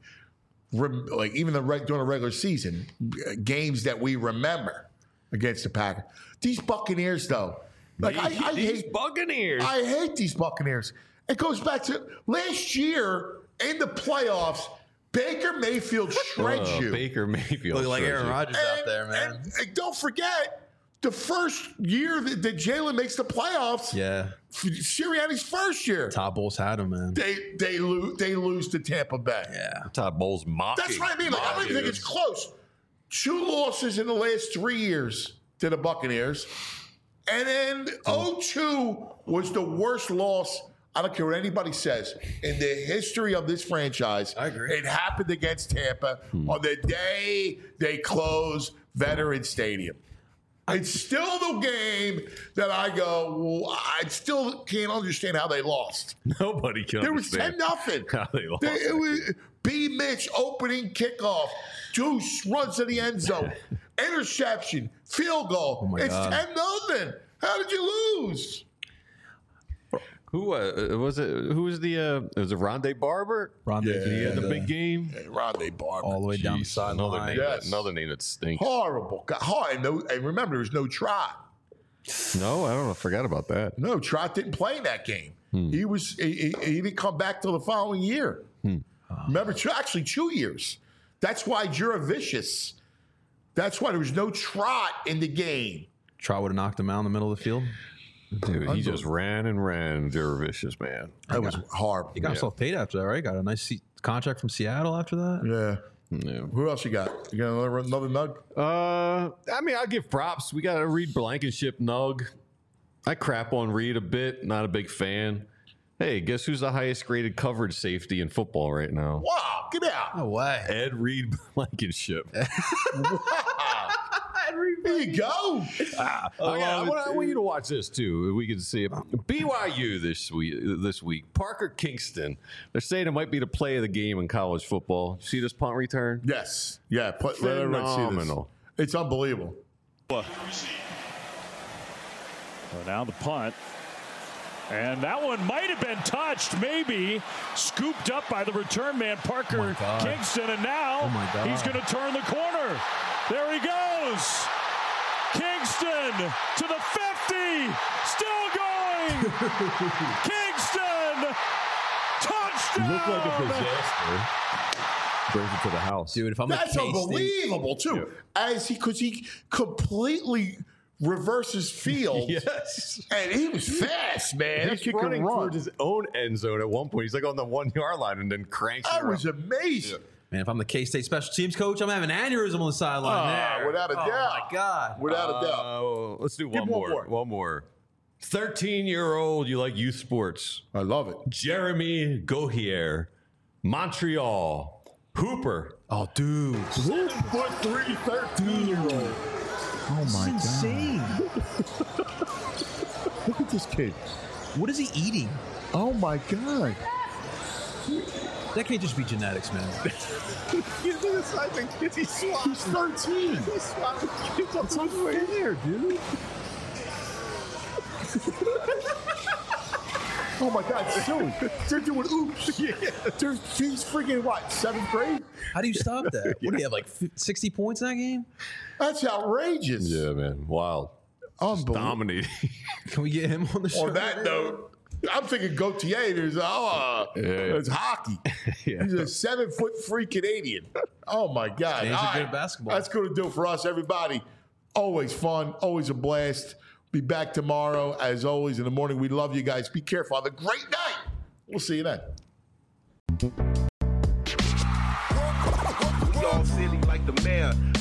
even during the regular season games that we remember against the Packers. These Buccaneers, though, I hate Buccaneers. I hate these Buccaneers. It goes back to last year in the playoffs. Baker Mayfield shreds you. Baker Mayfield, look like Aaron Rodgers out there, man. And don't forget the first year that Jalen makes the playoffs. Yeah, Sirianni's first year. Todd Bowles had him, man. They lose to Tampa Bay. Yeah, Todd Bowles mocking. That's what I mean. I don't even think it's close. 2 losses in the last 3 years to the Buccaneers. And then 0-2 was the worst loss, I don't care what anybody says, in the history of this franchise. I agree. It happened against Tampa on the day they closed Veterans Stadium. It's still the game that I go, well, I still can't understand how they lost. Nobody can understand. There was 10-0. How they lost. It was B. Mitch opening kickoff. Deuce runs to the end zone. Interception. Field goal. Oh It's 10-0. How did you lose? Who was it? Who was was it Rondé Barber? Rondé, he had the big game. Yeah, Rondé Barber. All the way down the sideline. Another name that stinks. Horrible. And remember, there was no Trot. No, I don't know. I forgot about that. No, Trot didn't play in that game. He didn't come back till the following year. Remember, actually 2 years. That's why Juravicious. That's why there was no Trot in the game. Trot would have knocked him out in the middle of the field. Dude, he just ran and ran. Juravicious, man. That was horrible. He got himself paid after that, right? Got a nice contract from Seattle after that. Yeah. Who else you got? You got another nug? I mean, I'll give props. We got a Reed Blankenship nug. I crap on Reed a bit. Not a big fan. Hey, guess who's the highest graded coverage safety in football right now? Wow, get out. No way. Ed Reed Blankenship. Wow. There you go. I want you to watch this too. We can see it. BYU this week. Parker Kingston. They're saying it might be the play of the game in college football. See this punt return? Yes. Yeah. Phenomenal. It's unbelievable. So now the punt. And that one might have been touched, maybe. Scooped up by the return man, Parker Kingston. And now he's going to turn the corner. There he goes. Kingston to the 50. Still going. Kingston. Touchdown. Looked like a disaster. Brings it to the house. Dude, if I'm That's unbelievable, too. Yeah. Because he completely reverses field. Yes. And he was fast, man. He's running towards his own end zone at one point. He's like on the 1 yard line and then cranks it. That was amazing. Yeah. Man, if I'm the K-State special teams coach, I'm having an aneurysm on the sideline there. Without a doubt. Oh, my God. Without a doubt. Let's do one more. One more. 13-year-old, you like youth sports. I love it. Jeremy Gohier, Montreal. Hooper. Oh, dude. 7'3", 13-year-old. Oh, my God. Insane. Look at this kid. What is he eating? Oh, my God. That can't just be genetics, man. He's 13. He's swapping kids up there, dude. Oh my God, silly. They're doing oops. Yeah. He's freaking what, 7th grade? How do you stop that? What do you have, like 60 points in that game? That's outrageous. Yeah, man. Wild. Unbelievable. Dominating. Can we get him on the show? On that note, I'm thinking Gautier. There's hockey. Yeah. He's a 7-foot free Canadian. Oh my God! He's a good basketball. That's going to do it for us, everybody. Always fun, always a blast. Be back tomorrow, as always, in the morning. We love you guys. Be careful. Have a great night. We'll see you then. Y'all silly like the mayor.